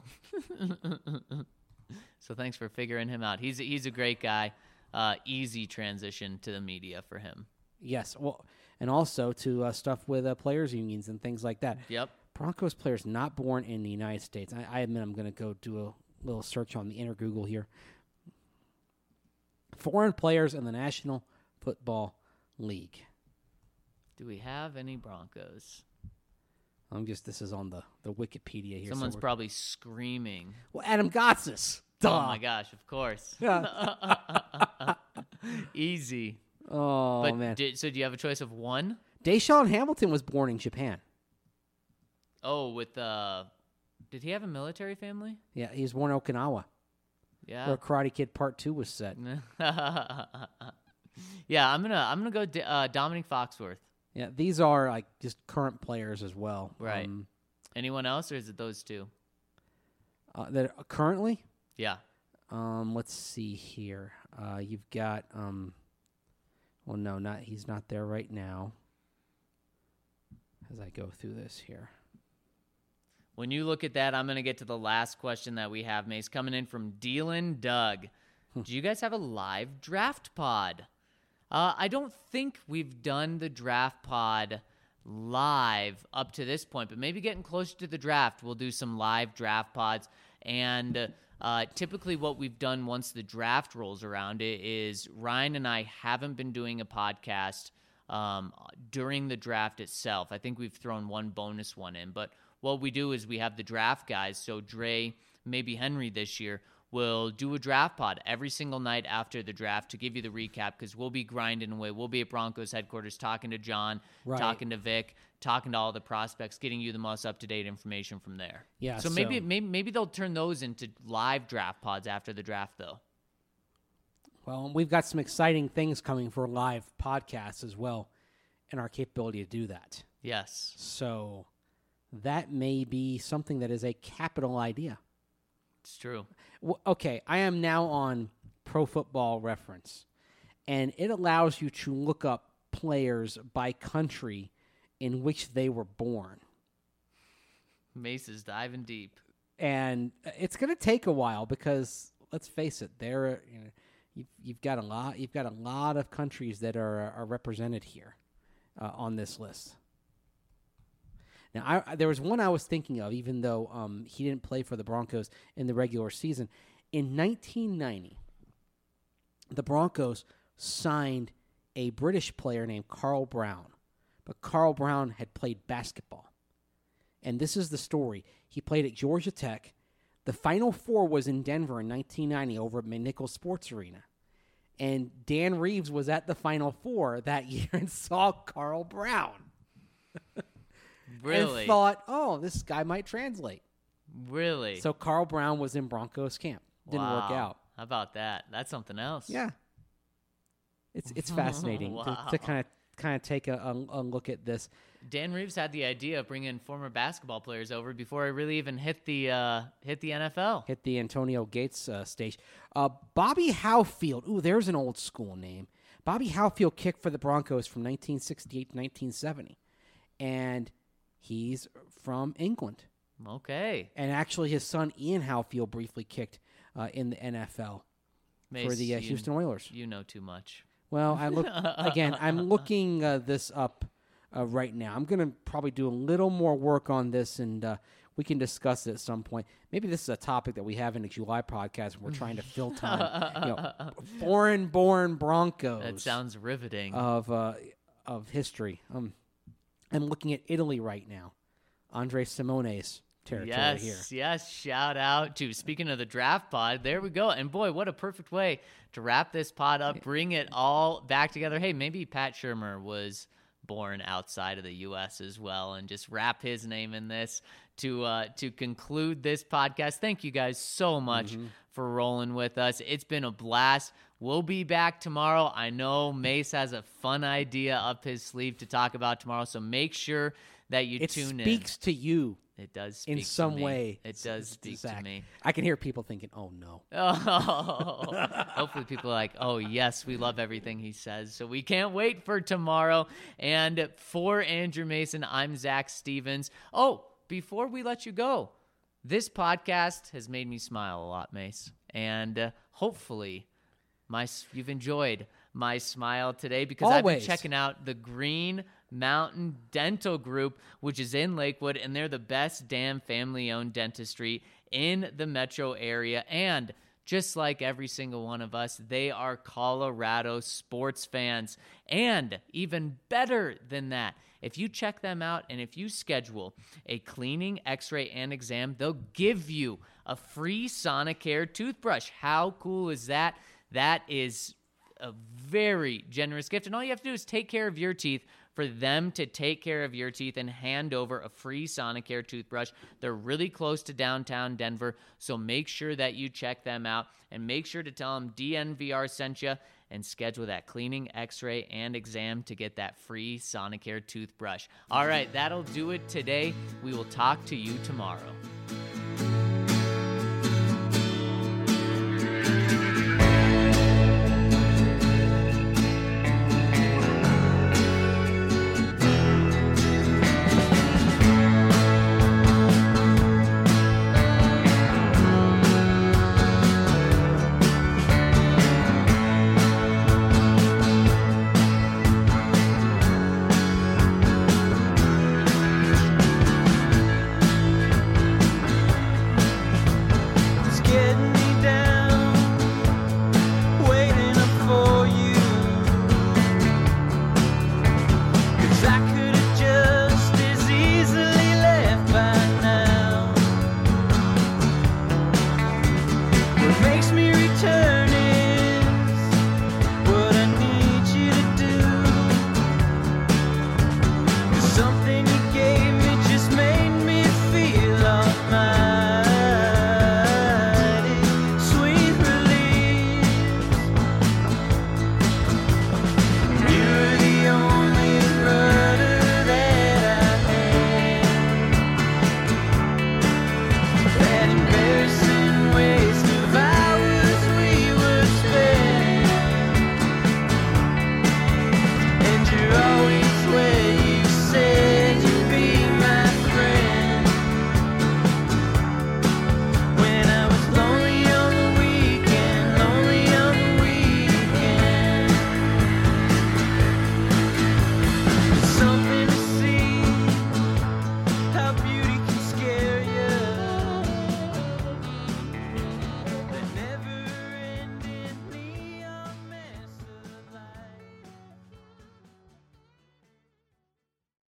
So thanks for figuring him out. He's a, he's a great guy. Uh, easy transition to the media for him. Yes. Well, and also to uh, stuff with uh, players unions and things like that. Yep. Broncos players not born in the United States. I, I admit I'm going to go do a little search on the inner Google here. Foreign players in the National Football League. Do we have any Broncos? I'm just this is on the, the Wikipedia here. so Someone's we're- probably screaming. well, Adam Gotsis. Duh. Oh my gosh! Of course. Yeah. Easy. Oh but man. Did, so do you have a choice of one? Deshaun Hamilton was born in Japan. Oh, with uh, did he have a military family? Yeah, he was born in Okinawa, Yeah. where Karate Kid Part Two was set. Yeah, I'm gonna I'm gonna go D- uh, Dominic Foxworth. Yeah, these are like just current players as well. Right. Um, Anyone else, or is it those two? uh, that are currently. Yeah. Um, let's see here. Uh, you've got um, well, no, not he's not there right now. As I go through this here, When you look at that, I'm going to get to the last question that we have, Mace, coming in from Dealin Doug. Do you guys have a live draft pod? Uh, I don't think we've done the draft pod live up to this point, but maybe getting closer to the draft, we'll do some live draft pods. And uh, typically what we've done once the draft rolls around it is Ryan and I haven't been doing a podcast um, during the draft itself. I think we've thrown one bonus one in, but what we do is we have the draft guys. So Dre, maybe Henry this year, will do a draft pod every single night after the draft to give you the recap, because we'll be grinding away. We'll be at Broncos headquarters talking to John, Right. talking to Vic, talking to all the prospects, getting you the most up-to-date information from there. Yeah, So maybe so- maybe maybe they'll turn those into live draft pods after the draft, though. Well, we've got some exciting things coming for live podcasts as well, and our capability to do that. Yes. So that may be something that is a capital idea. It's true. W- Okay, I am now on Pro Football Reference, and it allows you to look up players by country in which they were born. Mace is diving deep. And it's going to take a while because, let's face it, there you know, you've, you've got a lot you've got a lot of countries that are are represented here uh, on this list. Now, I, there was one I was thinking of, even though um, he didn't play for the Broncos in the regular season. In nineteen ninety, the Broncos signed a British player named Carl Brown, but Carl Brown had played basketball. And this is the story. He played at Georgia Tech. The Final Four was in Denver in nineteen ninety over at McNichols Sports Arena. And Dan Reeves was at the Final Four that year and saw Carl Brown. Really? And thought, oh, this guy might translate. Really? So Carl Brown was in Broncos camp. Didn't Wow. work out. How about that? That's something else. Yeah. It's it's fascinating Wow. to, to kind of kind of take a, a, a look at this. Dan Reeves had the idea of bringing former basketball players over before he really even hit the uh, hit the N F L. Hit the Antonio Gates uh, stage. Uh, Bobby Howfield. Ooh, there's an old school name. Bobby Howfield kicked for the Broncos from nineteen sixty-eight to nineteen seventy. And he's from England. Okay. And actually his son Ian Howfield briefly kicked uh, in the N F L Mace, for the uh, you- Houston Oilers. You know too much. Well, I look again. I'm looking uh, this up uh, right now. I'm going to probably do a little more work on this, and uh, we can discuss it at some point. Maybe this is a topic that we have in a July podcast. When we're trying to fill time. You know, foreign-born Broncos. That sounds riveting. of uh, of history. Um, I'm looking at Italy right now. Andre Simone's territory yes, here. yes. Shout out to, speaking of the draft pod, there we go. And boy, what a perfect way to wrap this pod up, bring it all back together. Hey, maybe Pat Shurmur was born outside of the U S as well, and just wrap his name in this to uh, to conclude this podcast. Thank you guys so much Mm-hmm. for rolling with us. It's been a blast. We'll be back tomorrow. I know Mace has a fun idea up his sleeve to talk about tomorrow, so make sure that you It tune speaks to you in. It does speak in some to me. way. It does speak Zach. to me. I can hear people thinking, "Oh no." Oh, hopefully people are like, oh, yes, we love everything he says. So we can't wait for tomorrow. And for Andrew Mason, I'm Zach Stevens. Oh, before we let you go, this podcast has made me smile a lot, Mace. And uh, hopefully my you've enjoyed my smile today, because I've been Always. checking out the Green Mountain Dental Group, which is in Lakewood, and they're the best damn family-owned dentistry in the metro area. And just like every single one of us, they are Colorado sports fans. And even better than that, if you check them out and if you schedule a cleaning, x-ray, and exam, they'll give you a free Sonicare toothbrush. How cool is that? That is a very generous gift. And all you have to do is take care of your teeth for them to take care of your teeth and hand over a free Sonicare toothbrush. They're really close to downtown Denver, so make sure that you check them out, and make sure to tell them D N V R sent you, and schedule that cleaning, x-ray, and exam to get that free Sonicare toothbrush. All right, that'll do it today. We will talk to you tomorrow. It's getting me down, waiting up for you. 'Cause I could